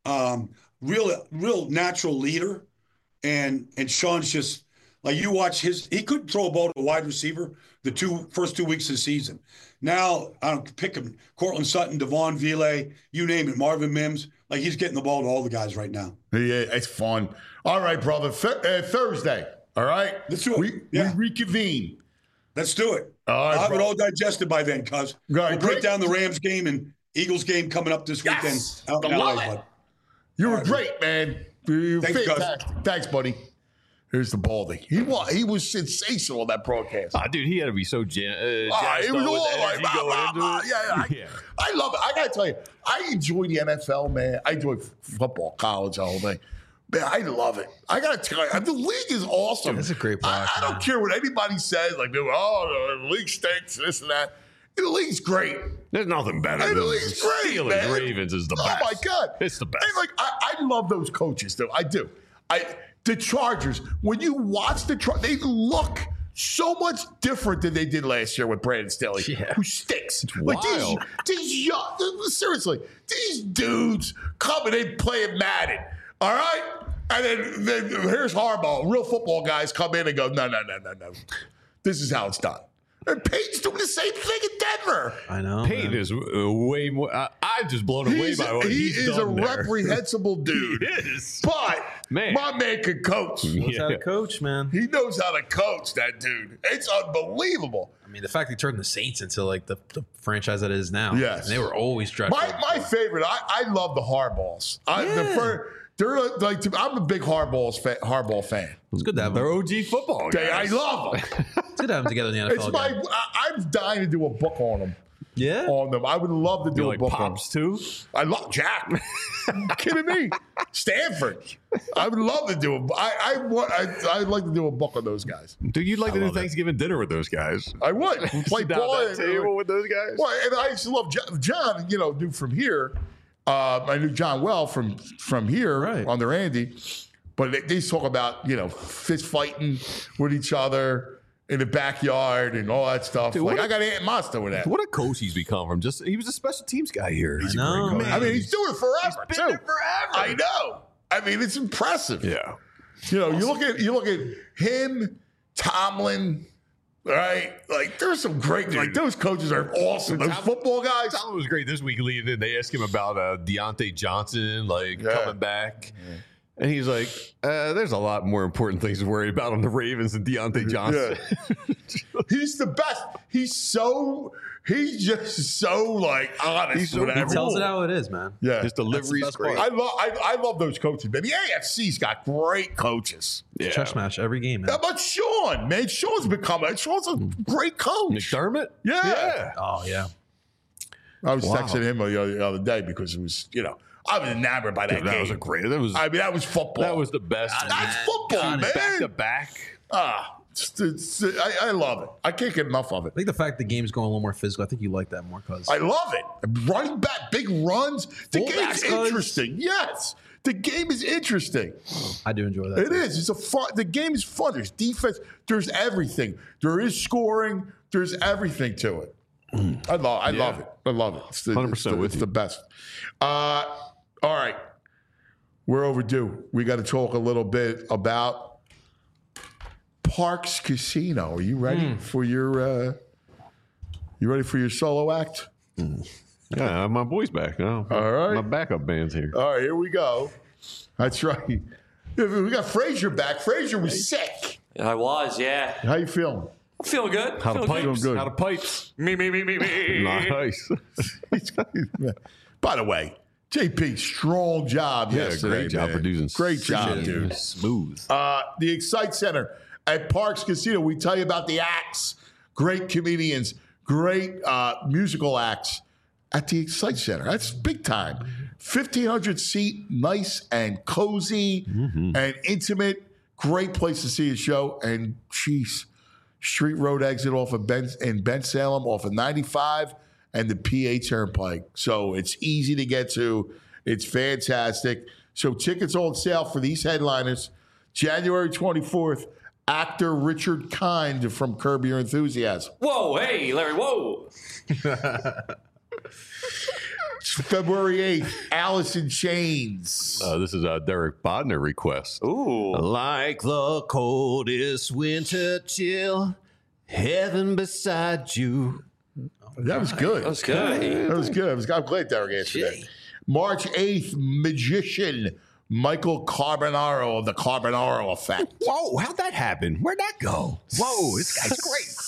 [SPEAKER 8] real natural leader. And Sean's just, like, you watch he couldn't throw a ball to a wide receiver the first 2 weeks of the season. Now, I don't pick him, Cortland Sutton, Devon Vile, you name it, Marvin Mims. like he's getting the ball to all the guys right now.
[SPEAKER 2] Yeah, it's fun. All right, brother. Thursday. All right.
[SPEAKER 8] Let's do it.
[SPEAKER 2] We reconvene.
[SPEAKER 8] Let's do it.
[SPEAKER 2] All right,
[SPEAKER 8] I'll have
[SPEAKER 2] bro.
[SPEAKER 8] it all digested by then, cuz.
[SPEAKER 2] Right,
[SPEAKER 8] We'll break
[SPEAKER 2] great.
[SPEAKER 8] down the Rams game and Eagles game coming up this weekend.
[SPEAKER 2] Yes.
[SPEAKER 8] Out in
[SPEAKER 2] I love
[SPEAKER 8] LA,
[SPEAKER 2] it.
[SPEAKER 8] bud.
[SPEAKER 2] You were great, man. You're
[SPEAKER 8] Thanks, Gus.
[SPEAKER 2] fantastic. Thanks, buddy. Here's the Baldy. He was sensational on that broadcast.
[SPEAKER 3] Dude, he had to be so jazzed
[SPEAKER 2] It
[SPEAKER 3] up
[SPEAKER 2] was
[SPEAKER 3] with
[SPEAKER 2] all
[SPEAKER 3] the
[SPEAKER 2] like,
[SPEAKER 3] energy going into it.
[SPEAKER 2] yeah. I love it. I gotta tell you, I enjoy the NFL, man. I enjoy football, college, the whole thing. Man, I love it. I gotta tell you, the league is awesome.
[SPEAKER 4] It's a great product,
[SPEAKER 2] I don't
[SPEAKER 4] man.
[SPEAKER 2] care what anybody says, like, oh, the league stinks, this and that. The league's great.
[SPEAKER 3] There's nothing better
[SPEAKER 2] And
[SPEAKER 3] than
[SPEAKER 2] the league's great,
[SPEAKER 3] Steelers
[SPEAKER 2] man.
[SPEAKER 3] Ravens is the best.
[SPEAKER 2] Oh my God,
[SPEAKER 3] It's the best.
[SPEAKER 2] And like, I love those coaches, though. I do. The Chargers. When you watch they look so much different than they did last year with Brandon Staley, who stinks. Like
[SPEAKER 3] wild.
[SPEAKER 2] these young, seriously, these dudes coming in playing Madden. All right, and then here's Harbaugh. Real football guys come in and go, no. This is how it's done. And Peyton's doing the same thing in Denver.
[SPEAKER 4] I know.
[SPEAKER 3] Peyton is way more. I'm just blown away by what
[SPEAKER 2] He
[SPEAKER 3] he's
[SPEAKER 2] is a
[SPEAKER 3] done there.
[SPEAKER 2] reprehensible dude.
[SPEAKER 3] He is.
[SPEAKER 2] But
[SPEAKER 3] Man.
[SPEAKER 2] my man can coach.
[SPEAKER 4] Knows how to coach, man.
[SPEAKER 2] He knows how to coach, that dude. It's unbelievable.
[SPEAKER 4] I mean, the fact he turned the Saints into like the franchise that it is now.
[SPEAKER 2] Yes.
[SPEAKER 4] And they were always dreadful.
[SPEAKER 2] My favorite, I love the Hardballs. They're like, I'm a big Hardball fan.
[SPEAKER 4] It's good to have
[SPEAKER 3] They're
[SPEAKER 4] them.
[SPEAKER 3] OG football guys.
[SPEAKER 2] I love them.
[SPEAKER 4] It's good to have them together in the NFL. again.
[SPEAKER 2] I'm dying to do a book on them.
[SPEAKER 4] Yeah.
[SPEAKER 2] On them, I would love to do
[SPEAKER 3] You
[SPEAKER 2] a
[SPEAKER 3] like
[SPEAKER 2] book
[SPEAKER 3] Pops
[SPEAKER 2] on them.
[SPEAKER 3] too?
[SPEAKER 2] I love Jack. You kidding me? Stanford. I would love to do I'd like to do a book on those guys.
[SPEAKER 3] Dude, you'd like to do Thanksgiving dinner with those guys.
[SPEAKER 2] I would play
[SPEAKER 3] Sit down
[SPEAKER 2] ball
[SPEAKER 3] at that table with those guys.
[SPEAKER 2] Well, and I used to love John. Knew from here. I knew John well from here
[SPEAKER 4] Right.
[SPEAKER 2] on the Randy, but they used to talk about fist fighting with each other in the backyard and all that stuff.
[SPEAKER 3] Dude,
[SPEAKER 2] like
[SPEAKER 3] what
[SPEAKER 2] I got Aunt Monster with that.
[SPEAKER 3] What a coach he's become from. He was a special teams guy here. He's
[SPEAKER 4] know,
[SPEAKER 3] a great coach.
[SPEAKER 4] man.
[SPEAKER 2] I mean, he's doing it forever
[SPEAKER 3] Been
[SPEAKER 2] too.
[SPEAKER 3] there forever.
[SPEAKER 2] I know. I mean, it's impressive.
[SPEAKER 3] Yeah.
[SPEAKER 2] You look at him, Tomlin. Right, like there's some great, like those coaches are awesome. Those football guys.
[SPEAKER 3] Tomlin was great this week leading in. They asked him about Deontay Johnson, coming back. Yeah. And he's like, there's a lot more important things to worry about on the Ravens than Deontay Johnson.
[SPEAKER 2] Yeah. He's the best. He's just so like honest.
[SPEAKER 3] He's so
[SPEAKER 2] with
[SPEAKER 4] He
[SPEAKER 2] everything.
[SPEAKER 4] tells it how it is, man.
[SPEAKER 2] Yeah.
[SPEAKER 3] His delivery's
[SPEAKER 4] best
[SPEAKER 3] great.
[SPEAKER 4] part.
[SPEAKER 2] I love those coaches, man. The AFC's got great coaches.
[SPEAKER 3] Yeah.
[SPEAKER 4] Chess match every game, man.
[SPEAKER 2] How about Sean, man? Sean's a great coach.
[SPEAKER 3] McDermott?
[SPEAKER 2] Yeah.
[SPEAKER 4] Oh, yeah.
[SPEAKER 2] I was texting him the other day because it was, I was enamored by that
[SPEAKER 3] Dude,
[SPEAKER 2] game.
[SPEAKER 3] that was a great. That was
[SPEAKER 2] football.
[SPEAKER 3] That was the best.
[SPEAKER 2] That's football, man.
[SPEAKER 3] Back to back.
[SPEAKER 2] I love it. I can't get enough of it.
[SPEAKER 4] I think the fact the game's going a little more physical, I think you like that more, cuz.
[SPEAKER 2] I love it. Running back, big runs. The
[SPEAKER 4] Fullbacks,
[SPEAKER 2] game's
[SPEAKER 4] cuz.
[SPEAKER 2] interesting. Yes. The game is interesting.
[SPEAKER 4] I do enjoy that.
[SPEAKER 2] It is. It's a fun. The game is fun. There's defense. There's everything. There is scoring. There's everything to it. I love it. I love it. It's
[SPEAKER 3] 100% with
[SPEAKER 2] it's
[SPEAKER 3] you.
[SPEAKER 2] the best. All right. We're overdue. We got to talk a little bit about Parks Casino. Are you ready for your solo act?
[SPEAKER 3] Yeah, my boy's back. Oh,
[SPEAKER 2] All right.
[SPEAKER 3] My backup band's here.
[SPEAKER 2] All right, here we go. That's right. We got Frazier back. Frazier was sick.
[SPEAKER 5] I was, yeah.
[SPEAKER 2] How you feeling?
[SPEAKER 5] I'm feeling good.
[SPEAKER 3] How to
[SPEAKER 5] Feeling
[SPEAKER 3] pipes?
[SPEAKER 2] good.
[SPEAKER 3] How to pipes?
[SPEAKER 5] Me.
[SPEAKER 3] Nice.
[SPEAKER 2] By the way, JP, strong job
[SPEAKER 3] Yeah,
[SPEAKER 2] yesterday.
[SPEAKER 3] great job
[SPEAKER 2] man.
[SPEAKER 3] producing.
[SPEAKER 2] Great job,
[SPEAKER 3] Appreciate it.
[SPEAKER 2] dude.
[SPEAKER 3] Smooth.
[SPEAKER 2] The Excite Center at Parks Casino. We tell you about the acts. Great comedians, great musical acts at the Excite Center. That's big time. 1,500 seat, nice and cozy and intimate. Great place to see a show. And geez, Street Road exit off of Ben Salem, off of 95 and the PA Turnpike. So it's easy to get to. It's fantastic. So tickets on sale for these headliners. January 24th, actor Richard Kind from Curb Your Enthusiasm.
[SPEAKER 5] Whoa, hey, Larry, whoa.
[SPEAKER 2] February 8th, Alice in Chains.
[SPEAKER 3] This is a Derek Bodner request.
[SPEAKER 5] Ooh.
[SPEAKER 3] Like the coldest winter chill, heaven beside you.
[SPEAKER 2] That was good.
[SPEAKER 5] That was good.
[SPEAKER 2] That was good. I'm glad Derek answered that. March 8th, magician Michael Carbonaro of the Carbonaro Effect.
[SPEAKER 3] Whoa, how'd that happen? Where'd that go? Whoa, this guy's great.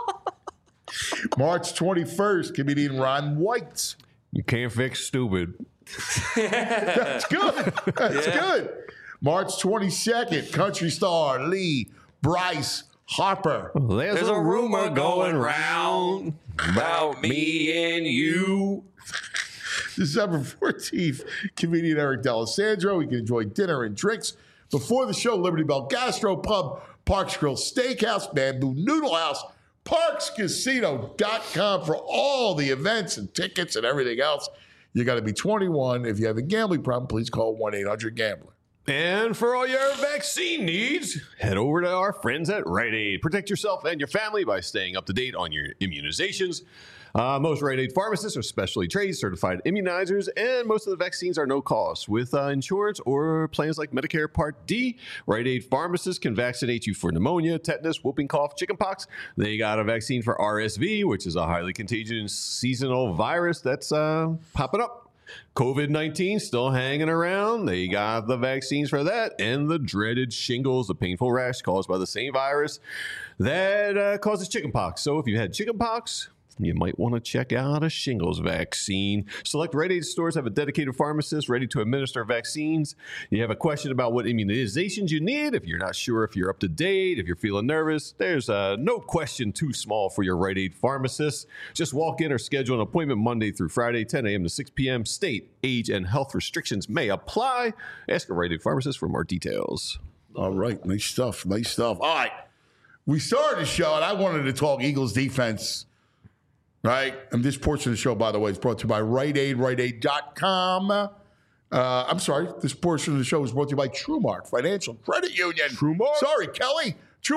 [SPEAKER 2] March 21st, comedian Ron White.
[SPEAKER 3] You can't fix stupid.
[SPEAKER 2] That's good. That's good. March 22nd, country star Lee Bryce Harper.
[SPEAKER 3] There's a rumor going round about me and you.
[SPEAKER 2] December 14th, comedian Eric D'Alessandro. You can enjoy dinner and drinks before the show. Liberty Bell Gastro Pub, Parks Grill Steakhouse, Bamboo Noodle House, ParksCasino.com for all the events and tickets and everything else. You got to be 21. If you have a gambling problem, please call 1-800-GAMBLER.
[SPEAKER 3] And for all your vaccine needs, head over to our friends at Rite Aid. Protect yourself and your family by staying up to date on your immunizations. Most Rite Aid pharmacists are specially trained, certified immunizers, and most of the vaccines are no cost. With insurance or plans like Medicare Part D, Rite Aid pharmacists can vaccinate you for pneumonia, tetanus, whooping cough, chickenpox. They got a vaccine for RSV, which is a highly contagious seasonal virus that's popping up. COVID-19 still hanging around. They got the vaccines for that and the dreaded shingles, the painful rash caused by the same virus that causes chickenpox. So if you had chickenpox, you might want to check out a shingles vaccine. Select Rite Aid stores have a dedicated pharmacist ready to administer vaccines. You have a question about what immunizations you need. If you're not sure if you're up to date, if you're feeling nervous, there's no question too small for your Rite Aid pharmacist. Just walk in or schedule an appointment Monday through Friday, 10 a.m. to 6 p.m. State, age, and health restrictions may apply. Ask a Rite Aid pharmacist for more details.
[SPEAKER 2] All right. Nice stuff. Nice stuff. All right. We started the show, and I wanted to talk Eagles defense. Right? And this portion of the show, by the way, is brought to you by Rite Aid, RiteAid.com. I'm sorry. This portion of the show is brought to you by TrueMark Financial Credit Union.
[SPEAKER 3] TrueMark?
[SPEAKER 2] Sorry, Kelly.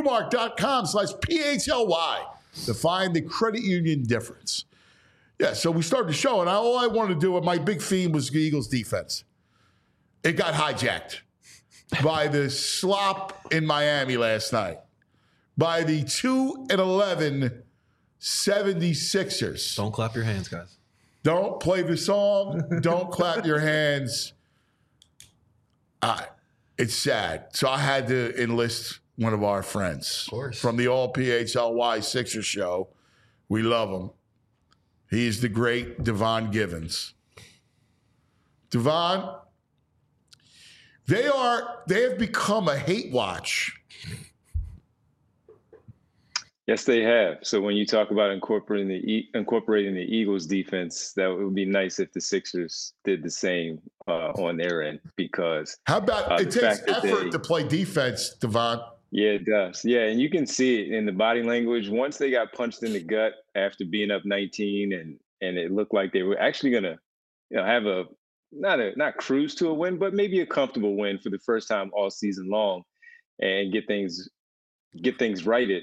[SPEAKER 2] TrueMark.com/PHLY to find the credit union difference. Yeah, so we started the show, and all I wanted to do, my big theme was the Eagles defense. It got hijacked by the slop in Miami last night, by the 2-11 76ers.
[SPEAKER 4] Don't clap your hands, guys.
[SPEAKER 2] Don't play the song. Don't clap your hands. It's sad. So I had to enlist one of our friends.
[SPEAKER 4] Of course.
[SPEAKER 2] From the All PHLY Sixers show. We love him. He's the great Devon Givens. Devon, they have become a hate watch.
[SPEAKER 9] Yes, they have. So when you talk about incorporating the Eagles defense, that would be nice if the Sixers did the same on their end. Because
[SPEAKER 2] how about it takes effort to play defense, Devon?
[SPEAKER 9] Yeah, it does. Yeah, and you can see it in the body language. Once they got punched in the gut after being up 19, and it looked like they were actually gonna, have a not cruise to a win, but maybe a comfortable win for the first time all season long, and get things righted.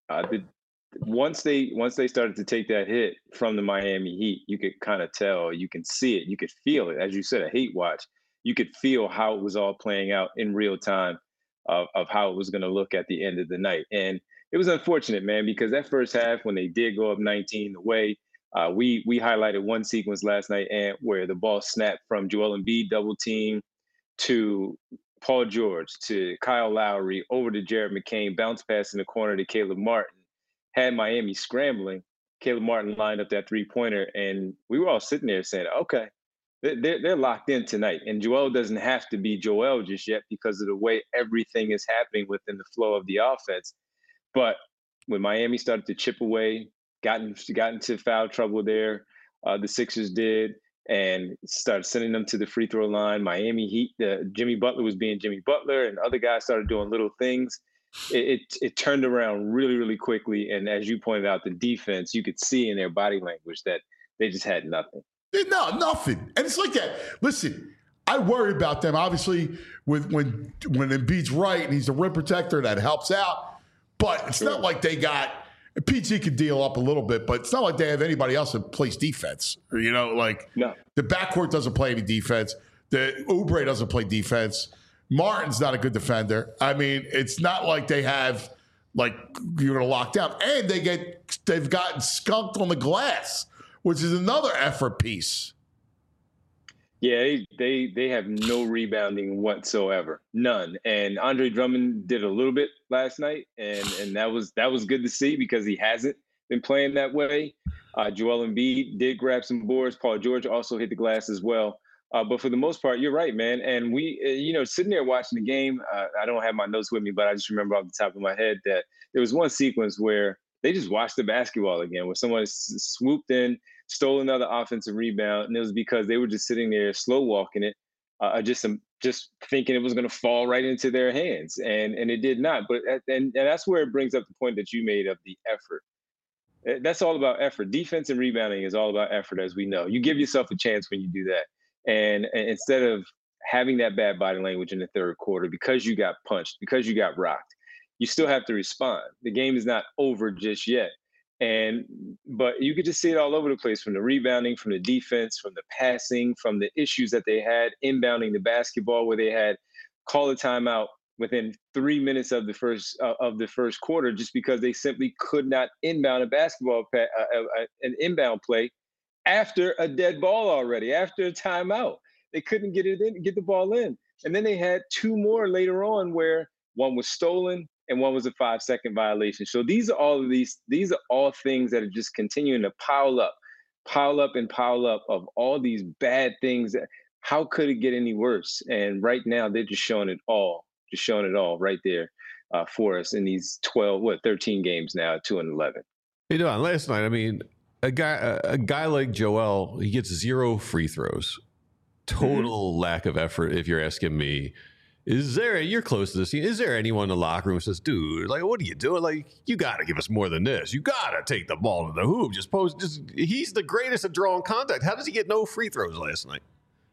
[SPEAKER 9] Once they started to take that hit from the Miami Heat, you could kind of tell, you can see it, you could feel it. As you said, a hate watch. You could feel how it was all playing out in real time of how it was going to look at the end of the night. And it was unfortunate, man, because that first half, when they did go up 19 away, we highlighted one sequence last night and where the ball snapped from Joel Embiid double team to Paul George to Kyle Lowry over to Jared McCain, bounce pass in the corner to Caleb Martin, had Miami scrambling. Caleb Martin lined up that three-pointer, and we were all sitting there saying, okay, they're locked in tonight. And Joel doesn't have to be Joel just yet because of the way everything is happening within the flow of the offense. But when Miami started to chip away, got into foul trouble there, the Sixers did, and started sending them to the free throw line. Miami Heat, Jimmy Butler was being Jimmy Butler, and other guys started doing little things. It turned around really, really quickly. And as you pointed out, the defense, you could see in their body language that they just had nothing.
[SPEAKER 2] No, nothing. And it's like that. Listen, I worry about them. Obviously, when Embiid's right and he's a rim protector, that helps out. But it's not like they got – PG could deal up a little bit, but it's not like they have anybody else that plays defense. No. The backcourt doesn't play any defense. The Oubre doesn't play defense. Martin's not a good defender. I mean, it's not like they have you're going to lock down. And they've gotten skunked on the glass, which is another effort piece.
[SPEAKER 9] Yeah, they have no rebounding whatsoever, none. And Andre Drummond did a little bit last night, and that was good to see because he hasn't been playing that way. Joel Embiid did grab some boards. Paul George also hit the glass as well. But for the most part, you're right, man. And we, sitting there watching the game, I don't have my notes with me, but I just remember off the top of my head that there was one sequence where they just watched the basketball again, where someone swooped in, stole another offensive rebound, and it was because they were just sitting there slow walking it, just thinking it was going to fall right into their hands, and it did not. But and that's where it brings up the point that you made of the effort. That's all about effort. Defense and rebounding is all about effort, as we know. You give yourself a chance when you do that, and instead of having that bad body language in the third quarter because you got punched, because you got rocked, you still have to respond. The game is not over just yet. But you could just see it all over the place, from the rebounding, from the defense, from the passing, from the issues that they had inbounding the basketball, where they had call a timeout within 3 minutes of the first quarter just because they simply could not inbound an inbound play after a dead ball already, after a timeout. They couldn't get the ball in. And then they had two more later on where one was stolen and one was a 5-second violation. So these are all things that are just continuing to pile up of all these bad things. How could it get any worse? And right now they're just showing it all right there for us in these 13 games now, 2-11.
[SPEAKER 3] Hey, Don, last night, I mean, a guy like Joel, he gets 0 free throws. Total lack of effort, if you're asking me. You're close to this team. Is there anyone in the locker room who says, dude, like, what are you doing? Like, you got to give us more than this. You got to take the ball to the hoop. He's the greatest at drawing contact. How does he get no free throws last night?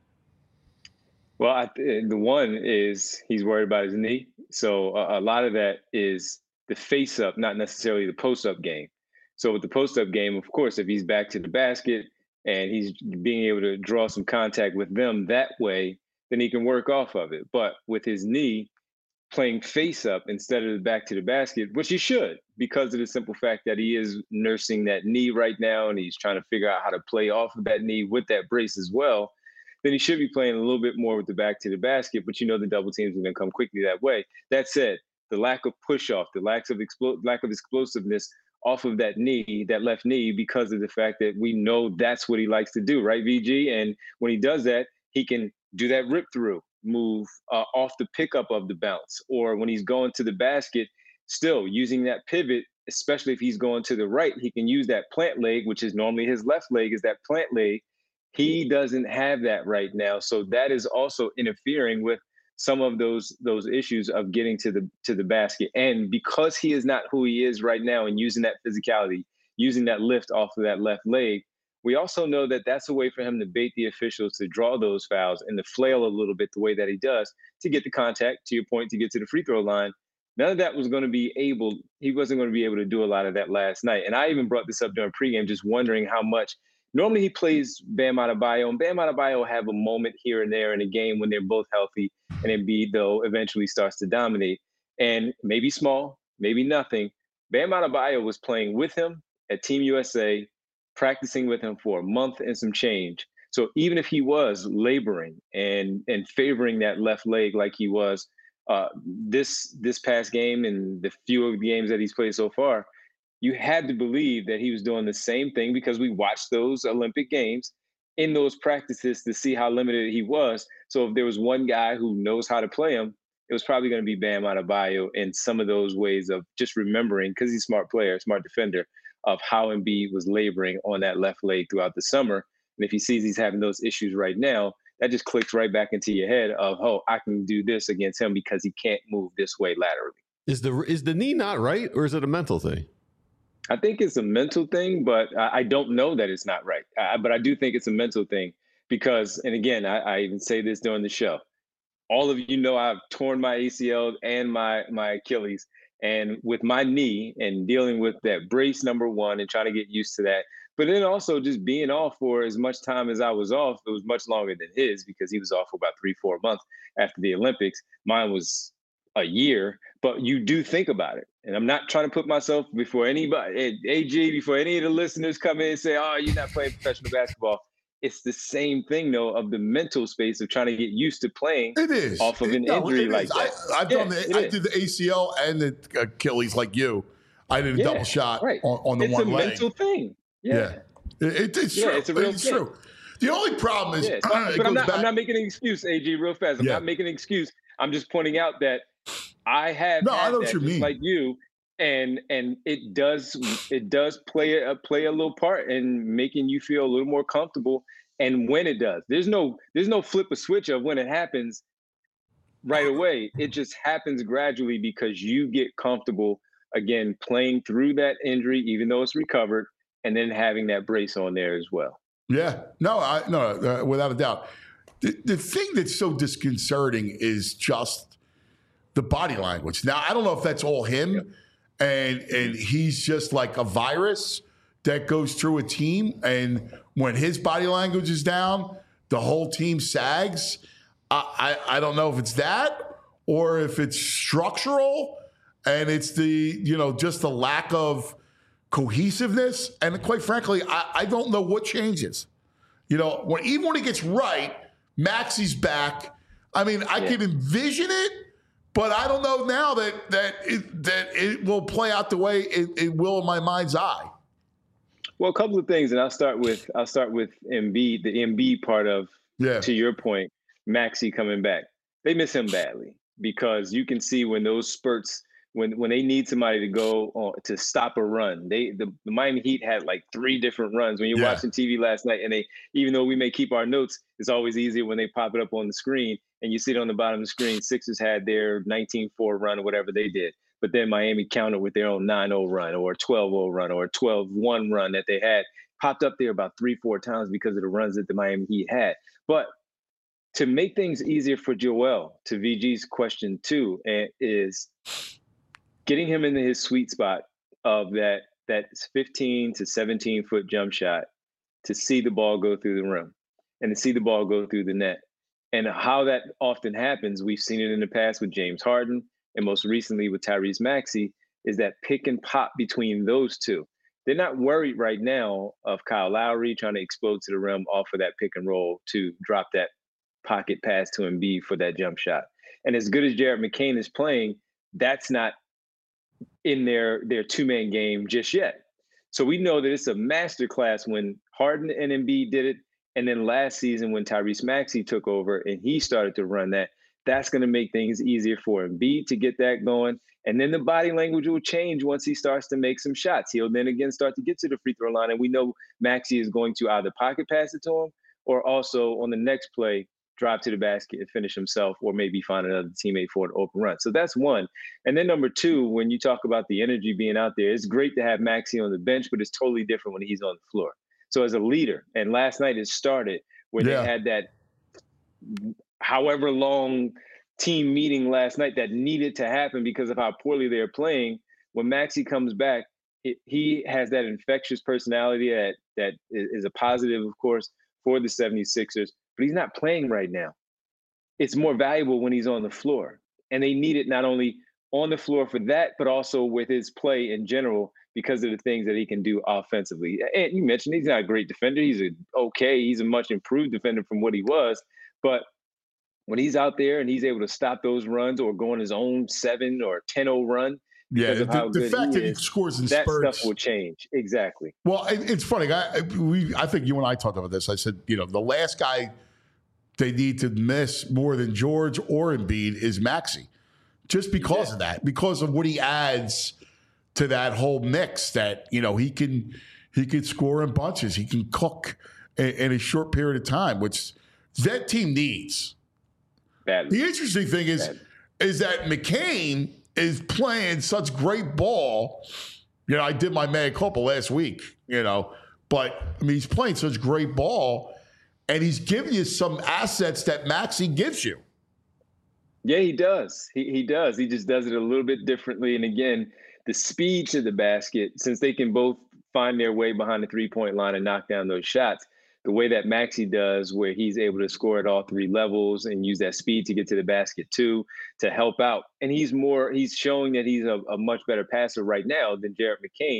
[SPEAKER 9] Well, the one is he's worried about his knee. So a lot of that is the face up, not necessarily the post up game. So with the post up game, of course, if he's back to the basket and he's being able to draw some contact with them that way, then he can work off of it. But with his knee, playing face up instead of back to the basket, which he should, because of the simple fact that he is nursing that knee right now and he's trying to figure out how to play off of that knee with that brace as well, then he should be playing a little bit more with the back to the basket. But the double teams are going to come quickly that way. That said, the lack of push off, the lack of explosiveness off of that knee, that left knee, because of the fact that we know that's what he likes to do, right, VG? And when he does that, he can do that rip through move off the pickup of the bounce, or when he's going to the basket, still using that pivot, especially if he's going to the right, he can use that plant leg, which is normally his left leg, is that plant leg. He doesn't have that right now. So that is also interfering with some of those issues of getting to the basket. And because he is not who he is right now and using that physicality, using that lift off of that left leg, we also know that that's a way for him to bait the officials to draw those fouls and to flail a little bit the way that he does to get the contact, to your point, to get to the free throw line. None of that he wasn't going to be able to do a lot of that last night. And I even brought this up during pregame, just wondering how much. Normally he plays Bam Adebayo, and Bam Adebayo have a moment here and there in a game when they're both healthy, and Embiid, though, eventually starts to dominate. And maybe small, maybe nothing. Bam Adebayo was playing with him at Team USA, practicing with him for a month and some change. So even if he was laboring and favoring that left leg like he was this past game and the few of the games that he's played so far, you had to believe that he was doing the same thing, because we watched those Olympic Games in those practices to see how limited he was. So if there was one guy who knows how to play him, it was probably going to be Bam Adebayo in some of those ways of just remembering, because he's a smart player, smart defender, of how Embiid was laboring on that left leg throughout the summer. And if he sees he's having those issues right now, that just clicks right back into your head of, oh, I can do this against him because he can't move this way laterally.
[SPEAKER 3] Is the knee not right, or is it a mental thing?
[SPEAKER 9] I think it's a mental thing, but I don't know that it's not right. But I do think it's a mental thing because, and again, I even say this during the show, all of you know I've torn my ACL and my Achilles. And with my knee and dealing with that brace, number one, and trying to get used to that, but then also just being off for as much time as I was off, it was much longer than his because he was off for about 3-4 months after the Olympics. Mine was a year, but you do think about it. And I'm not trying to put myself before anybody, AG, before any of the listeners come in and say, oh, you're not playing professional basketball. it's the same thing though of the mental space of trying to get used to playing
[SPEAKER 2] It is
[SPEAKER 9] off of an injury like that.
[SPEAKER 2] I did the ACL and the Achilles like you. I did a double shot on the one leg.
[SPEAKER 9] It's a mental thing. Yeah.
[SPEAKER 2] It's true.
[SPEAKER 9] It's a real thing.
[SPEAKER 2] True. The only problem is,
[SPEAKER 9] but I'm not making an excuse, AG, real fast. I'm not making an excuse. I'm just pointing out that I have
[SPEAKER 2] I know what you mean.
[SPEAKER 9] Like you, and it does play a little part in making you feel a little more comfortable. And when it does, there's no flip a switch of when it happens right away. It just happens gradually because you get comfortable again playing through that injury, even though it's recovered, and then having that brace on there as well.
[SPEAKER 2] Yeah, no, without a doubt. The thing that's so disconcerting is just the body language. Now, I don't know if that's all him, and he's just like a virus that goes through a team, and when his body language is down, the whole team sags. I don't know if it's that or if it's structural, and it's just the lack of cohesiveness. And quite frankly, I don't know what changes. Even when it gets right, Maxey's back. I mean, I can envision it, but I don't know now that it will play out the way it will in my mind's eye.
[SPEAKER 9] Well, a couple of things, and I'll start with Embiid, the Embiid part of, to your point, Maxey coming back. They miss him badly because you can see when those spurts, when they need somebody to go to stop a run, the Miami Heat had like 3 different runs. When you're watching TV last night, and even though we may keep our notes, it's always easier when they pop it up on the screen and you see it on the bottom of the screen. Sixers had their 19-4 run or whatever they did. But then Miami countered with their own 9-0 run or a 12-0 run or a 12-1 run that they had popped up there about 3-4 times because of the runs that the Miami Heat had. But to make things easier for Joel, to VG's question too, is getting him into his sweet spot of that 15 to 17 foot jump shot to see the ball go through the rim and to see the ball go through the net. And how that often happens, we've seen it in the past with James Harden and most recently with Tyrese Maxey, is that pick and pop between those two. They're not worried right now of Kyle Lowry trying to explode to the rim off of that pick and roll to drop that pocket pass to Embiid for that jump shot. And as good as Jared McCain is playing, that's not in their two-man game just yet. So we know that it's a masterclass when Harden and Embiid did it, and then last season when Tyrese Maxey took over and he started to run that, that's going to make things easier for Embiid to get that going. And then the body language will change once he starts to make some shots. He'll then again start to get to the free throw line, and we know Maxey is going to either pocket pass it to him or also on the next play, drive to the basket and finish himself, or maybe find another teammate for an open run. So that's one. And then number two, when you talk about the energy being out there, it's great to have Maxey on the bench, but it's totally different when he's on the floor. So as a leader, and last night it started when they had that however long team meeting last night that needed to happen because of how poorly they're playing. When Maxey comes back, he has that infectious personality that is a positive, of course, for the 76ers, but he's not playing right now. It's more valuable when he's on the floor. And they need it not only on the floor for that, but also with his play in general because of the things that he can do offensively. And you mentioned he's not a great defender. He's a much improved defender from what he was. But when he's out there and he's able to stop those runs or go on his own 7 or 10-0 run,
[SPEAKER 2] the fact that he scores in spurts,
[SPEAKER 9] that stuff will change. Exactly.
[SPEAKER 2] Well, it's funny. I think you and I talked about this. I said, the last guy they need to miss more than George or Embiid is Maxey, just because of that, because of what he adds to that whole mix. That he can score in bunches, he can cook in a short period of time, which that team needs.
[SPEAKER 9] Badly.
[SPEAKER 2] The interesting thing is that McCain is playing such great ball. I did my mea culpa last week, but he's playing such great ball, and he's giving you some assets that Maxey gives you.
[SPEAKER 9] Yeah, he does. He does. He just does it a little bit differently. And again, the speed to the basket, since they can both find their way behind the three-point line and knock down those shots, the way that Maxey does, where he's able to score at all 3 levels and use that speed to get to the basket too, to help out. And he's showing that he's a much better passer right now than Jared McCain,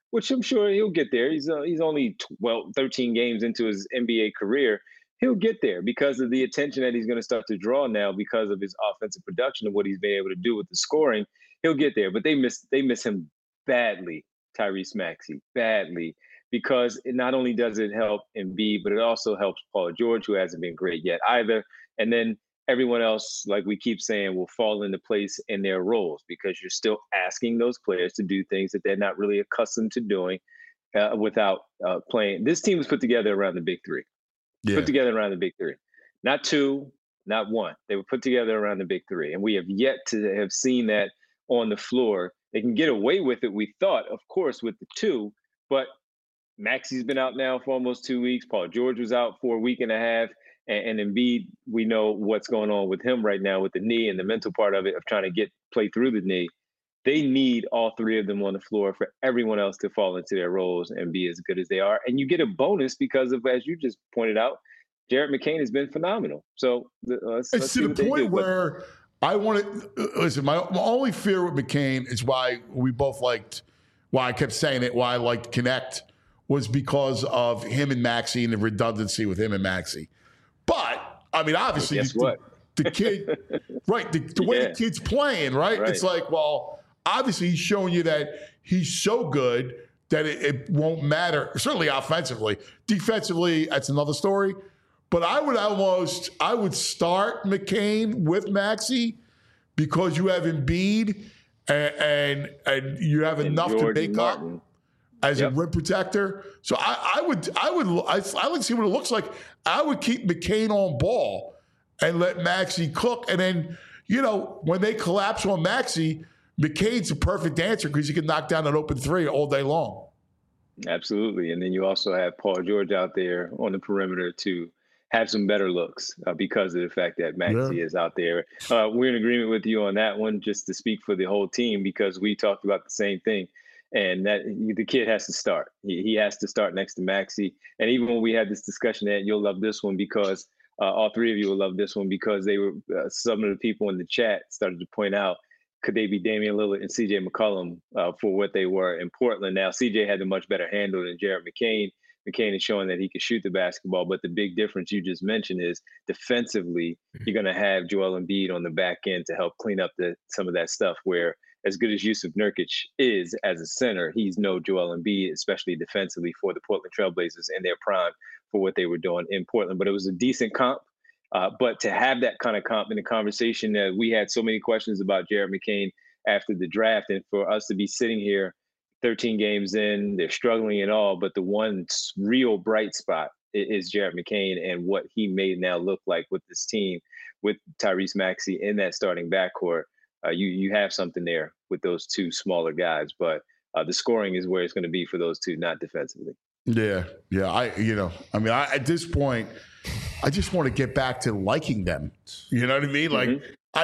[SPEAKER 9] which I'm sure he'll get there. He's only 13 games into his NBA career. He'll get there because of the attention that he's going to start to draw now because of his offensive production and what he's been able to do with the scoring. He'll get there, but they miss him badly, Tyrese Maxey, badly, because it not only does it help Embiid, but it also helps Paul George, who hasn't been great yet either. And then everyone else, like we keep saying, will fall into place in their roles because you're still asking those players to do things that they're not really accustomed to doing without playing. This team was put together around the big three.
[SPEAKER 2] Yeah.
[SPEAKER 9] Put together around the big three. Not two, not one. They were put together around the big three. And we have yet to have seen that on the floor. They can get away with it, we thought, of course, with the two. But Maxey's been out now for almost 2 weeks. Paul George was out for a week and a half. And Embiid, we know what's going on with him right now with the knee and the mental part of it of trying to play through the knee. They need all three of them on the floor for everyone else to fall into their roles and be as good as they are. And you get a bonus because of, as you just pointed out, Jared McCain has been phenomenal. So let's
[SPEAKER 2] to the point where I want to listen. My only fear with McCain is why I kept saying it. Why I liked Connect was because of him and Maxey and the redundancy with him and Maxey. But I mean, obviously, the kid, right? The way the kid's playing, right? It's like, well, obviously, he's showing you that he's so good that it won't matter. Certainly, offensively, defensively, that's another story. But I would start McCain with Maxey because you have Embiid and you have enough to make up as a rim protector. So I like to see what it looks like. I would keep McCain on ball and let Maxey cook. And then, when they collapse on Maxey, McCain's a perfect answer because he can knock down an open three all day long.
[SPEAKER 9] Absolutely. And then you also have Paul George out there on the perimeter to have some better looks because of the fact that Maxey is out there. We're in agreement with you on that one, just to speak for the whole team, because we talked about the same thing. And that the kid has to start. He has to start next to Maxey. And even when we had this discussion, that you'll love this one because all three of you will love this one because they were some of the people in the chat started to point out, could they be Damian Lillard and CJ McCollum for what they were in Portland? Now, CJ had a much better handle than Jared McCain. McCain is showing that he can shoot the basketball, but the big difference you just mentioned is defensively, you're going to have Joel Embiid on the back end to help clean up some of that stuff where as good as Yusuf Nurkic is as a center, he's no Joel Embiid, especially defensively for the Portland Trailblazers in their prime for what they were doing in Portland. But it was a decent comp. But to have that kind of comp in the conversation that we had so many questions about Jared McCain after the draft, and for us to be sitting here 13 games in, they're struggling at all, but the one real bright spot is Jared McCain and what he made now look like with this team, with Tyrese Maxey in that starting backcourt. You have something there with those two smaller guys, but the scoring is where it's going to be for those two, not defensively.
[SPEAKER 2] Yeah. At this point, I just want to get back to liking them. You know what I mean? Like,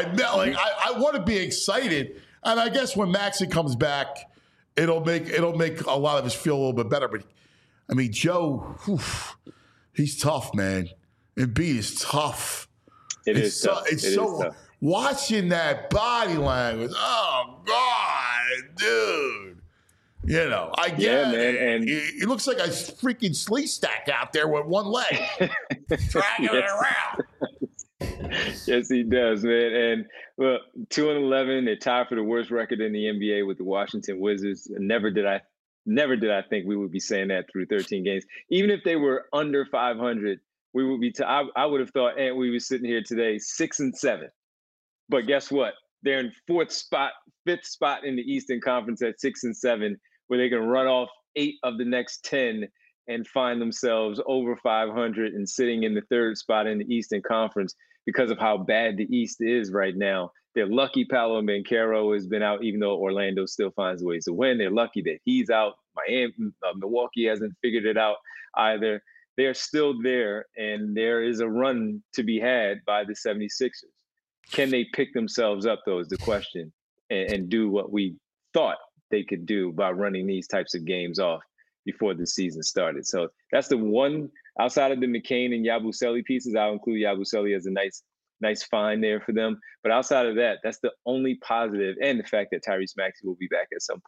[SPEAKER 2] I want to be excited, and I guess when Maxey comes back, it'll make a lot of us feel a little bit better. But I mean, Joe, he's tough, man. Embiid is tough.
[SPEAKER 9] It's tough.
[SPEAKER 2] It's so tough. Watching that body language. Oh God, dude. I get it. And he looks like a freaking slee stack out there with one leg, dragging it around.
[SPEAKER 9] Yes, he does, man. And look, 2-11, they're tied for the worst record in the NBA with the Washington Wizards. Never did I think we would be saying that through 13 games. Even if they were under 500, we would be. I would have thought, and we were sitting here today 6-7. But guess what? They're in fifth spot in the Eastern Conference at 6-7, where they can run off 8 of the next 10 and find themselves over 500 and sitting in the third spot in the Eastern Conference because of how bad the East is right now. They're lucky Paolo Banchero has been out, even though Orlando still finds ways to win. They're lucky that he's out. Milwaukee hasn't figured it out either. They're still there, and there is a run to be had by the 76ers. Can they pick themselves up, though, is the question, and do what we thought they could do by running these types of games off before the season started. So that's the one, outside of the McCain and Yabusele pieces. I'll include Yabusele as a nice find there for them. But outside of that, that's the only positive, and the fact that Tyrese Maxey will be back at some point.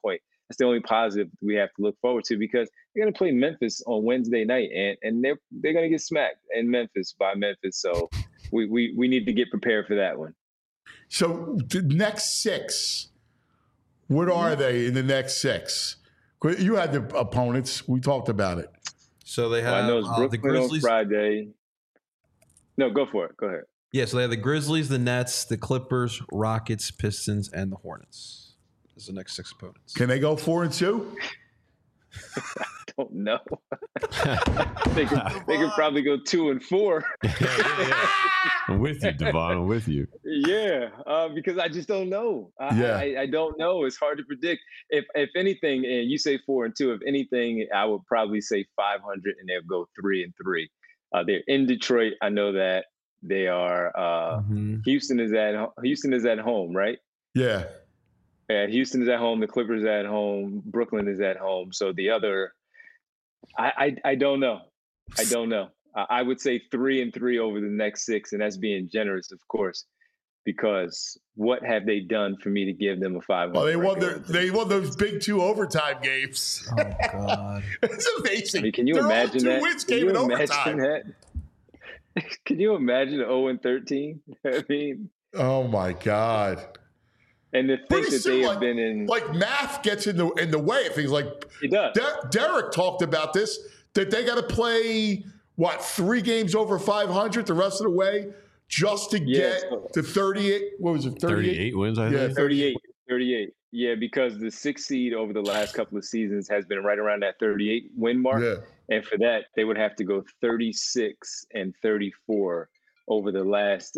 [SPEAKER 9] That's the only positive we have to look forward to, because they're going to play Memphis on Wednesday night, and they're going to get smacked in Memphis by Memphis. So we need to get prepared for that one.
[SPEAKER 2] So the next 6, what are they in the next 6? You had the opponents. We talked about it.
[SPEAKER 4] So they have
[SPEAKER 9] I know it's Brooklyn
[SPEAKER 4] the Grizzlies
[SPEAKER 9] on Friday. No, go for it. Go ahead.
[SPEAKER 4] Yeah, so they have the Grizzlies, the Nets, the Clippers, Rockets, Pistons, and the Hornets. Those are the next 6 opponents.
[SPEAKER 2] Can they go 4-2?
[SPEAKER 9] I don't know. they could probably go 2 and 4.
[SPEAKER 3] Yeah. I'm with you, Devon. I'm with you.
[SPEAKER 9] Yeah, because I just don't know. I don't know. It's hard to predict. If anything, and you say 4 and 2, if anything, I would probably say 500, and they'll go 3 and 3. They're in Detroit. I know that they are. Houston is at home, right?
[SPEAKER 2] Yeah.
[SPEAKER 9] And Houston is at home. The Clippers are at home. Brooklyn is at home. So the other, I don't know. I don't know. I would say 3 and 3 over the next 6, and that's being generous, of course, because what have they done for me to give them a 500?
[SPEAKER 2] Well, they won those big 2 overtime games.
[SPEAKER 4] Oh God,
[SPEAKER 2] it's amazing.
[SPEAKER 9] I mean, can you imagine that?
[SPEAKER 2] Wins came in overtime.
[SPEAKER 9] Can you imagine 0 and 13? I mean,
[SPEAKER 2] oh my God.
[SPEAKER 9] And the things that they have been in,
[SPEAKER 2] like math gets in the way of things. Like
[SPEAKER 9] it does.
[SPEAKER 2] Derek talked about this, that they got to play 3 games over 500 the rest of the way just to get to 38. What was it?
[SPEAKER 3] 38 wins, I think.
[SPEAKER 9] 38. Yeah, because the 6th seed over the last couple of seasons has been right around that 38 win mark. Yeah. And for that, they would have to go 36 and 34 over the last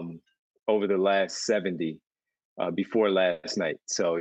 [SPEAKER 9] 70 before last night. So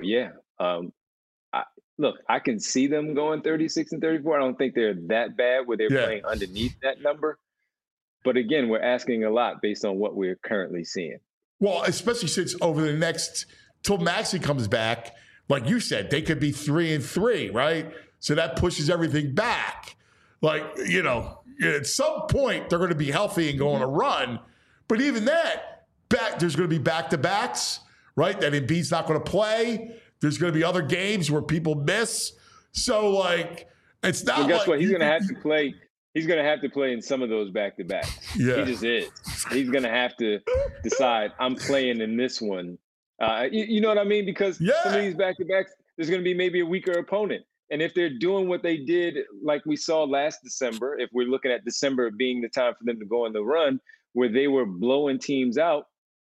[SPEAKER 9] I can see them going 36 and 34. I don't think they're that bad where they're playing underneath that number. But again, we're asking a lot based on what we're currently seeing.
[SPEAKER 2] Well, especially since over the next till Maxey comes back, like you said, they could be 3 and 3, right? So that pushes everything back. Like, at some point they're going to be healthy and go on a run. But even that, there's going to be back-to-backs, right? That Embiid's not going to play. There's going to be other games where people miss. So, it's not. Well,
[SPEAKER 9] guess what? He's going to have to play. He's going to have to play in some of those back-to-backs. Yeah. He just is. He's going to have to decide, I'm playing in this one. You know what I mean? Because some of these back-to-backs, there's going to be maybe a weaker opponent. And if they're doing what they did, like we saw last December, if we're looking at December being the time for them to go on the run, where they were blowing teams out,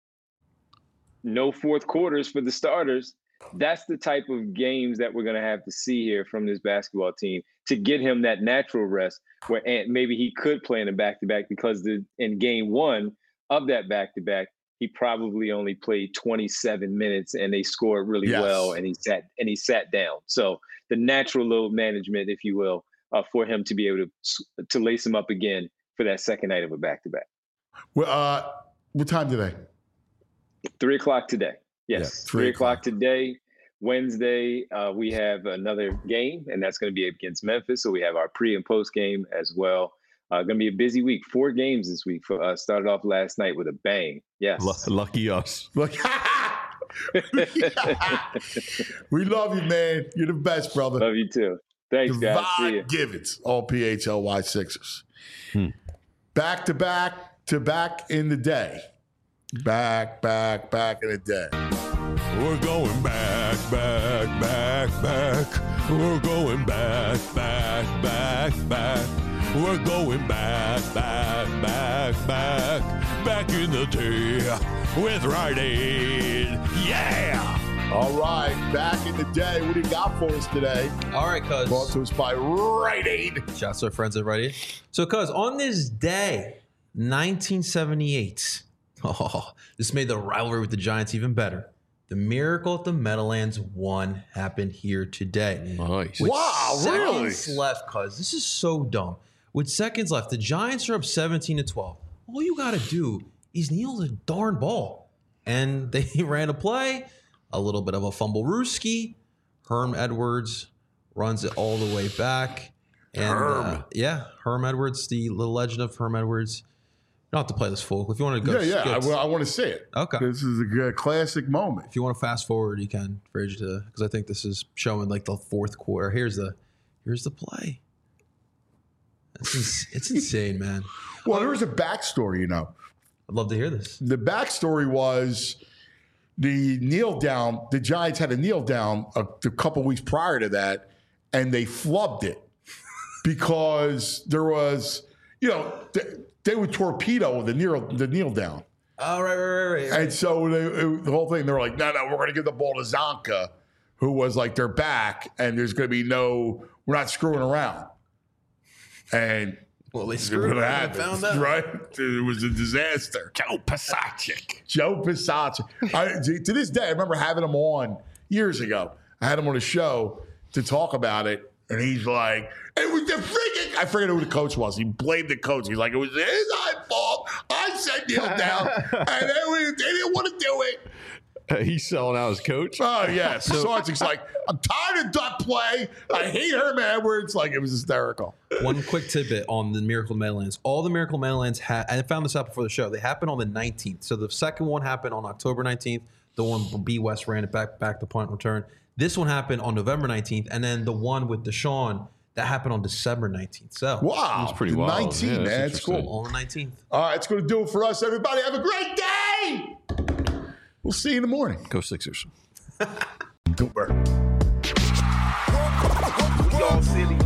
[SPEAKER 9] no fourth quarters for the starters, that's the type of games that we're going to have to see here from this basketball team to get him that natural rest where maybe he could play in a back-to-back, because in game 1 of that back-to-back, he probably only played 27 minutes and they scored really well, and he sat down. So the natural load management, if you will, for him to be able to lace him up again for that second night of a back-to-back.
[SPEAKER 2] Well, what time today?
[SPEAKER 9] 3 o'clock today. Yes, 3 o'clock today. Wednesday, we have another game, and that's going to be against Memphis. So we have our pre and post game as well. Going to be a busy week. 4 games this week for us. Started off last night with a bang. Yes.
[SPEAKER 3] Lucky us.
[SPEAKER 2] We love you, man. You're the best, brother.
[SPEAKER 9] Love you too. Thanks, guys. See you.
[SPEAKER 2] Givens, all PHLY Sixers. Back to back in the day. Back in the day.
[SPEAKER 1] We're going back. We're going back. We're going back in the day with Rite Aid. Yeah!
[SPEAKER 2] All right, back in the day. What do you got for us today?
[SPEAKER 4] All right, cuz.
[SPEAKER 2] Brought to us by Rite Aid.
[SPEAKER 4] Shouts to our friends at Rite Aid. So, cuz, on this day, 1978, this made the rivalry with the Giants even better. The Miracle at the Meadowlands 1 happened here today.
[SPEAKER 3] Nice.
[SPEAKER 2] Wow, really?
[SPEAKER 4] Seconds left, cuz. This is so dumb. With seconds left, the Giants are up 17-12. All you got to do is kneel the darn ball. And they ran a play, a little bit of a fumble rooski. Herm Edwards runs it all the way back. And Herm Edwards, the little legend of Herm Edwards, You don't have to play this full. If you want to go,
[SPEAKER 2] I want to see it.
[SPEAKER 4] Okay.
[SPEAKER 2] This is a classic moment.
[SPEAKER 4] If you want to fast forward, you can for age to, because I think this is showing like the fourth quarter. Here's the play. It's insane, man.
[SPEAKER 2] Well, there was a backstory,
[SPEAKER 4] I'd love to hear this.
[SPEAKER 2] The backstory was the kneel down. The Giants had a kneel down a couple weeks prior to that, and they flubbed it because there was, they would torpedo the kneel down.
[SPEAKER 4] Oh, right.
[SPEAKER 2] And so the whole thing, they were like, no, we're going to give the ball to Zonka, who was like their back, and there's going to be we're not screwing around. And
[SPEAKER 4] they screwed around and found out.
[SPEAKER 2] Right? It was a disaster. Joe Pisacek. To this day, I remember having him on years ago. I had him on a show to talk about it, and he's like, it was the freaking, I forget who the coach was. He blamed the coach. He's like, it was his fault. I said kneel down, and they didn't want to do it.
[SPEAKER 3] He's selling out his coach.
[SPEAKER 2] Oh, yeah. Sargent's like, I'm tired of duck play. I hate Herman Edwards. Like, it was hysterical.
[SPEAKER 4] One quick tidbit on the Miracle Meadowlands. All the Miracle Meadowlands I found this out before the show. They happened on the 19th. So the second one happened on October 19th. The one B West ran it back to punt return. This one happened on November 19th. And then the one with Deshaun, that happened on December 19th. So
[SPEAKER 2] wow.
[SPEAKER 3] That's pretty wild.
[SPEAKER 2] 19, man. It's cool.
[SPEAKER 4] On the 19th.
[SPEAKER 2] All right. It's going to do it for us, everybody. Have a great day. We'll see you in the morning.
[SPEAKER 3] Go Sixers.
[SPEAKER 2] Goober.
[SPEAKER 10] Y'all silly.